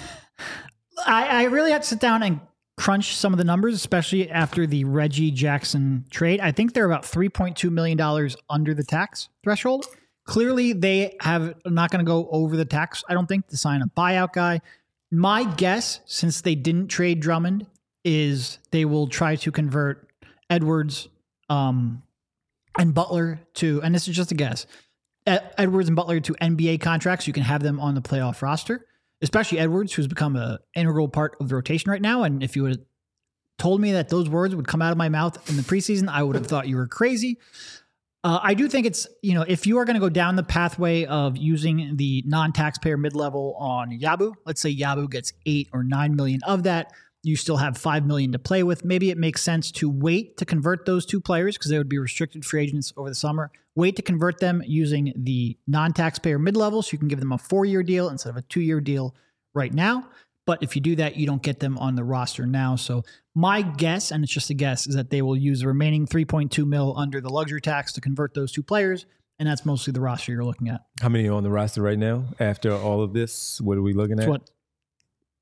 I, I really had to sit down and crunch some of the numbers, especially after the Reggie Jackson trade. I think they're about three point two million dollars under the tax threshold. Clearly, they have not going to go over the tax, I don't think, to sign a buyout guy. My guess, since they didn't trade Drummond, is they will try to convert Edwards um, and Butler to, and this is just a guess, Ed- Edwards and Butler to N B A contracts. You can have them on the playoff roster, especially Edwards, who's become an integral part of the rotation right now. And if you would have told me that those words would come out of my mouth in the preseason, I would have thought you were crazy. Uh, I do think it's, you know, if you are going to go down the pathway of using the non-taxpayer mid-level on Yabu, let's say Yabu gets eight or nine million of that, you still have five million to play with. Maybe it makes sense to wait to convert those two players because they would be restricted free agents over the summer. Wait to convert them using the non-taxpayer mid-level so you can give them a four-year deal instead of a two-year deal right now. But if you do that, you don't get them on the roster now. So my guess, and it's just a guess, is that they will use the remaining three point two mil under the luxury tax to convert those two players. And that's mostly the roster you're looking at. How many are on the roster right now after all of this? What are we looking It's at? what,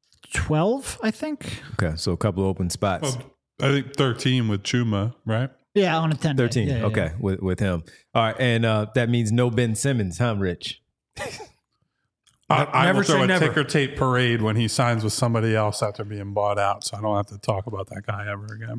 twelve, I think? Okay, so a couple of open spots. Well, I think thirteen with Chuma, right? Yeah, on a ten. thirteen. Yeah, yeah, okay, yeah. with with him. All right, and uh, that means no Ben Simmons, huh, Rich? I, I Never will throw say a never. ticker tape parade when he signs with somebody else after being bought out, so I don't have to talk about that guy ever again.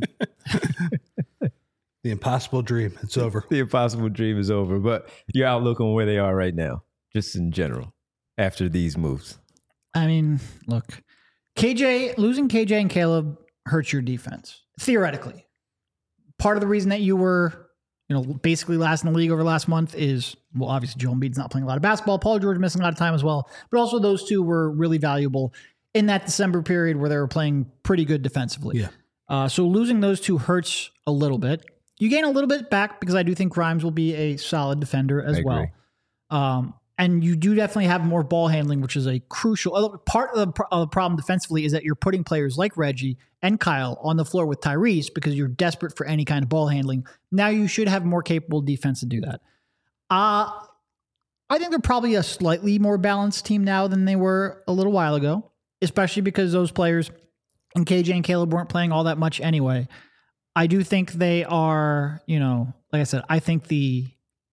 The impossible dream. It's over. The impossible dream is over. But your outlook on where they are right now, just in general, after these moves. I mean, look, K J losing K J and Caleb hurts your defense theoretically. Part of the reason that you were, you know, basically last in the league over the last month is, well, obviously Joel Embiid's not playing a lot of basketball. Paul George missing a lot of time as well, but also those two were really valuable in that December period where they were playing pretty good defensively. Yeah. Uh, so losing those two hurts a little bit. You gain a little bit back because I do think Grimes will be a solid defender as I well. agree. Um, and you do definitely have more ball handling, which is a crucial part of the, of the problem defensively is that you're putting players like Reggie and Kyle on the floor with Tyrese because you're desperate for any kind of ball handling. Now you should have more capable defense to do that. Uh, I think they're probably a slightly more balanced team now than they were a little while ago, especially because those players and K J and Caleb weren't playing all that much anyway. I do think they are, you know, like I said, I think the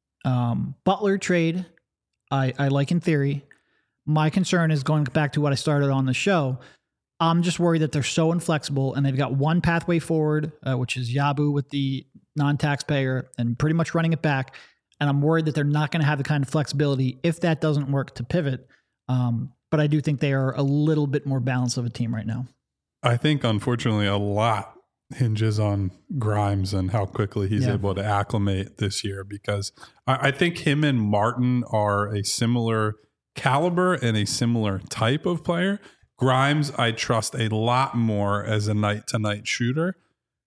um, Butler trade, I, I like in theory. My concern is going back to what I started on the show. I'm just worried that they're so inflexible and they've got one pathway forward, uh, which is Yabu with the non-taxpayer and pretty much running it back. And I'm worried that they're not going to have the kind of flexibility if that doesn't work to pivot. Um, but I do think they are a little bit more balanced of a team right now. I think, unfortunately, a lot hinges on Grimes and how quickly he's Yeah. able to acclimate this year, because I, I think him and Martin are a similar caliber and a similar type of player. Grimes, I trust a lot more as a night-to-night shooter.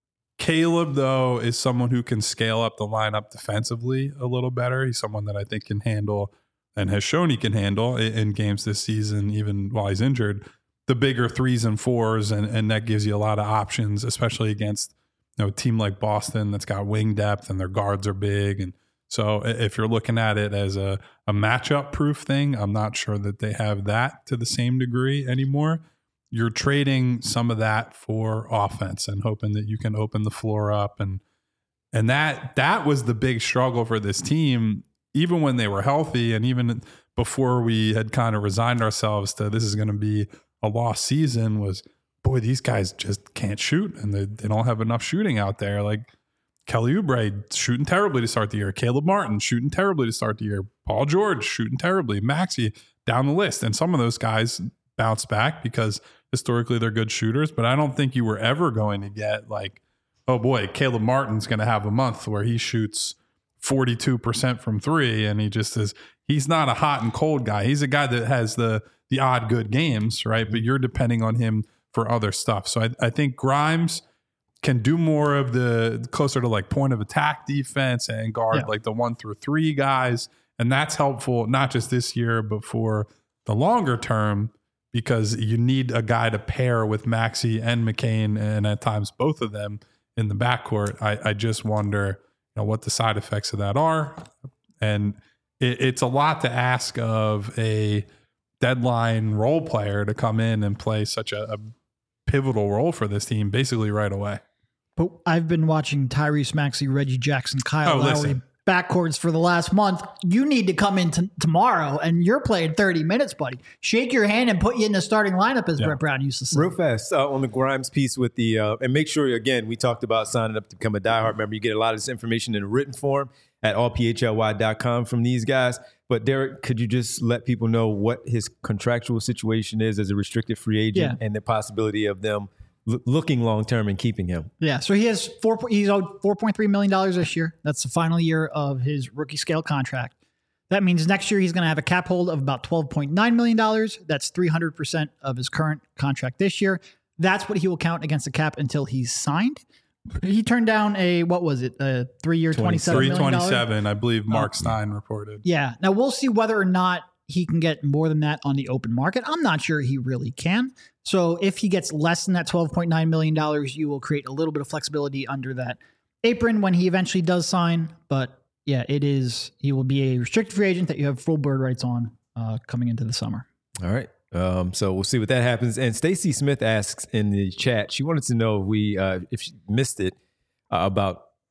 Caleb, though, is someone who can scale up the lineup defensively a little better. He's someone that I think can handle and has shown he can handle in, in games this season, even while he's injured, the bigger threes and fours, and, and that gives you a lot of options, especially against, you know, a team like Boston that's got wing depth and their guards are big. And so if you're looking at it as a, a matchup proof thing, I'm not sure that they have that to the same degree anymore. You're trading some of that for offense and hoping that you can open the floor up. And and that that was the big struggle for this team, even when they were healthy and even before we had kind of resigned ourselves to this is going to be a lost season, was, boy, these guys just can't shoot and they, they don't have enough shooting out there. Like Kelly Oubre shooting terribly to start the year. Caleb Martin shooting terribly to start the year. Paul George shooting terribly. Maxey down the list. And some of those guys bounce back because historically they're good shooters, but I don't think you were ever going to get like, oh boy, Caleb Martin's going to have a month where he shoots forty-two percent from three and he just is, he's not a hot and cold guy. He's a guy that has the the odd good games, right? But you're depending on him for other stuff. So I, I think Grimes can do more of the closer to like point of attack defense and guard Yeah. like the one through three guys. And that's helpful, not just this year, but for the longer term, because you need a guy to pair with Maxey and McCain, and at times both of them in the backcourt. I, I just wonder, you know, what the side effects of that are. And it, it's a lot to ask of a deadline role player to come in and play such a, a pivotal role for this team basically right away. But I've been watching Tyrese Maxey, Reggie Jackson, Kyle Oh, Lowry listen. backcourts for the last month. You need to come in t- tomorrow and you're playing thirty minutes, buddy. Shake your hand and put you in the starting lineup, as Yeah. Brett Brown used to say. Real fast uh, on the Grimes piece with the, uh, and make sure, again, we talked about signing up to become a diehard member. You get a lot of this information in written form at all p h l y dot com from these guys. But Derek, could you just let people know what his contractual situation is as a restricted free agent Yeah. and the possibility of them l- looking long-term and keeping him? Yeah, so he has four. He's owed four point three million dollars this year. That's the final year of his rookie scale contract. That means next year he's going to have a cap hold of about twelve point nine million dollars. That's three hundred percent of his current contract this year. That's what he will count against the cap until he's signed. He turned down a, what was it, a three-year, twenty-seven three million dollars? twenty-seven, I believe Mark Stein reported. Yeah. Now we'll see whether or not he can get more than that on the open market. I'm not sure he really can. So if he gets less than that twelve point nine million dollars, you will create a little bit of flexibility under that apron when he eventually does sign. But yeah, it is, he will be a restricted free agent that you have full bird rights on uh, coming into the summer. All right. Um, so we'll see what that happens. And Stacy Smith asks in the chat, she wanted to know if we, uh, if she missed it, uh, about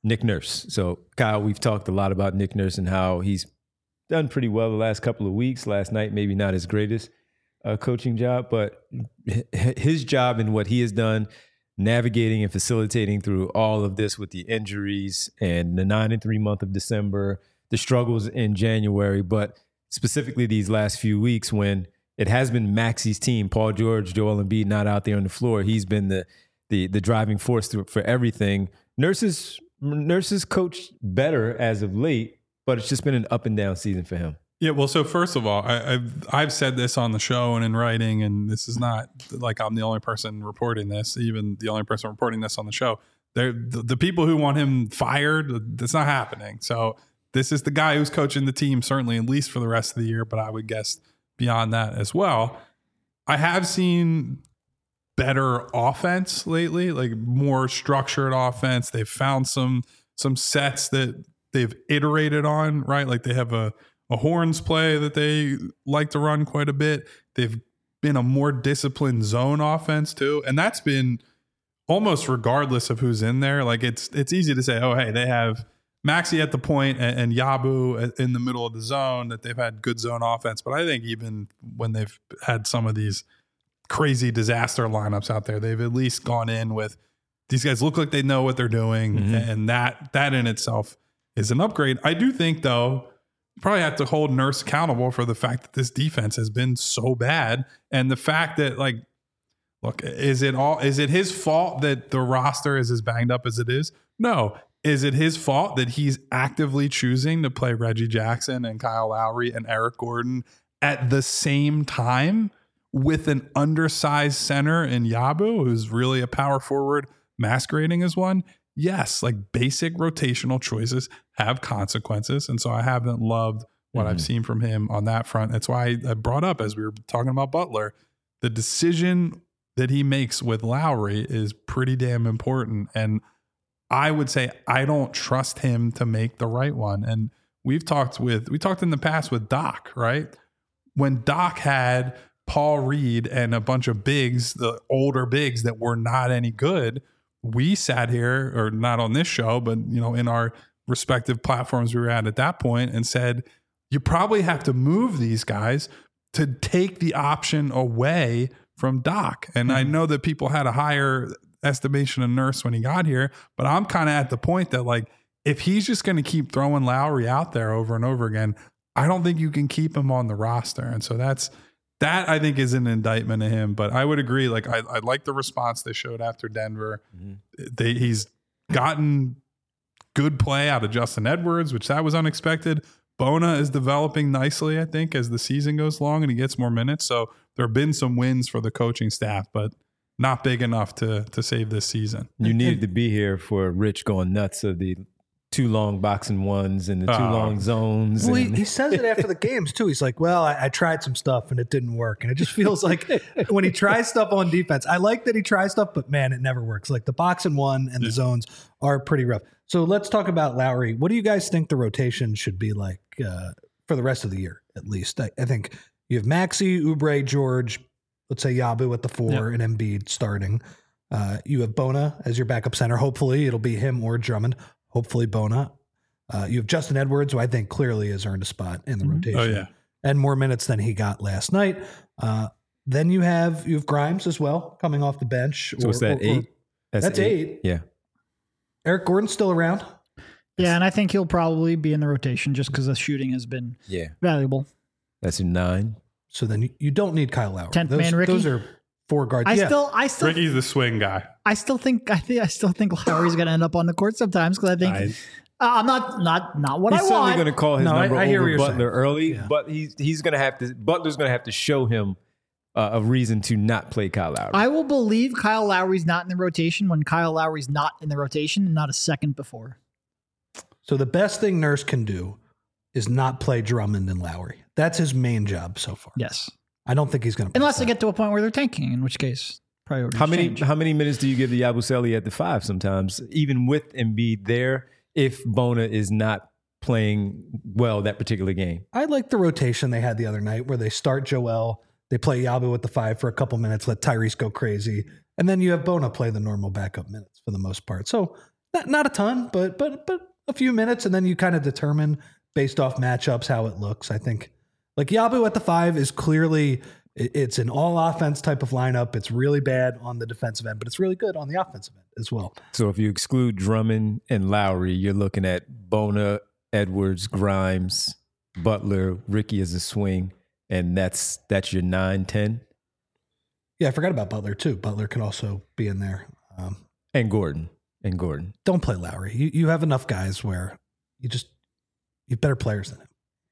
Nick Nurse. So, Kyle, we've talked a lot about Nick Nurse and how he's done pretty well the last couple of weeks. Last night, maybe not his greatest uh, coaching job, but his job and what he has done, navigating and facilitating through all of this with the injuries and the nine and three month of December, the struggles in January, but specifically these last few weeks when it has been Maxi's team, Paul George, Joel Embiid not out there on the floor. He's been the the the driving force through, for everything. Nurses Nurses coached better as of late, but it's just been an up and down season for him. Yeah, well, so first of all, I, I've I've said this on the show and in writing, and this is not like I'm the only person reporting this, even the only person reporting this on the show. They're, the, the people who want him fired, that's not happening. So this is the guy who's coaching the team, certainly at least for the rest of the year, but I would guess beyond that as well. I have seen better offense lately, like more structured offense. They've found some some sets that they've iterated on, right? Like they have a a horns play that they like to run quite a bit. They've been a more disciplined zone offense too. And that's been almost regardless of who's in there. Like it's it's easy to say, oh, hey, they have Maxey at the point and, and Yabu in the middle of the zone, that they've had good zone offense. But I think even when they've had some of these crazy disaster lineups out there, they've at least gone in with these guys look like they know what they're doing. Mm-hmm. And that that in itself is an upgrade. I do think, though, probably have to hold Nurse accountable for the fact that this defense has been so bad. And the fact that, like, look, is it all, is it his fault that the roster is as banged up as it is? No. Is it his fault that he's actively choosing to play Reggie Jackson and Kyle Lowry and Eric Gordon at the same time with an undersized center in Yabu, who's really a power forward masquerading as one? Yes, like basic rotational choices have consequences. And so I haven't loved what mm-hmm. I've seen from him on that front. That's why I brought up, as we were talking about Butler, the decision that he makes with Lowry is pretty damn important. And I would say I don't trust him to make the right one. And we've talked with, we talked in the past with Doc, right? When Doc had Paul Reed and a bunch of bigs, the older bigs that were not any good, we sat here, or not on this show, but you know, in our respective platforms we were at at that point, and said, you probably have to move these guys to take the option away from Doc. And mm-hmm. I know that people had a higher estimation of Nurse when he got here, but I'm kind of at the point that, like, if he's just going to keep throwing Lowry out there over and over again, I don't think you can keep him on the roster. And so that's, that I think is an indictment of him. But I would agree. Like I, I like the response they showed after Denver. Mm-hmm. They, he's gotten good play out of Justin Edwards, which that was unexpected. Bona is developing nicely, I think, as the season goes along and he gets more minutes. So there have been some wins for the coaching staff, but not big enough to to save this season. You needed to be here for Rich going nuts of the two long boxing ones and the two uh, long zones. Well, and he, he says it after the games too. He's like, well, I, I tried some stuff and it didn't work. And it just feels like when he tries stuff on defense, I like that he tries stuff, but man, it never works. Like the boxing one and the zones are pretty rough. So let's talk about Lowry. What do you guys think the rotation should be like uh, for the rest of the year, at least? I, I think you have Maxey, Oubre, George, let's say Yabu at the four, yep. and Embiid starting. Uh, you have Bona as your backup center. Hopefully it'll be him or Drummond. Hopefully Bona. Uh, you have Justin Edwards, who I think clearly has earned a spot in the mm-hmm. rotation. Oh, yeah. And more minutes than he got last night. Uh, then you have you have Grimes as well, coming off the bench. So or, is that or, eight? Or, that's, that's eight. eight. Yeah. Eric Gordon's still around. Yeah, and I think he'll probably be in the rotation just because the shooting has been yeah. valuable. That's a nine. So then you, you don't need Kyle Lowry. Tenth those, man Ricky. Those are four guards. I yeah. still, I still, Ricky's the swing guy. I still think, I think, I still think Lowry's going to end up on the court sometimes because I think I, uh, I'm not, not, not what he's I want. He's certainly going to call his no, number I, I hear over what Butler saying. early, Yeah. but he's he's going to have to. Butler's going to have to show him uh, a reason to not play Kyle Lowry. I will believe Kyle Lowry's not in the rotation when Kyle Lowry's not in the rotation and not a second before. So the best thing Nurse can do is not play Drummond and Lowry. That's his main job so far. Yes. I don't think he's going to. Unless they get to a point where they're tanking, in which case priorities How many change. how many minutes do you give the Yabusele at the five sometimes, even with Embiid there, if Bona is not playing well that particular game? I like the rotation they had the other night where they start Joel, they play Yabu at the five for a couple minutes, let Tyrese go crazy, and then you have Bona play the normal backup minutes for the most part. So not not a ton, but but but a few minutes, and then you kind of determine based off matchups how it looks. I think like Yabu at the five is clearly it's an all offense type of lineup. It's really bad on the defensive end, but it's really good on the offensive end as well. So if you exclude Drummond and Lowry, you're looking at Bona, Edwards, Grimes, Butler, Ricky as a swing, and that's that's your nine ten. Yeah, I forgot about Butler too. Butler could also be in there. Um, and Gordon. And Gordon. Don't play Lowry. You you have enough guys where you just you have better players than him.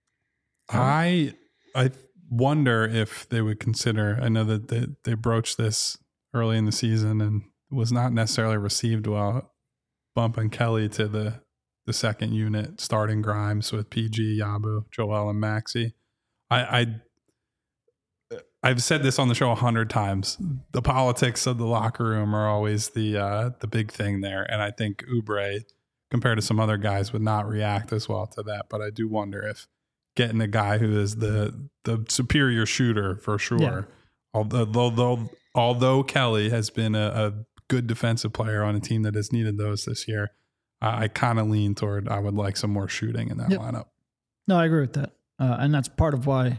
I I wonder if they would consider. I know that they, they broached this early in the season and was not necessarily received well. Bumping Kelly to the the second unit, starting Grimes with P G, Yabu, Joel, and Maxey. I, I I've said this on the show a hundred times. The politics of the locker room are always the uh, the big thing there, and I think Oubre, compared to some other guys, would not react as well to that. But I do wonder if getting a guy who is the the superior shooter for sure, Yeah. although although although Kelly has been a, a good defensive player on a team that has needed those this year, I, I kind of lean toward I would like some more shooting in that Yep. lineup. No, I agree with that. Uh, and that's part of why,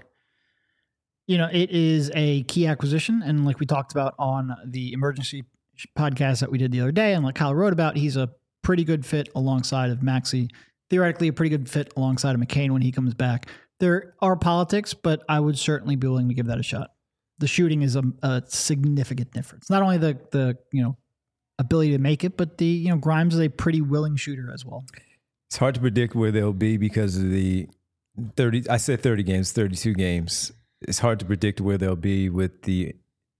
you know, it is a key acquisition. And like we talked about on the emergency podcast that we did the other day, and like Kyle wrote about, he's a pretty good fit alongside of Maxey. Theoretically, a pretty good fit alongside of McCain when he comes back. There are politics, but I would certainly be willing to give that a shot. The shooting is a, a significant difference. Not only the the you know ability to make it, but the you know Grimes is a pretty willing shooter as well. It's hard to predict where they'll be because of the thirty. I said thirty games, thirty-two games. It's hard to predict where they'll be with the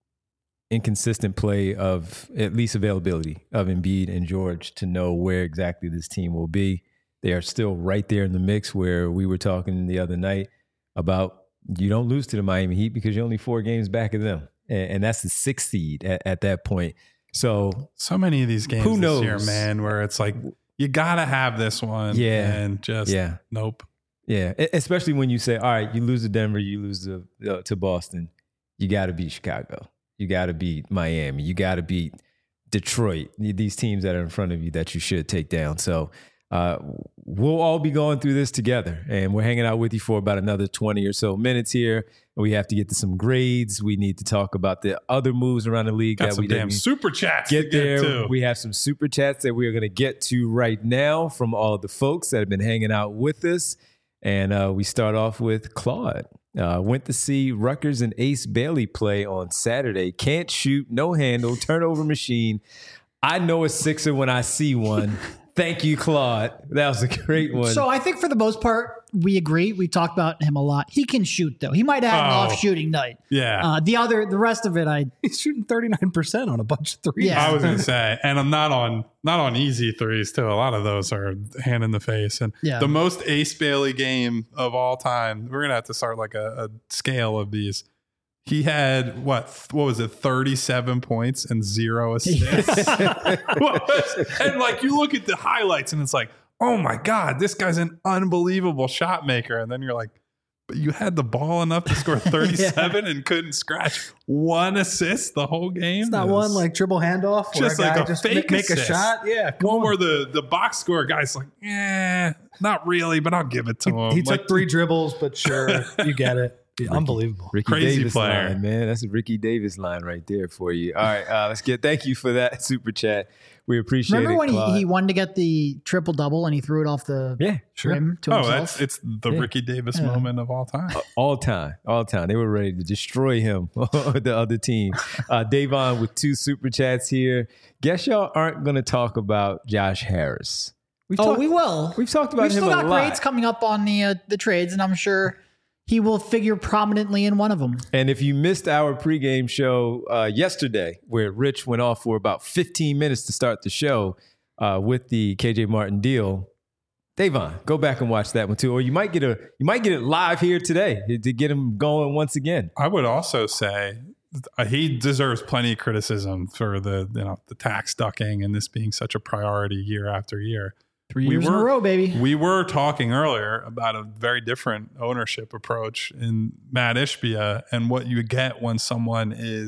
inconsistent play of at least availability of Embiid and George to know where exactly this team will be. They are still right there in the mix where we were talking the other night about you don't lose to the Miami Heat because you're only four games back of them. And, and that's the sixth seed at, at that point. So So many of these games Who this knows? year, man, where it's like you gotta have this one, Yeah. and just Yeah. nope. yeah, e- especially when you say, all right, you lose to Denver, you lose to, uh, to Boston, you got to beat Chicago. You got to beat Miami. You got to beat Detroit. These teams that are in front of you that you should take down. So uh, we'll all be going through this together, and we're hanging out with you for about another twenty or so minutes here. We have to get to some grades. We need to talk about the other moves around the league. Got that some we damn didn't super chats get to there. get to. We have some super chats that we are going to get to right now from all of the folks that have been hanging out with us. And uh, we start off with Claude. Uh, went to see Rutgers and Ace Bailey play on Saturday. Can't shoot, no handle, turnover machine. I know a Sixer when I see one. Thank you, Claude. That was a great one. So I think for the most part, we agree. We talked about him a lot. He can shoot, though. He might have had an Oh. off shooting night. Yeah. Uh, the other, the rest of it, I He's shooting thirty-nine percent on a bunch of threes. Yeah. I was gonna say, and I'm not on not on easy threes too. A lot of those are hand in the face. And Yeah. the most Ace Bailey game of all time. We're gonna have to start like a, a scale of these. He had what? What was it? thirty-seven points and zero assists. What was- and like you look at the highlights, and it's like, oh my god, this guy's an unbelievable shot maker. And then you're like, but you had the ball enough to score thirty-seven and couldn't scratch one assist the whole game. It's not It was one like dribble handoff where just a guy like a just fake ma- make a assist. shot. Yeah, come one on. where the the box score guy's like, eh, not really, but I'll give it to him. He Like, took three dribbles, but sure, you get it. Yeah, unbelievable. Ricky Crazy Davis player. line, man. That's a Ricky Davis line right there for you. All right, uh, let's get. Thank you for that super chat. We appreciate remember it. when he, Claude. he wanted to get the triple double and he threw it off the yeah, rim to Oh, himself. that's it's the Yeah. Ricky Davis Yeah. moment of all time. all time, all time. They were ready to destroy him or the other team. Uh, Davon with two super chats here. Guess y'all aren't going to talk about Josh Harris. We've oh, talked, we will. We've talked about We've him still a got lot. grades coming up on the uh, the trades, and I'm sure he will figure prominently in one of them. And if you missed our pregame show uh, yesterday, where Rich went off for about fifteen minutes to start the show uh, with the K J Martin deal, Davon, go back and watch that one too. Or you might get a you might get it live here today to get him going once again. I would also say uh, he deserves plenty of criticism for the you know the tax ducking and this being such a priority year after year. Three We years in were- a row, baby. We were talking earlier about a very different ownership approach in Matt Ishbia and what you get when someone is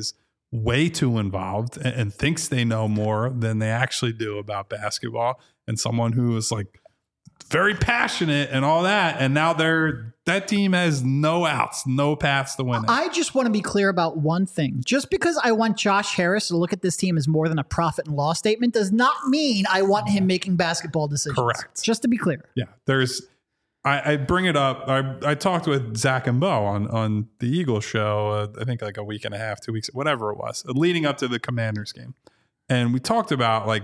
way too involved and, and thinks they know more than they actually do about basketball, and someone who is like very passionate and all that. And now they're that team has no outs, no paths to win it. I just want to be clear about one thing. Just because I want Josh Harris to look at this team as more than a profit and loss statement does not mean I want him making basketball decisions. Correct. Just to be clear. Yeah. There's, I, I bring it up. I, I talked with Zach and Bo on, on the Eagles show, uh, I think like a week and a half, two weeks, whatever it was, leading up to the Commanders game. And we talked about, like,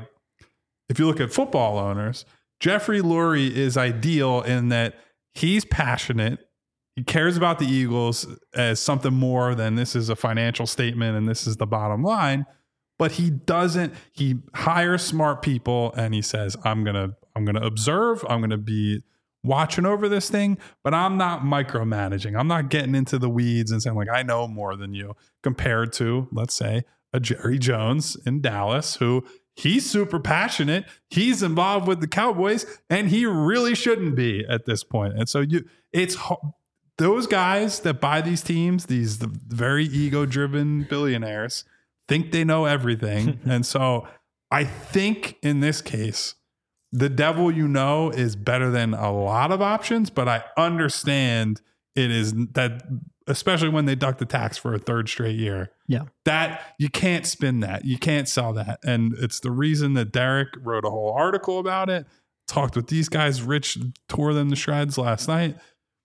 if you look at football owners, Jeffrey Lurie is ideal in that he's passionate. He cares about the Eagles as something more than this is a financial statement and this is the bottom line. But he doesn't, he hires smart people and he says, I'm going to, I'm going to observe. I'm going to be watching over this thing, but I'm not micromanaging. I'm not getting into the weeds and saying like, I know more than you, compared to, let's say, a Jerry Jones in Dallas, who he's super passionate. He's involved with the Cowboys, and he really shouldn't be at this point. And so you, it's those guys that buy these teams, these the very ego-driven billionaires, think they know everything. And so I think in this case, the devil you know is better than a lot of options, but I understand it is that, especially when they duck the tax for a third straight year. Yeah. That you can't spin that. You can't sell that. And it's the reason that Derek wrote a whole article about it, talked with these guys. Rich tore them to shreds last night.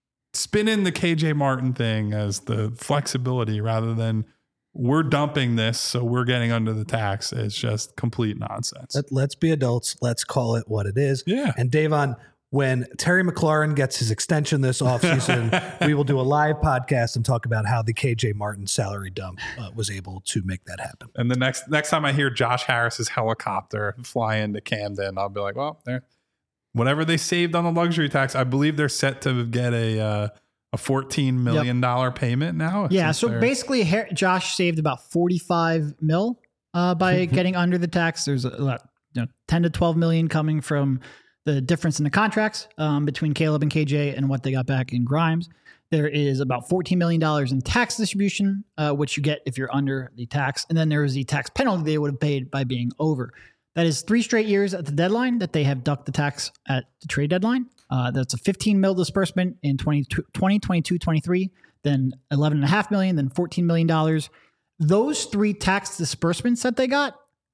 Spin in the K J Martin thing as the flexibility rather than we're dumping this, so we're getting under the tax. It's just complete nonsense. Let, let's be adults. Let's call it what it is. Yeah. And Davon, when Terry McLaurin gets his extension this offseason, we will do a live podcast and talk about how the K J Martin salary dump uh, was able to make that happen. And the next next time I hear Josh Harris's helicopter fly into Camden, I'll be like, well, there, whatever they saved on the luxury tax, I believe they're set to get a uh, a fourteen million dollars yep. payment now. Yeah. So they're... basically, Josh saved about forty-five mil uh, by getting under the tax. There's a lot, you know, ten to twelve million coming from the difference in the contracts um, between Caleb and K J and what they got back in Grimes. There is about fourteen million dollars in tax distribution, uh, which you get if you're under the tax. And then there is the tax penalty they would have paid by being over. That is three straight years at the deadline that they have ducked the tax at the trade deadline. Uh, that's a fifteen mil disbursement in twenty twenty-two twenty-three, then eleven point five million, then fourteen million dollars. Those three tax disbursements that they got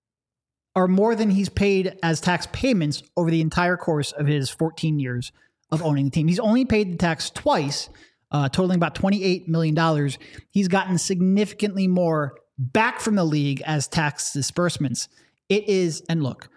are more than he's paid as tax payments over the entire course of his fourteen years of owning the team. He's only paid the tax twice, uh, totaling about twenty-eight million dollars. He's gotten significantly more back from the league as tax disbursements. It is, and look,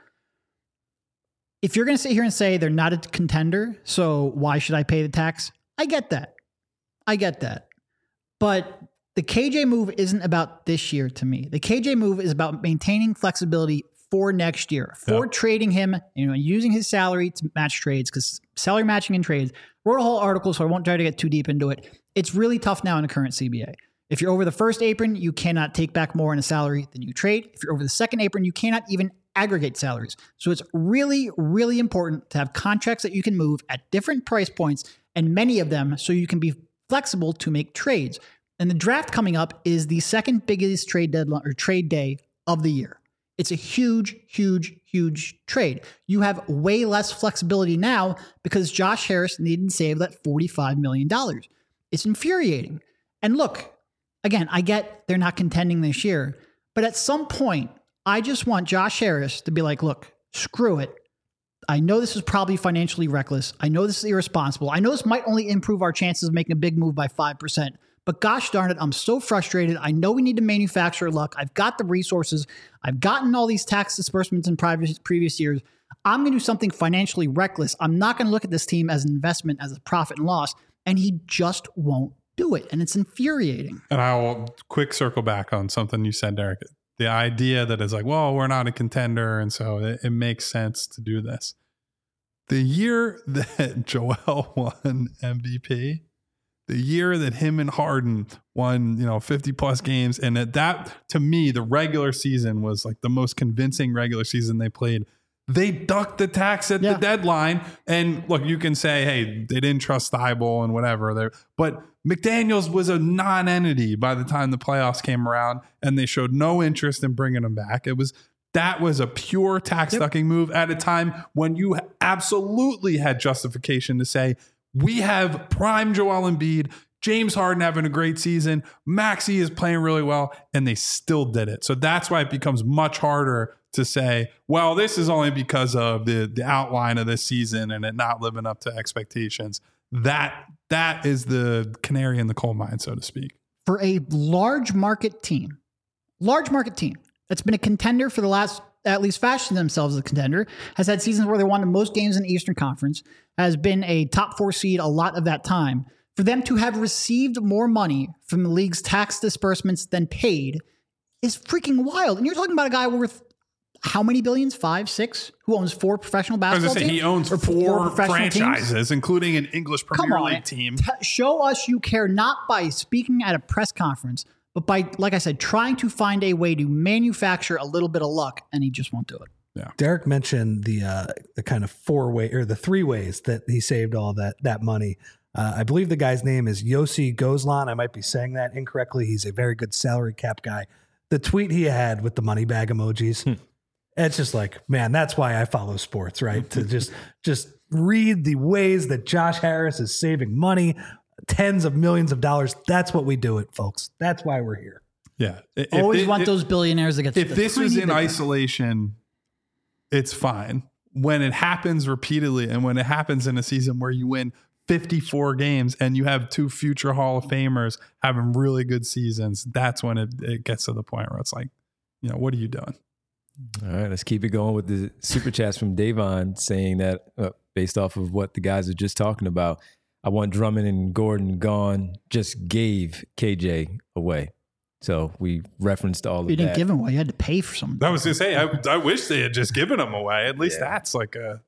if you're going to sit here and say they're not a contender, so why should I pay the tax? I get that. I get that. But the K J move isn't about this year to me. The K J move is about maintaining flexibility for next year, for yep. trading him, you know, using his salary to match trades, because salary matching in trades. Wrote a whole article, so I won't try to get too deep into it. It's really tough now in the current C B A. If you're over the first apron, you cannot take back more in a salary than you trade. If you're over the second apron, you cannot even aggregate salaries. So it's really, really important to have contracts that you can move at different price points, and many of them so you can be flexible to make trades. And the draft coming up is the second biggest trade deadline or trade day of the year. It's a huge, huge, huge trade. You have way less flexibility now because Josh Harris needed to save that forty-five million dollars. It's infuriating. And look, again, I get they're not contending this year, but at some point, I just want Josh Harris to be like, look, screw it. I know this is probably financially reckless. I know this is irresponsible. I know this might only improve our chances of making a big move by five percent. But gosh darn it, I'm so frustrated. I know we need to manufacture luck. I've got the resources. I've gotten all these tax disbursements in previous, previous years. I'm going to do something financially reckless. I'm not going to look at this team as an investment, as a profit and loss. And he just won't do it. And it's infuriating. And I'll quick circle back on something you said, Derek. The idea that it's like, well, we're not a contender, and so it, it makes sense to do this. The year that Joel won M V P, the year that him and Harden won, you know, fifty plus games, and at that, to me, the regular season was like the most convincing regular season they played. They ducked the tax at Yeah. the deadline. And look, you can say, hey, they didn't trust Thibault and whatever. They're, but McDaniels was a non-entity by the time the playoffs came around, and they showed no interest in bringing him back. It was that was a pure tax ducking move at a time when you absolutely had justification to say, we have prime Joel Embiid, James Harden having a great season, Maxey is playing really well, and they still did it. So that's why it becomes much harder to say, well, this is only because of the, the outline of this season and it not living up to expectations. That that is the canary in the coal mine, so to speak. For a large market team, large market team that's been a contender for the last, at least fashioned themselves as a contender, has had seasons where they won the most games in the Eastern Conference, has been a top four seed a lot of that time. For them to have received more money from the league's tax disbursements than paid is freaking wild. And you're talking about a guy worth how many billions? Five, six? Who owns four professional I was basketball going to say, teams? he owns Or four professional teams? franchises, including an English Come Premier on. League team. T- show us you care, not by speaking at a press conference, but by, like I said, trying to find a way to manufacture a little bit of luck, and he just won't do it. Derek mentioned the uh, the kind of four way or the three ways that he saved all that that money. Uh, I believe the guy's name is Yossi Gozlan. I might be saying that incorrectly. He's a very good salary cap guy. The tweet he had with the money bag emojis, Hmm. it's just like, man, that's why I follow sports, right? to just just read the ways that Josh Harris is saving money, tens of millions of dollars. That's what we do it, folks. That's why we're here. Yeah. If Always thi- want if- those billionaires that get If the this was tiny in bit. isolation, it's fine. When it happens repeatedly and when it happens in a season where you win fifty-four games and you have two future Hall of Famers having really good seasons, that's when it, it gets to the point where it's like, you know, what are you doing? All right, let's keep it going with the super chats from Davon saying that uh, based off of what the guys are just talking about, I want Drummond and Gordon gone, just gave K J away. So we referenced all of You didn't that. give him away. You had to pay for something. I was going to say, I, I wish they had just given them away. At least Yeah. that's like a,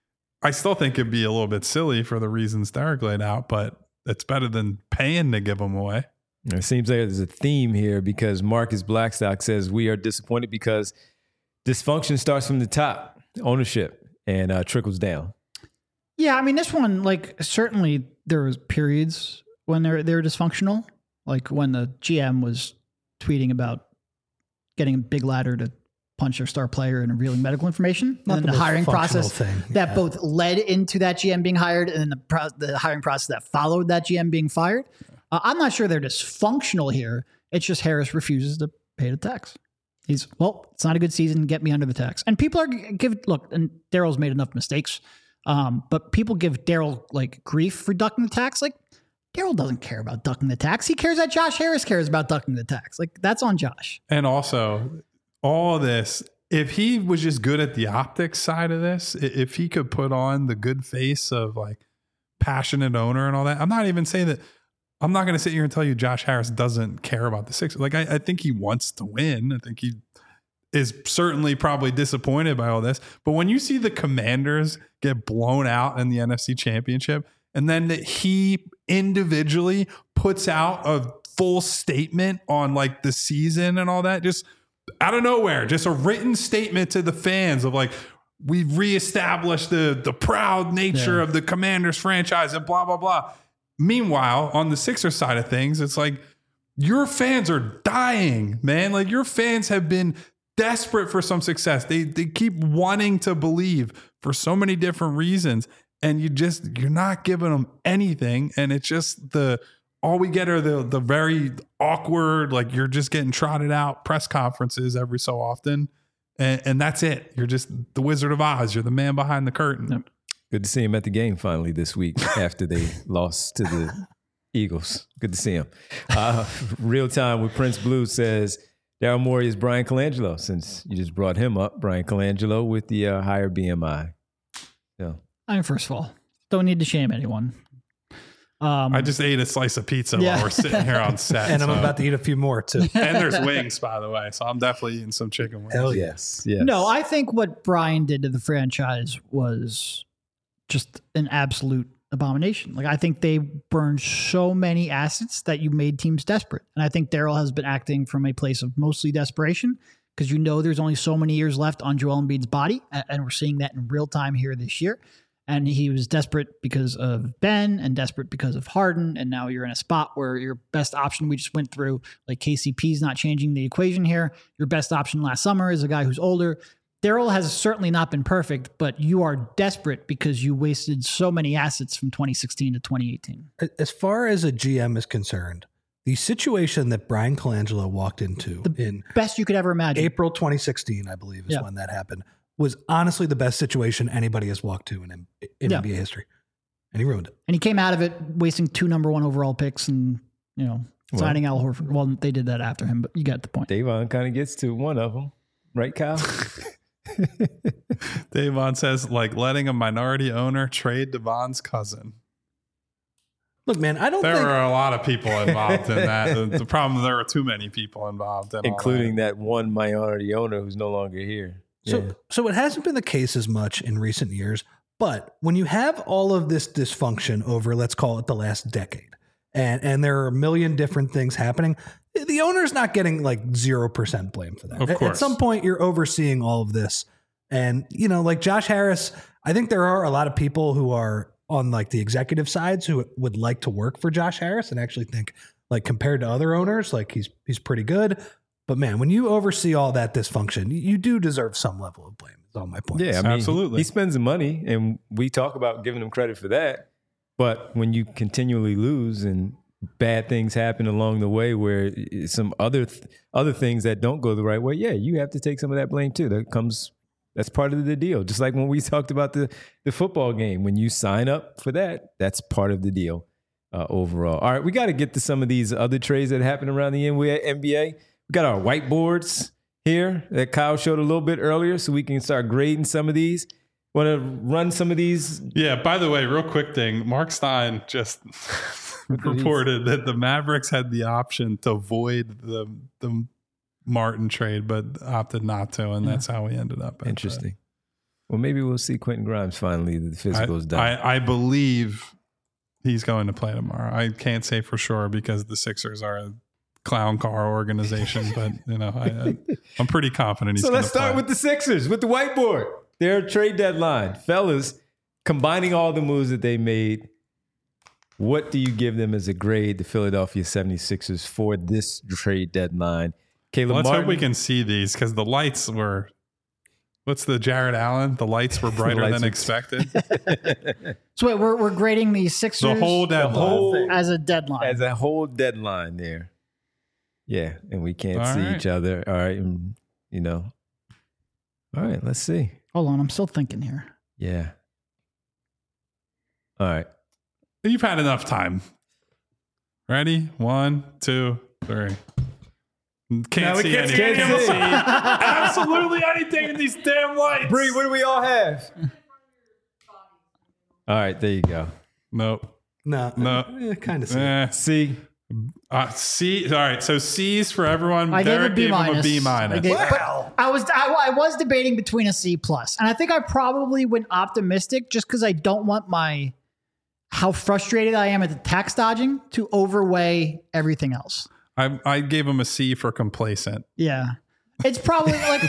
I still think it'd be a little bit silly for the reasons Derek laid out, but it's better than paying to give them away. It seems like there's a theme here because Marcus Blackstock says we are disappointed because dysfunction starts from the top, ownership, and uh, trickles down. Yeah, I mean, this one, like, certainly there was periods when they're they're dysfunctional, like when the G M was tweeting about getting a big ladder to punch their star player and revealing medical information, Not and the then the most hiring functional process thing. that Yeah. both led into that G M being hired, and then the pro- the hiring process that followed that G M being fired. Uh, I'm not sure they're dysfunctional here. It's just Harris refuses to pay the tax. He's, well, it's not a good season. Get me under the tax. And people are give look, and Daryl's made enough mistakes. Um, but people give Daryl like grief for ducking the tax. Like, Daryl doesn't care about ducking the tax. He cares that Josh Harris cares about ducking the tax. Like, that's on Josh. And also, all this, if he was just good at the optics side of this, i- if he could put on the good face of like passionate owner and all that, I'm not even saying that. I'm not going to sit here and tell you Josh Harris doesn't care about the Sixers. Like, I, I think he wants to win. I think he is certainly probably disappointed by all this. But when you see the Commanders get blown out in the N F C Championship, and then that he individually puts out a full statement on like the season and all that, just out of nowhere, just a written statement to the fans of like, we've reestablished the the proud nature Yeah. of the Commanders franchise and blah, blah, blah. Meanwhile, on the Sixers side of things, it's like your fans are dying, man. Like your fans have been desperate for some success. They they keep wanting to believe for so many different reasons. And you just, you're not giving them anything. And it's just the, all we get are the the very awkward, like you're just getting trotted out press conferences every so often. And, and that's it. You're just the Wizard of Oz. You're the man behind the curtain. Yep. Good to see him at the game finally this week after they lost to the Eagles. Good to see him. Uh, Real Time with Prince Blue says, Daryl Morey is Brian Colangelo, since you just brought him up. Brian Colangelo with the uh, higher B M I. So, I mean, first of all, don't need to shame anyone. Um, I just ate a slice of pizza Yeah. while we're sitting here on set. And I'm so- about to eat a few more too. and there's wings, by the way. So I'm definitely eating some chicken wings. Hell yes. yes. No, I think what Brian did to the franchise was just an absolute abomination. Like, I think they burned so many assets that you made teams desperate. And I think Daryl has been acting from a place of mostly desperation because you know there's only so many years left on Joel Embiid's body, and we're seeing that in real time here this year. And he was desperate because of Ben and desperate because of Harden. And now you're in a spot where your best option, we just went through, like K C P's not changing the equation here. Your best option last summer is a guy who's older. Daryl has certainly not been perfect, but you are desperate because you wasted so many assets from twenty sixteen to twenty eighteen. As far as a G M is concerned, the situation that Brian Colangelo walked into The in best you could ever imagine. April twenty sixteen, I believe, is Yeah. when that happened, was honestly the best situation anybody has walked to in, in Yeah. N B A history. And he ruined it. And he came out of it wasting two number one overall picks and, you know, Well- signing Al Horford. Well, they did that after him, but you got the point. Davon kind of gets to one of them, right, Kyle? Davon says, like letting a minority owner trade Devon's cousin. Look, man, I don't There think were a lot of people involved in that. The, the problem, there were too many people involved, in all Including that. that one minority owner who's no longer here. so. Yeah. So it hasn't been the case as much in recent years. But when you have all of this dysfunction over, let's call it the last decade, and and there are a million different things happening, the owner's not getting like zero percent blame for that. Of At- At course. some point, you're overseeing all of this, and you know, like Josh Harris, I think there are a lot of people who are on like the executive sides who would like to work for Josh Harris and actually think, like, compared to other owners, like he's he's pretty good. But man, when you oversee all that dysfunction, you, you do deserve some level of blame. Is all my point. Yeah, I mean, Absolutely. He spends the money, and we talk about giving him credit for that. But when you continually lose and bad things happen along the way, where some other th- other things that don't go the right way, yeah, you have to take some of that blame too. That comes. That's part of the deal. Just like when we talked about the the football game, when you sign up for that, that's part of the deal uh, overall. All right, we got to get to some of these other trades that happen around the N B A. We got our whiteboards here that Kyle showed a little bit earlier, so we can start grading some of these. Want to run some of these? Yeah, by the way, real quick thing. Mark Stein just reported that the Mavericks had the option to void the the Martin trade, but opted not to, and that's how we ended up. at that. Interesting. Well, maybe we'll see Quentin Grimes finally. The I, physical's done. I, I believe he's going to play tomorrow. I can't say for sure because the Sixers are a clown car organization, but you know, I, I, I'm pretty confident he's so going to let's start play. with the Sixers, with the whiteboard. Their trade deadline. Fellas, combining all the moves that they made, what do you give them as a grade, the Philadelphia seventy-sixers, for this trade deadline? Caleb Let's Martin, hope we can see these because the lights were. What's the Jared Allen? The lights were brighter lights than were- expected. So wait, we're, we're grading the Sixers The whole deadline. whole- as a deadline. as a whole deadline there. Yeah, and we can't All see right. each other. All right, and, you know. All right, let's see. Hold on, I'm still thinking here. Yeah. All right. You've had enough time. Ready? One, two, three. Can't Now we see can't anything. see. Can't see absolutely anything in these damn lights. Bree, what do we all have? All right, there you go. Nope. No, No. kind of. Eh. See, Uh, C. All right. So C's for everyone. I Derek gave a B gave him minus. a B minus. I gave- but I was I, I was debating between a C plus, and I think I probably went optimistic just because I don't want my how frustrated I am at the tax dodging to overweigh everything else. I, I gave him a C for complacent. Yeah, it's probably like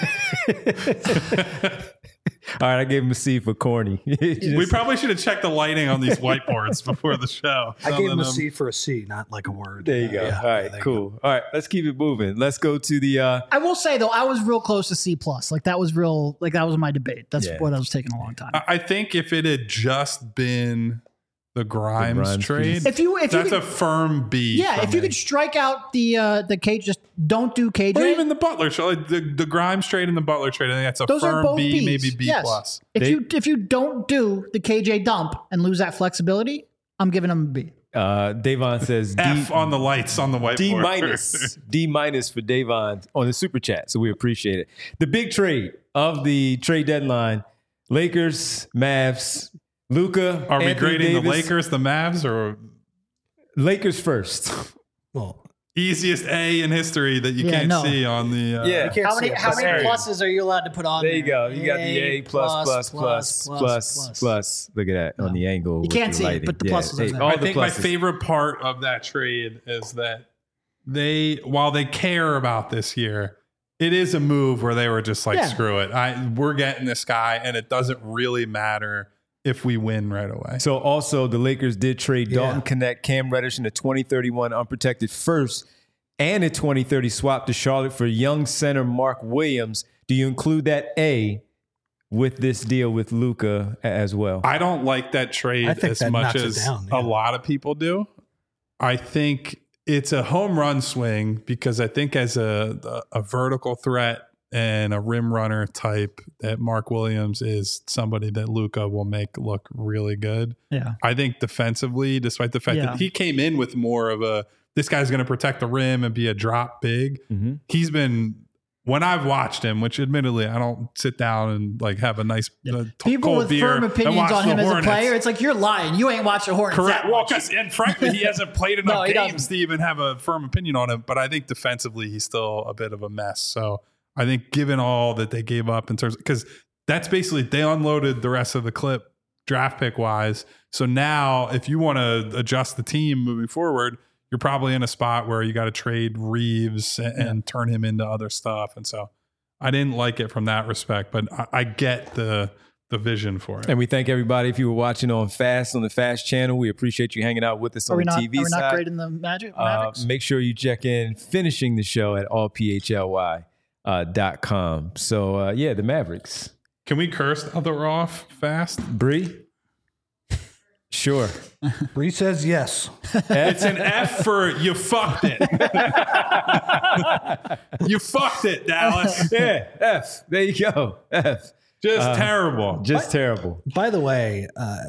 all right, I gave him a C for corny. We probably should have checked the lighting on these whiteboards before the show. I gave him a Something, um, C for a C, not like a word. There you go. Yeah, all right, there you cool. All right, let's keep it moving. Let's go to the. Uh, I will say though I was real close to C plus. Like that was real. Like that was my debate. That's Yeah. what I was taking a long time. I I think if it had just been the Grimes, Grimes trade, piece. If you if that's you a could, firm B. yeah, for if you me. could strike out the uh the K, just don't do K J. or even the Butler trade, like the, the Grimes trade and the Butler trade, I think that's a Those are firm both B, Bs. maybe B Yes. plus. If They- you if you don't do the K J dump and lose that flexibility, I'm giving them a B. uh, Davon says D, F on the lights on the whiteboard. D minus. D minus for Davon on the super chat. So we appreciate it. The big trade of the trade deadline: Lakers, Mavs, Luca. Are we Anthony grading the Davis. Lakers, the Mavs, or Lakers first. Well, easiest A in history that you Yeah, can't no. see on the? Uh, Yeah. you can't How see many it, how but many there- pluses are you allowed to put on There there? you go. You got the A plus plus plus plus plus. Look at that on the angle. You with can't the see it, lighting. but the Yeah. pluses are Hey, there. all I the think my pluses. favorite part of that trade is that they, while they care about this year, it is a move where they were just like, Yeah. screw it. I we're getting this guy, and it doesn't really matter if we win right away. So also the Lakers did trade Yeah. Dalton Connect, Cam Reddish in a twenty thirty-one unprotected first and a twenty thirty swap to Charlotte for young center Mark Williams. Do you include that A with this deal with Luka as well? I don't like that trade I think as that much knocks it as down, a yeah. lot of people do. I think it's a home run swing because I think as a, a, a vertical threat and a rim runner type, that Mark Williams is somebody that Luka will make look really good. Yeah. I think defensively, despite the fact Yeah. that he came in with more of a, this guy's going to protect the rim and be a drop big. Mm-hmm. He's been, when I've watched him, which admittedly I don't sit down and like have a nice uh, t- People cold with beer firm and opinions watch on the him as a Hornets. player, it's like you're lying. You ain't watched the Hornets. Correct. that Well, much. 'cause- and frankly, he hasn't played enough No, he games doesn't. to even have a firm opinion on him. But I think defensively, he's still a bit of a mess. So I think given all that they gave up in terms, because that's basically, they unloaded the rest of the clip draft pick wise. So now if you want to adjust the team moving forward, you're probably in a spot where you got to trade Reeves and, and turn him into other stuff. And so I didn't like it from that respect, but I, I get the the vision for it. And we thank everybody if you were watching on Fast on the Fast channel. We appreciate you hanging out with us Are on we the not, T V are we side. not grading the Magic? Uh, Mavericks? make sure you check in finishing the show at all p h l y dot com. So uh, yeah, the Mavericks. Can we curse now that we're off fast? Bree? Sure. Bree says yes. It's an F for you fucked it. You fucked it, Dallas. Yeah, F. There you go. F. Just terrible. Just terrible. By the way, uh,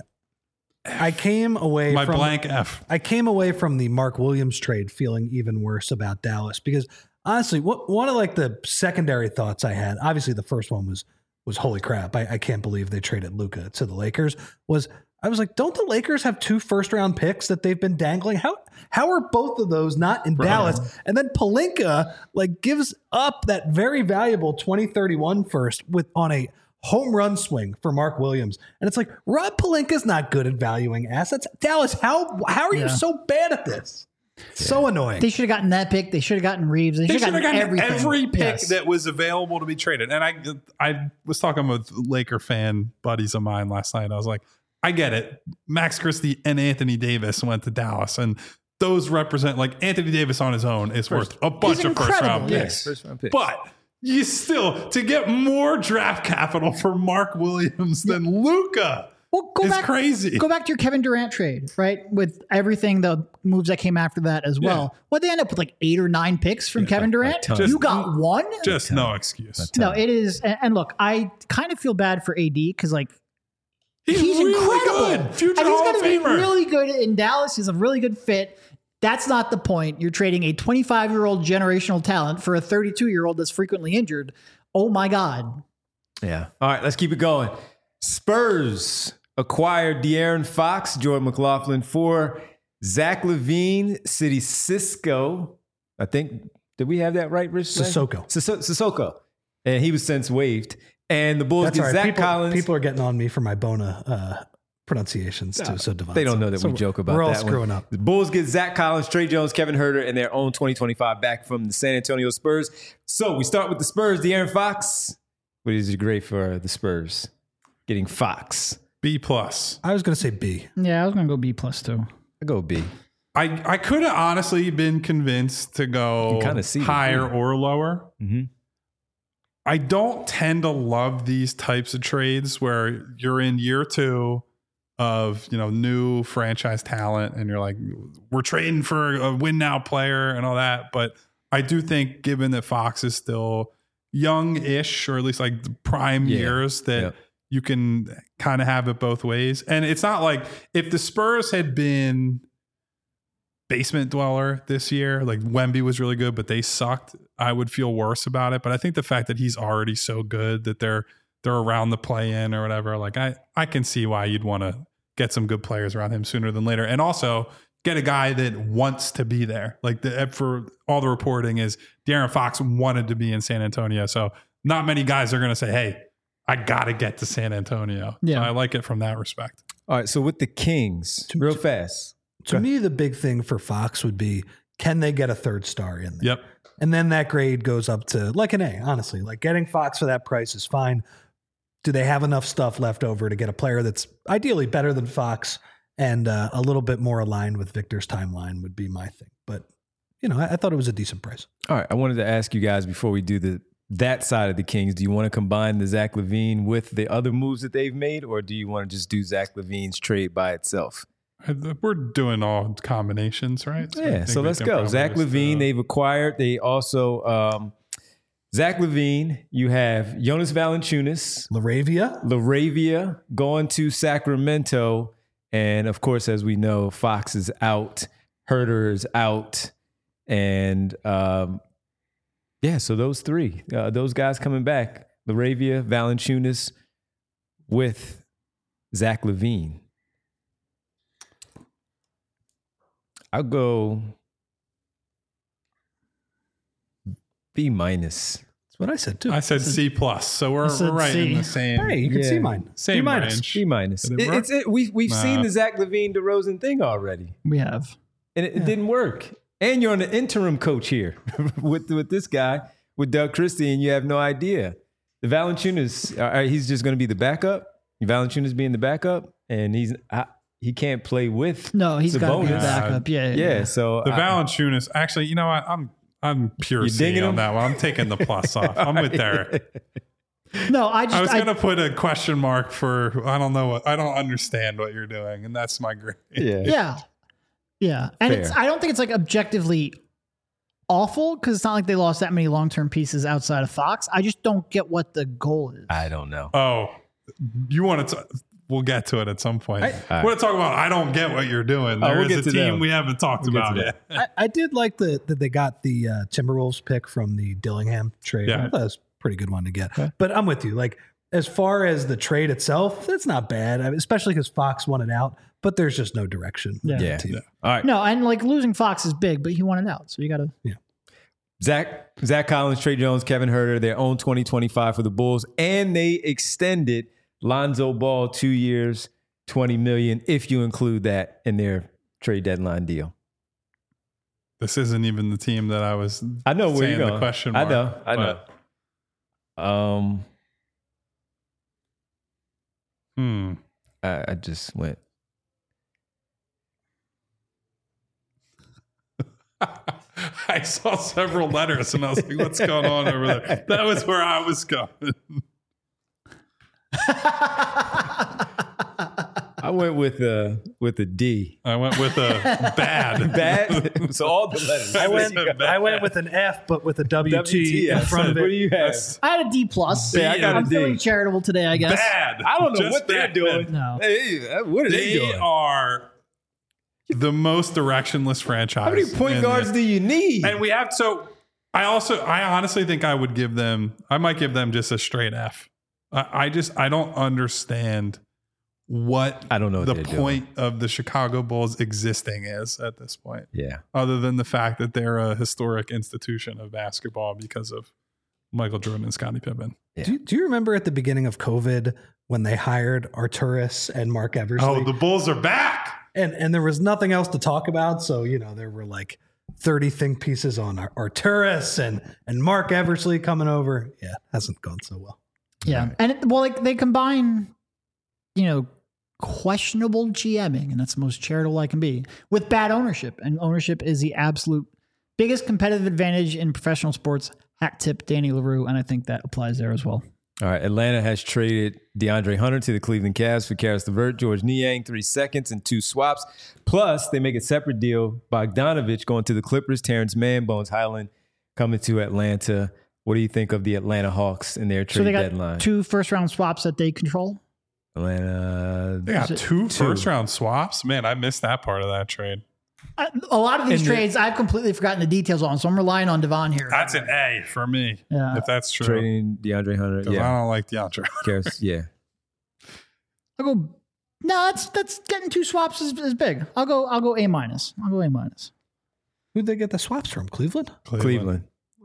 I came away My from blank F. I came away from the Mark Williams trade feeling even worse about Dallas because honestly, what, one of like the secondary thoughts I had, obviously the first one was was holy crap, I, I can't believe they traded Luka to the Lakers. Was I was like, don't the Lakers have two first round picks that they've been dangling? How how are both of those not in Right. Dallas? And then Pelinka like gives up that very valuable twenty thirty-one first with on a home run swing for Mark Williams. And it's like, Rob Pelinka's not good at valuing assets. Dallas, how how are you Yeah. so bad at this? So annoying. They should have gotten that pick. They should have gotten Reeves. They They should have should have gotten, gotten everything. every pick Yes. that was available to be traded. And I I was talking with Laker fan buddies of mine last night. I was like, I get it. Max Christie and Anthony Davis went to Dallas, and those represent, like, Anthony Davis on his own is worth a bunch of first incredible, round yes. picks. First round pick. But you still, to get more draft capital for Mark Williams than Luka Well, go is back, crazy. Go back to your Kevin Durant trade, right? With everything, the moves that came after that as well. Yeah. What they end up with like eight or nine picks from Kevin Durant? ton. You Just- got one? Just no excuse. No, it is. And, and look, I kind of feel bad for A D because like He's, he's really incredible. good. Future and he's Hall going of to be Famer. really good in Dallas. He's a really good fit. That's not the point. You're trading a twenty-five-year-old generational talent for a thirty-two-year-old that's frequently injured. Oh my God. Yeah. All right, let's keep it going. Spurs acquired De'Aaron Fox, Jordan McLaughlin for Zach LaVine, City Cisco. I think, did we have that right, Rich? Sissoko. Sisso- Sissoko. And he was since waived. And the Bulls That's get all right. Zach people, Collins. people are getting on me for my Bona uh, pronunciations too. So Devon, They don't know that so we joke about we're all that one. screwing up. The Bulls get Zach Collins, Trey Jones, Kevin Huerter, and their own twenty twenty-five back from the San Antonio Spurs. So we start with the Spurs. De'Aaron Fox. What is your grade for the Spurs? Getting Fox. B plus. I was going to say B. Yeah, I was going to go B plus too. I go B. I, I could have honestly been convinced to go You can kinda see it, higher yeah. or lower. Mm-hmm. I don't tend to love these types of trades where you're in year two of, you know, new franchise talent and you're like, we're trading for a win now player and all that. But I do think, given that Fox is still young-ish, or at least like the prime Yeah. years, that Yep. you can kind of have it both ways. And it's not like if the Spurs had been basement dweller this year, like Wemby was really good, but they sucked, I would feel worse about it. But I think the fact that he's already so good that they're they're around the play-in or whatever, like I, I can see why you'd want to get some good players around him sooner than later. And also get a guy that wants to be there. Like the, for all the reporting is De'Aaron Fox wanted to be in San Antonio. So not many guys are going to say, hey, I got to get to San Antonio. Yeah. So I like it from that respect. All right, so with the Kings, real fast. To me, the big thing for Fox would be, can they get a third star in there? Yep. And then that grade goes up to like an A, honestly. Like getting Fox for that price is fine. Do they have enough stuff left over to get a player that's ideally better than Fox and uh, a little bit more aligned with Victor's timeline would be my thing. But, you know, I, I thought it was a decent price. All right. I wanted to ask you guys before we do the that side of the Kings, do you want to combine the Zach LaVine with the other moves that they've made, or do you want to just do Zach LaVine's trade by itself? We're doing all combinations, right? So yeah, so let's go. Zach LaVine, they've acquired. They also, um, Zach LaVine, you have Jonas Valanciunas. Laravia. Laravia going to Sacramento. And, of course, as we know, Fox is out. Herter is out. And, um, yeah, so those three, uh, those guys coming back. Laravia, Valanciunas with Zach LaVine. I'll go B minus. That's what I said too. I said C plus, so we're, said we're right C. in the same. Hey, you can Yeah. see mine. Same B minus. range. B minus. Did It, it work? it's it, we we've Nah. seen the Zach LaVine DeRozan thing already, We have. and it, it didn't work. And you're on the interim coach here with with this guy with Doug Christie, and you have no idea. The Valanciunas, uh, he's just going to be the backup. Valanciunas being the backup, and he's I, he can't play with. No, he's got to be a Sabonis. backup. Yeah, yeah. Yeah, so The I- Valanciunas, actually, you know what? I'm I'm pure You C digging on him? that one. I'm taking the plus off. I'm with Derek. No, I just I was I, gonna put a question mark for I don't know what I don't understand what you're doing, and that's my grade. yeah. yeah, yeah, and Fair. it's I don't think it's like objectively awful because it's not like they lost that many long term pieces outside of Fox. I just don't get what the goal is. I don't know. Oh, you want to? We'll get to it at some point. I- I, want to talk about. I don't get what you're doing. Oh, There we'll is get a to team them. we haven't talked We'll get about to yet. I, I did like the that they got the uh, Timberwolves pick from the Dillingham trade. Yeah. I thought that was a pretty good one to get. But I'm with you. Like as far as the trade itself, that's not bad. I mean, especially because Fox won it out. But there's just no direction. Yeah. Yeah. Team. All right. No, and like losing Fox is big, but he won it out, so you got to. Zach, Zach Collins, Trey Jones, Kevin Herter, their own twenty twenty-five for the Bulls, and they extended Lonzo Ball two years, twenty million dollars, if you include that in their trade deadline deal. This isn't even the team that I was. I know where saying you're the going. question I mark, know, I know. but, Um, Hmm. I, I just went. I saw several letters and I was like, what's going on over there? That was where I was going. I went with a with a D. I went with a bad. Bad. So all the letters. I went. Bad. I went with an F, but with a W T W T, in I front said, of what it. do you have? That's I had a D plus. Yeah, I got a I'm D. feeling charitable today, I guess. bad. I don't know Just what they're bad. doing. No. Hey, what are they, They doing? are the most directionless franchise. How many point in guards the- do you need? And we have so. I also, I honestly think I would give them. I might give them just a straight F. I, I just, I don't understand what I don't know what the they're point of the Chicago Bulls existing is at this point, Yeah. other than the fact that they're a historic institution of basketball because of Michael Jordan and Scottie Pippen. Yeah. Do, do you remember at the beginning of COVID when they hired Arturis and Mark Eversley? Oh, the Bulls are back. and and there was nothing else to talk about. So you know there were like thirty think pieces on Ar- Arturis and and Mark Eversley coming over. Yeah, hasn't gone so well. Yeah, Right. and it, well, like they combine, you know, questionable GMing, and that's the most charitable I can be, with bad ownership, and ownership is the absolute biggest competitive advantage in professional sports. Hack tip Danny LaRue, and I think that applies there as well. All right. Atlanta has traded DeAndre Hunter to the Cleveland Cavs for Karis LeVert, George Niang, three seconds and two swaps. Plus, they make a separate deal. Bogdanovich going to the Clippers. Terrence Mann, Bones Highland coming to Atlanta. What do you think of the Atlanta Hawks in their trade So they got deadline? two first round swaps that they control. Atlanta. They got Is it two, two? first round swaps. Man, I missed that part of that trade. Uh, a lot of these And the- trades I've completely forgotten the details on, so I'm relying on Devon here. That's an A for me. Yeah. If that's true. Trading DeAndre Hunter. 'Cause Yeah. I don't like DeAndre. Karis, yeah. I'll go. No, that's that's getting two swaps is, is big. I'll go. I'll go A minus. I'll go A minus. Who'd they get the swaps from? Cleveland. Cleveland.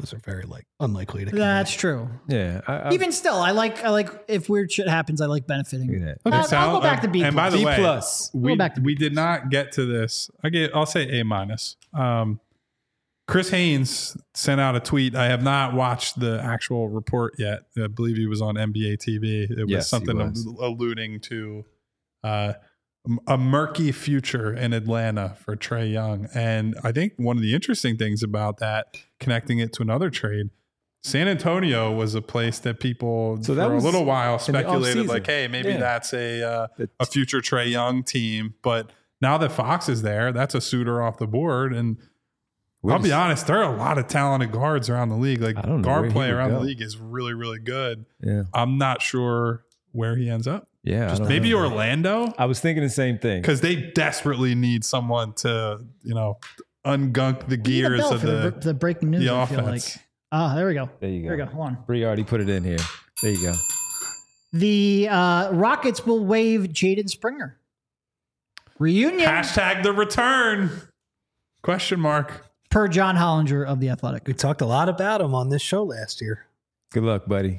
Those are very like unlikely to. That's true. Yeah. I, I, Even still, I like I like if weird shit happens, I like benefiting. Look at I'll, that. Okay, so I'll go I'll- back to B. And by the B way, plus. We'll we, go back to we did not get to this. I get, I'll say A minus. Um, Chris Haynes sent out a tweet. I have not watched the actual report yet. I believe he was on N B A T V. It was Yes, he something was. alluding to uh, a murky future in Atlanta for Trae Young. And I think one of the interesting things about that, connecting it to another trade, San Antonio was a place that people So that for a was little while in the speculated offseason. like, hey, maybe Yeah. that's a uh, The- a future Trae Young team. But now that Fox is there, that's a suitor off the board. And Where I'll be does- honest, there are a lot of talented guards around the league. Like I don't know guard where he play would around the go. league is really, really good. Yeah. I'm not sure where he ends up. Yeah. I don't Maybe know. Orlando, I was thinking the same thing. because they desperately need someone to, you know, ungunk the Need a gears bell of for the, the. the breaking news. the I feel offense. like. Ah, there we go. There you go. There we go. Hold on. Bree already put it in here. There you go. The uh, Rockets will waive Jaden Springer. Reunion Hashtag the return? Question mark. per John Hollinger of The Athletic. We talked a lot about him on this show last year. Good luck, buddy.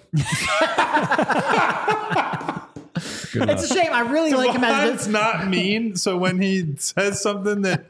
Good luck. It's a shame. I really like him as It's not mean. So when he says something that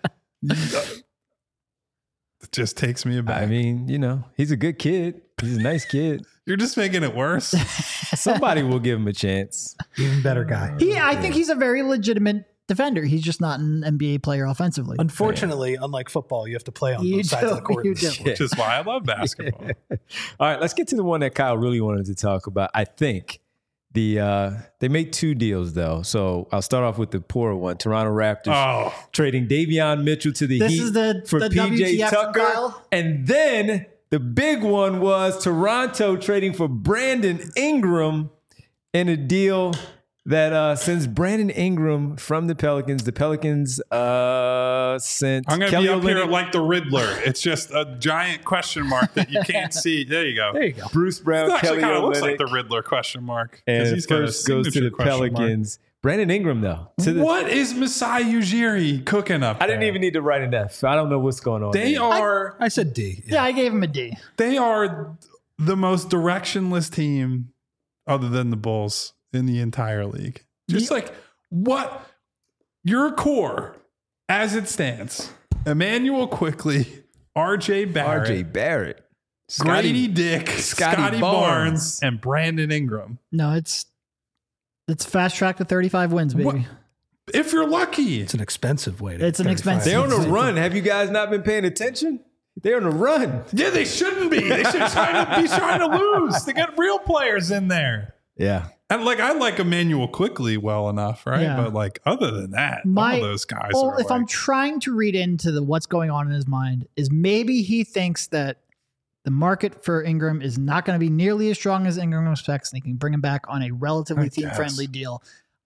it just takes me aback. I mean, you know, he's a good kid. He's a nice kid. You're just making it worse. Somebody will give him a chance. Even better guy. he. I think he's a very legitimate defender. He's just not an N B A player offensively. Unfortunately, unlike football, you have to play on You both sides do, of the court. you do. Which is why I love basketball. All right, let's get to the one that Kyle really wanted to talk about. I think the uh, they made two deals though. So I'll start off with the poorer one. Toronto Raptors Oh, trading Davion Mitchell to the This Heat is the- for the P J W T F from Tucker, Kyle? and then the big one was Toronto trading for Brandon Ingram in a deal that uh, sends Brandon Ingram from the Pelicans. The Pelicans uh, sent I'm going to Kelly be up Olynyk, here like the Riddler. It's just a giant question mark that you can't see. There you go. There you go. Bruce Brown, It actually Kelly kind of looks Olynyk, like the Riddler question mark. 'cause and he's got a first goes to signature the question mark. Pelicans. Brandon Ingram, though. To the, What is Masai Ujiri cooking up I didn't there? even need to write an F. I don't know what's going on. They there. are I said D. yeah, I gave him a D. they are the most directionless team other than the Bulls in the entire league. Just like what your core as it stands. Emmanuel Quickly, R J Barrett, R J Barrett, Grady Dick, Scotty Scotty, Barnes. Barnes, and Brandon Ingram. No, it's it's fast track to thirty-five wins, baby. What? If you're lucky. It's an expensive way to It's an thirty-five. expensive- They're on a It's- run. Have you guys not been paying attention? They're on a run. Yeah, they shouldn't be. They should try to be trying to lose. They got real players in there. Yeah. And like I like Emmanuel Quickly well enough, right? Yeah. But like other than that, My- all those guys Well, are if I'm like, trying to read into the what's going on in his mind, is maybe he thinks that the market for Ingram is not going to be nearly as strong as Ingram expects, and he can bring him back on a relatively I team friendly guess. deal.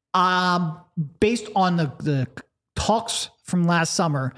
Um, based on the the talks from last summer,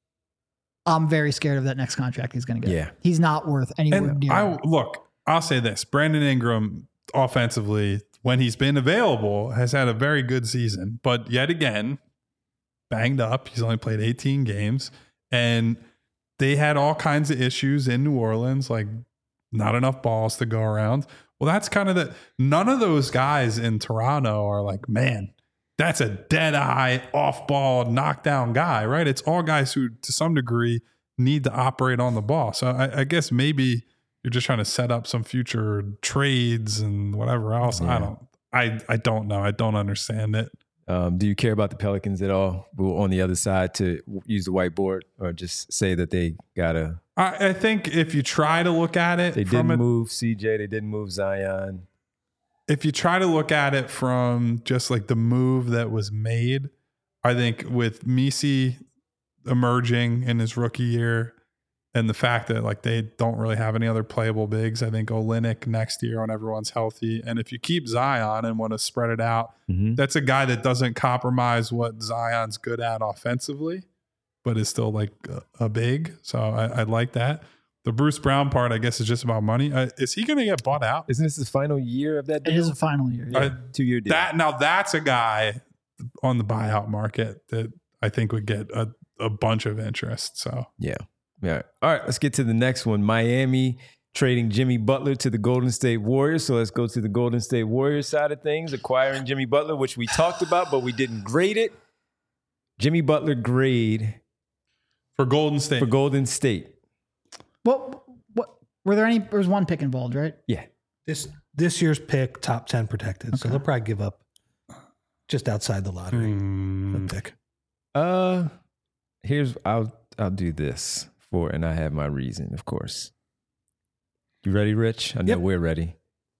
I'm very scared of that next contract he's going to get. Yeah. He's not worth anywhere and near. I look, I'll say this. Brandon Ingram offensively, when he's been available, has had a very good season, but yet again, banged up. He's only played eighteen games, and they had all kinds of issues in New Orleans, like not enough balls to go around. Well, that's kind of the none of those guys in Toronto are like, man, that's a dead eye, off ball, knockdown guy, right? It's all guys who, to some degree, need to operate on the ball. So I, I guess maybe you're just trying to set up some future trades and whatever else. Yeah. I don't, I, I don't know. I don't understand it. Um, do you care about the Pelicans at all? We're on the other side to use the whiteboard, or just say that they gotta. I, I think if you try to look at it They from didn't a, move C J. They didn't move Zion. if you try to look at it from just like the move that was made, I think with Misi emerging in his rookie year and the fact that like they don't really have any other playable bigs, I think Olynyk next year when everyone's healthy. And if you keep Zion and want to spread it out, Mm-hmm. that's a guy that doesn't compromise what Zion's good at offensively, but is still like a, a big. So I, I like that. The Bruce Brown part, I guess, is just about money. Uh, is he going to get bought out? Isn't this the final year of that it deal? is a final year. I- Two year deal. That now that's a guy on the buyout market that I think would get a, a bunch of interest. So Yeah. Yeah. All right. Let's get to the next one. Miami trading Jimmy Butler to the Golden State Warriors. So let's go to the Golden State Warriors side of things. Acquiring Jimmy Butler, which we talked about, but we didn't grade it. Jimmy Butler grade For Golden State. for Golden State. What? What? Were there any? There was one pick involved, right? Yeah. This this year's pick, top ten protected. So Okay. they'll probably give up just outside the lottery Hmm. a pick. Uh, here's I'll I'll do this for, and I have my reason, of course. You ready, Rich? I know Yep. we're ready.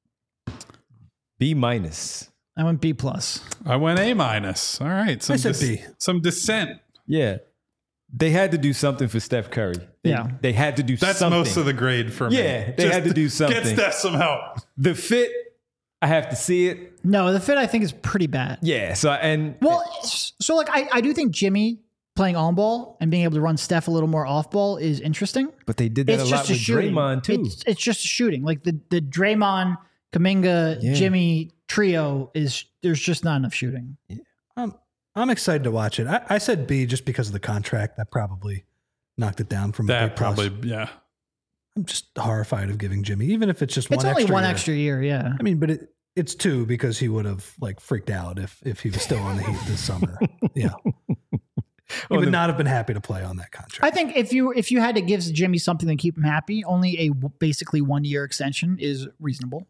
B minus. I went B plus. I went A minus. All right. Some I said B. Some dissent. Yeah, they had to do something for Steph Curry. They, Yeah. they had to do That's something. most of the grade for me. Yeah, they had to do something. Get Steph some help. The fit, I have to see it. No, the fit I think is pretty bad. Yeah. So and Well, so like I, I do think Jimmy playing on ball and being able to run Steph a little more off ball is interesting. but they did that It's a lot just a with shooting. Draymond too. It's, it's just a shooting. Like the the Draymond, Kuminga, Yeah. Jimmy trio is there's just not enough shooting. Um, I'm excited to watch it. I, I said B just because of the contract. That probably knocked it down from a That B plus. probably, yeah. I'm just horrified of giving Jimmy, even if it's just It's one only extra one year. extra year, yeah. I mean, but it, it's two because he would have like freaked out if if he was still on the Heat this summer. Yeah, he would the- not have been happy to play on that contract. I think if you if you had to give Jimmy something to keep him happy, only a w- basically one year extension is reasonable.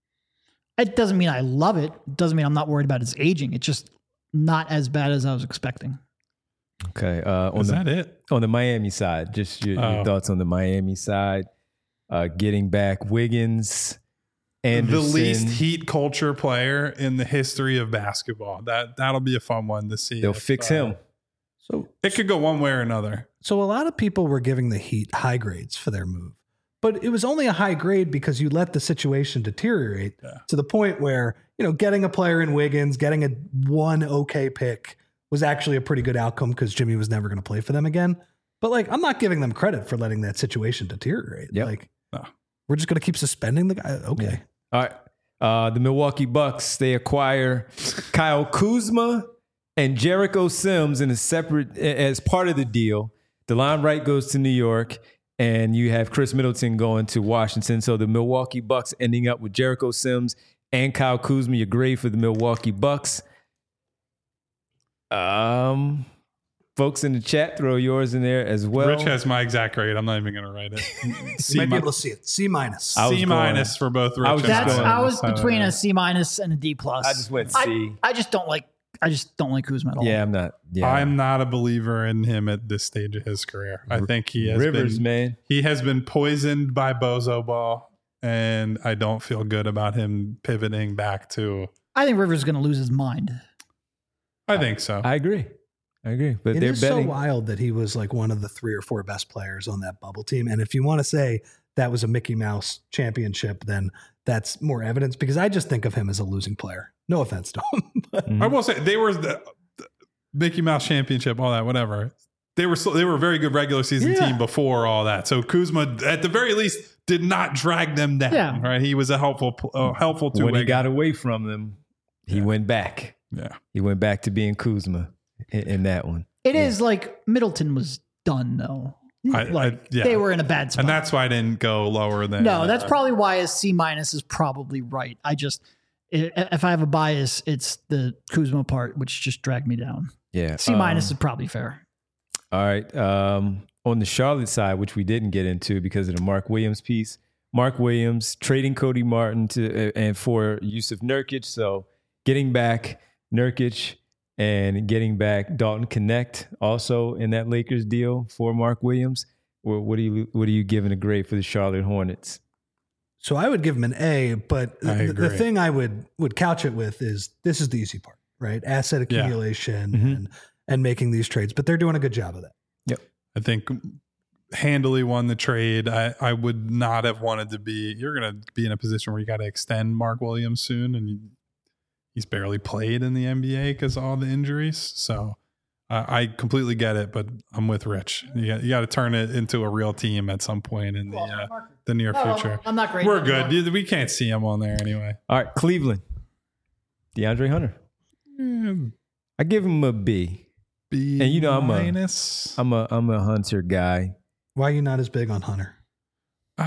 It doesn't mean I love it. It doesn't mean I'm not worried about his aging. It's just not as bad as I was expecting. Okay. Uh, on Is the that it? on the Miami side, just your, your Oh. thoughts on the Miami side. Uh, getting back Wiggins, Anderson. The least Heat culture player in the history of basketball. That, that'll be a fun one to see. They'll if, fix uh, him. So It could go one way or another. So a lot of people were giving the Heat high grades for their move, but it was only a high grade because you let the situation deteriorate Yeah. to the point where, you know, getting a player in Wiggins, getting a one okay pick was actually a pretty good outcome because Jimmy was never going to play for them again. But like, I'm not giving them credit for letting that situation deteriorate. Yep. Like, No. we're just going to keep suspending the guy. Okay. All right. Uh, the Milwaukee Bucks, they acquire Kyle Kuzma and Jericho Sims in a separate, as part of the deal. DeLon Wright goes to New York, and you have Chris Middleton going to Washington. So the Milwaukee Bucks ending up with Jericho Sims and Kyle Kuzma. Your grade for the Milwaukee Bucks. Um, folks in the chat, throw yours in there as well. Rich has my exact grade. I'm not even going to write it. You C, might be mi- able to see it. C minus. I was C going- minus for both Rich I was and just That's going- I was Uh, between a C minus and a D plus. I just went I, C. I just don't like I just don't like Kuzma at all. Yeah, I'm not. Yeah, I'm not a believer in him at this stage of his career. I think he has Rivers, been man. he has been poisoned by Bozo Ball, and I don't feel good about him pivoting back to. I think Rivers is going to lose his mind. I think so. I agree. I agree. But It they're is betting. so wild that he was like one of the three or four best players on that bubble team. And if you want to say that was a Mickey Mouse championship, then that's more evidence because I just think of him as a losing player. No offense to him. But Mhm. I will say they were the, the Mickey Mouse championship, all that, whatever. They were so, they were a very good regular season Yeah. team before all that. So Kuzma, at the very least, did not drag them down. Yeah. Right, he was a helpful uh, helpful to when he got away from them, he went back. Yeah, He went back to being Kuzma in, in that one. It is like Middleton was done though. I, Like I, yeah. they were in a bad spot. and that's why I didn't go lower than. no, that's uh, probably why a C minus is probably right. I just i- if I have a bias, it's the Kuzma part, which just dragged me down. Yeah. C minus Um, is probably fair. All right. Um, on the Charlotte side, which we didn't get into because of the Mark Williams piece, Mark Williams trading Cody Martin to uh, and for Yusuf Nurkic. So getting back Nurkic and getting back Dalton Connect also in that Lakers deal for Mark Williams. Or what are you what are you giving a grade for the Charlotte Hornets? so I would give him an A, but I the, the agree. thing I would would couch it with is this is the easy part, right? Asset Yeah. accumulation Mhm. and and making these trades, but they're doing a good job of that. I think handily won the trade. I, I would not have wanted to be. You're going to be in a position where you got to extend Mark Williams soon, and you, he's barely played in the N B A because of all the injuries. So uh, I completely get it, but I'm with Rich. You got, you got to turn it into a real team at some point in the uh, the near future. I'm not great. We're good. We can't see him on there anyway. All right, Cleveland. DeAndre Hunter. Mm, I give him a B. B And you know I'm a- minus. I'm a I'm a Hunter guy. Why are you not as big on Hunter? I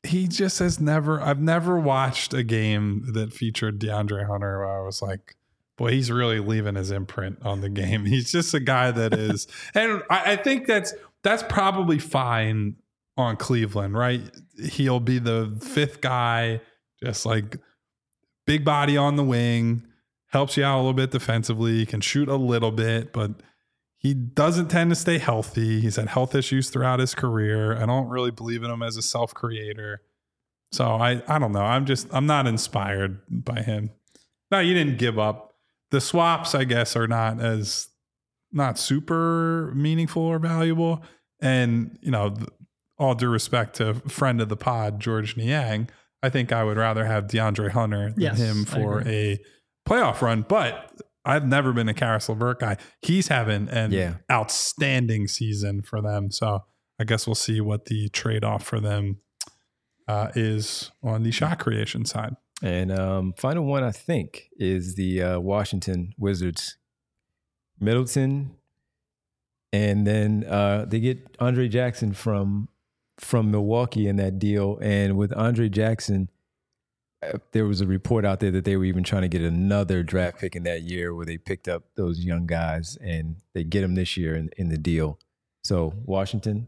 he just has never, I've never watched a game that featured DeAndre Hunter where I was like, boy, he's really leaving his imprint on the game. He's just a guy that is, and I, I think that's, that's probably fine on Cleveland, right? He'll be the fifth guy, just like big body on the wing, helps you out a little bit defensively. He can shoot a little bit, but he doesn't tend to stay healthy. He's had health issues throughout his career. I don't really believe in him as a self-creator. So I, I don't know. I'm just, I'm not inspired by him. No, you didn't give up. The swaps, I guess, are not as, not super meaningful or valuable. And, you know, all due respect to friend of the pod, George Niang, I think I would rather have DeAndre Hunter than Yes, him for a playoff run. But I've never been a Karis LeVert guy. He's having an Yeah. outstanding season for them. So I guess we'll see what the trade-off for them uh, is on the shot creation side. And um, final one, I think, is the uh, Washington Wizards. Middleton, and then uh, they get Andre Jackson from from Milwaukee in that deal. And with Andre Jackson, uh, there was a report out there that they were even trying to get another draft pick in that year where they picked up those young guys, and they get them this year in, in the deal. So Washington.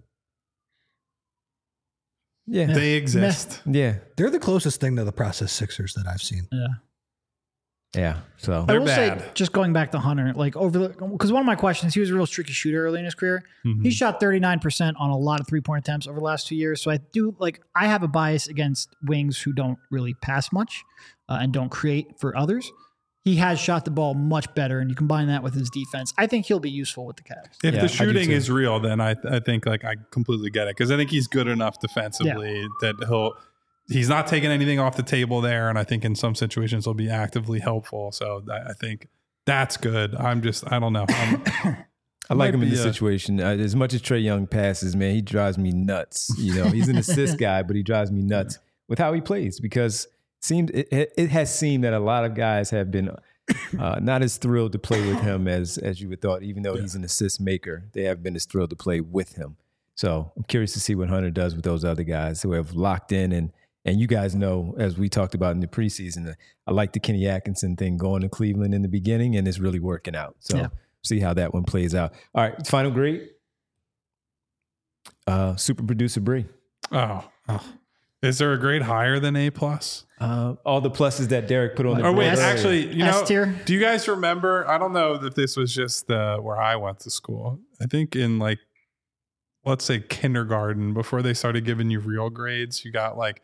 Yeah. They exist. Yeah. They're the closest thing to the process Sixers that I've seen. Yeah. Yeah. So I They're will bad. say, just going back to Hunter, like over because one of my questions, he was a real streaky shooter early in his career. Mhm. He shot thirty-nine percent on a lot of three point attempts over the last two years. So I do like I have a bias against wings who don't really pass much uh, and don't create for others. He has shot the ball much better, and you combine that with his defense. I think he'll be useful with the Cavs. If Yeah, the I do shooting too. is real, then I I think like I completely get it because I think he's good enough defensively that he'll he's not taking anything off the table there, and I think in some situations he'll be actively helpful. So I I think that's good. I'm just I don't know. I'm, I like might him in be this a- situation. Uh, as much as Trae Young passes, man, he drives me nuts. You know, he's an assist guy, but he drives me nuts with how he plays because it seemed it, it it has seemed that a lot of guys have been uh, not as thrilled to play with him as as you would thought. Even though he's an assist maker, they have been as thrilled to play with him. So I'm curious to see what Hunter does with those other guys who have locked in and. And you guys know, as we talked about in the preseason, that I like the Kenny Atkinson thing going to Cleveland in the beginning, and it's really working out. So Yeah. see how that one plays out. All right, final grade. Uh, super producer Bree. oh, oh. Is there a grade higher than A plus? Uh, all the pluses that Derek put on the Or board wait, S- earlier. actually, you know, S tier? do you guys remember? I don't know if this was just uh, where I went to school. I think in like, let's say kindergarten, before they started giving you real grades, you got like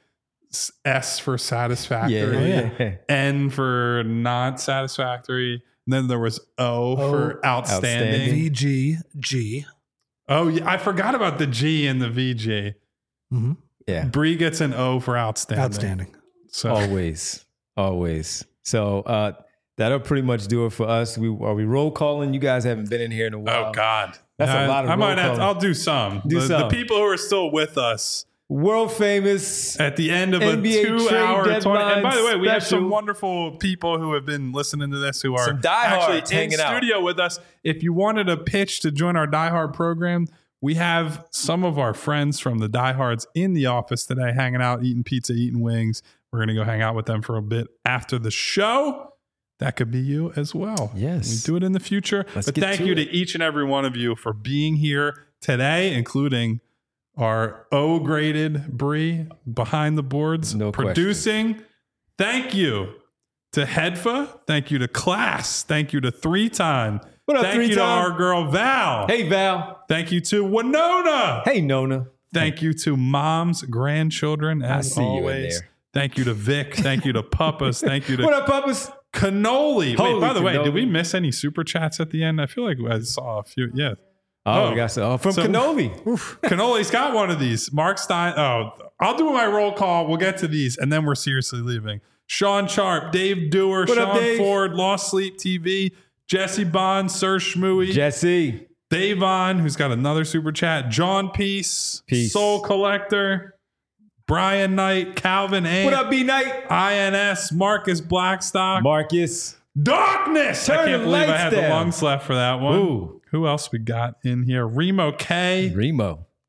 S for satisfactory, yeah, yeah. N for not satisfactory. And then there was O, for outstanding. outstanding. V G G. Oh, yeah, I forgot about the G and the V G. Mm-hmm. yeah. Bree gets an O for outstanding. Outstanding. So Always, always. So uh, that'll pretty much do it for us. We are we roll calling. You guys haven't been in here in a while. oh God, That's a I- lot of I might roll have. calling. I'll do some. Do the, some. the people who are still with us World famous. at the end of N B A a two-hour trade twenty. And by the way, we have special. some wonderful people who have been listening to this who are Some diehards actually in hanging out. studio with us. If you wanted a pitch to join our diehard program, we have some of our friends from the diehards in the office today, hanging out, eating pizza, eating wings. We're gonna go hang out with them for a bit after the show. That could be you as well. Yes. we do it in the future. Let's but get thank to you it. to each and every one of you for being here today, including our O-graded Bree behind the boards, No question. producing. Thank you to Hedfa. Thank you to Class. Thank you to Three Time. What up, Thank Three you to Time? our girl Val. Hey Val. Thank you to Winona. Hey Nona. Thank you to Mom's grandchildren, as see you in always. there. Thank you to Vic. Thank you to Puppas. Thank you to What up, Puppas? Cannoli. Wait, Holy by the way, did cannoli. we miss any super chats at the end? I feel like I saw a few. Yeah. Oh, Oh. we got some oh, from So- Cannoli. Cannoli's got one of these. Mark Stein. Oh, I'll do my roll call. We'll get to these, and then we're seriously leaving. Sean Sharp, Dave Dewar, What up, Sean Dave? Ford, Lost Sleep T V, Jesse Bond, Sir Schmooey, Jesse. Davon, who's got another super chat, John Peace, Peace. Soul Collector, Brian Knight, Calvin A. What up, B Knight? I N S, Marcus Blackstock, Marcus. Darkness. I Turn can't the believe I lights had the down. lungs left for that one. Ooh. Who else we got in here? Remo K, Remo.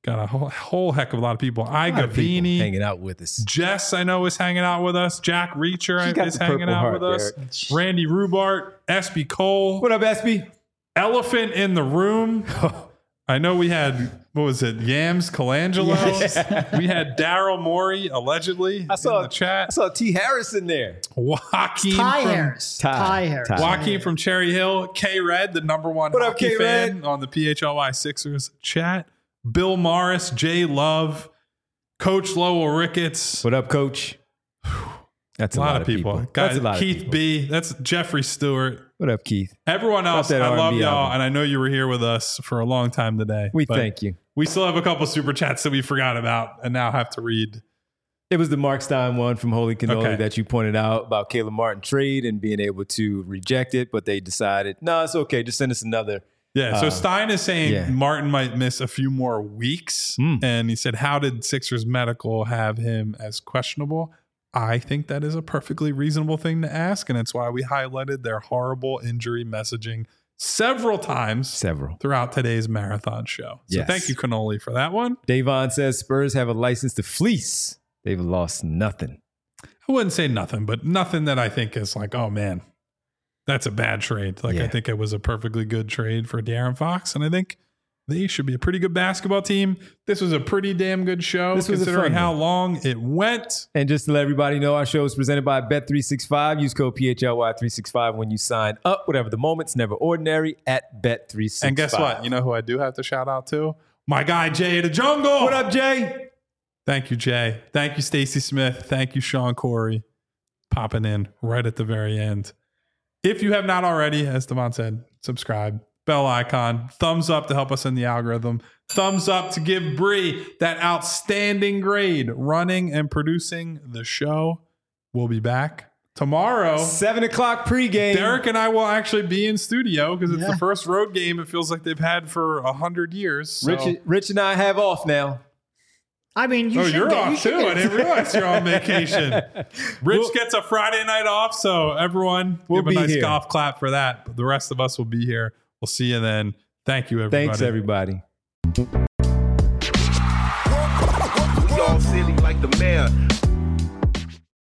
got a whole, whole heck of a lot of people. A lot Iga of people Vini, hanging out with us. Jess, I know, is hanging out with us. Jack Reacher She's got is the hanging Purple out Heart, with us. Derek. Randy Rubart, S B Cole, What up, S B? Elephant in the Room. I know we had, what was it, Yams Colangelo. We had Daryl Morey, allegedly, I saw in the chat. I saw T. Harris in there. Joaquin Ty from, Harris. Ty. Ty Harris. Ty. Joaquin from Cherry Hill. K-Red, the number one What up, hockey K-Red? fan on the P H L Y Sixers chat. Bill Morris, Jay Love, Coach Lowell Ricketts. What up, Coach? That's A lot, of people. Guys, That's a lot Keith of people. B. That's Jeffrey Stewart. What up, Keith? Everyone else, that I R and B love y'all, album. and I know you were here with us for a long time today. We but thank you. We still have a couple super chats that we forgot about and now have to read. It was the Mark Stein one from Holy Cannoli Okay. that you pointed out about Caleb Martin trade and being able to reject it, but they decided, no, it's okay. Just send us another. Yeah, so Uh, Stein is saying yeah. Martin might miss a few more weeks. Mm. And he said, how did Sixers Medical have him as questionable? I think that is a perfectly reasonable thing to ask. And it's why we highlighted their horrible injury messaging several times Several. throughout today's marathon show. So Yes. thank you, Cannoli, for that one. Davon says Spurs have a license to fleece. They've lost nothing. I wouldn't say nothing, but nothing that I think is like, oh man, that's a bad trade. Like Yeah. I think it was a perfectly good trade for De'Aaron Fox, and I think they should be a pretty good basketball team. This was a pretty damn good show, This was a considering fun how one. long it went. And just to let everybody know, our show is presented by Bet three sixty-five. Use code P H L Y three sixty-five when you sign up. Whatever the moment's never ordinary at Bet three sixty-five. And guess what? You know who I do have to shout out to? My guy Jay the Jungle. What up, Jay? Thank you, Jay. Thank you, Stacey Smith. Thank you, Sean Corey, popping in right at the very end. If you have not already, as Devon said, subscribe, bell icon, thumbs up to help us in the algorithm, thumbs up to give Bree that outstanding grade running and producing the show. We'll be back tomorrow. Seven o'clock pregame. Derek and I will actually be in studio because it's Yeah. the first road game it feels like they've had for a hundred years. So. Rich, Rich and I have off now. I mean, you oh, should you're get, you off should too. get- I didn't realize you're on vacation. Rich We'll- gets a Friday night off, so everyone We'll give a be nice here. golf clap for that. But the rest of us will be here. We'll see you then. Thank you, everybody. Thanks, everybody. We all silly.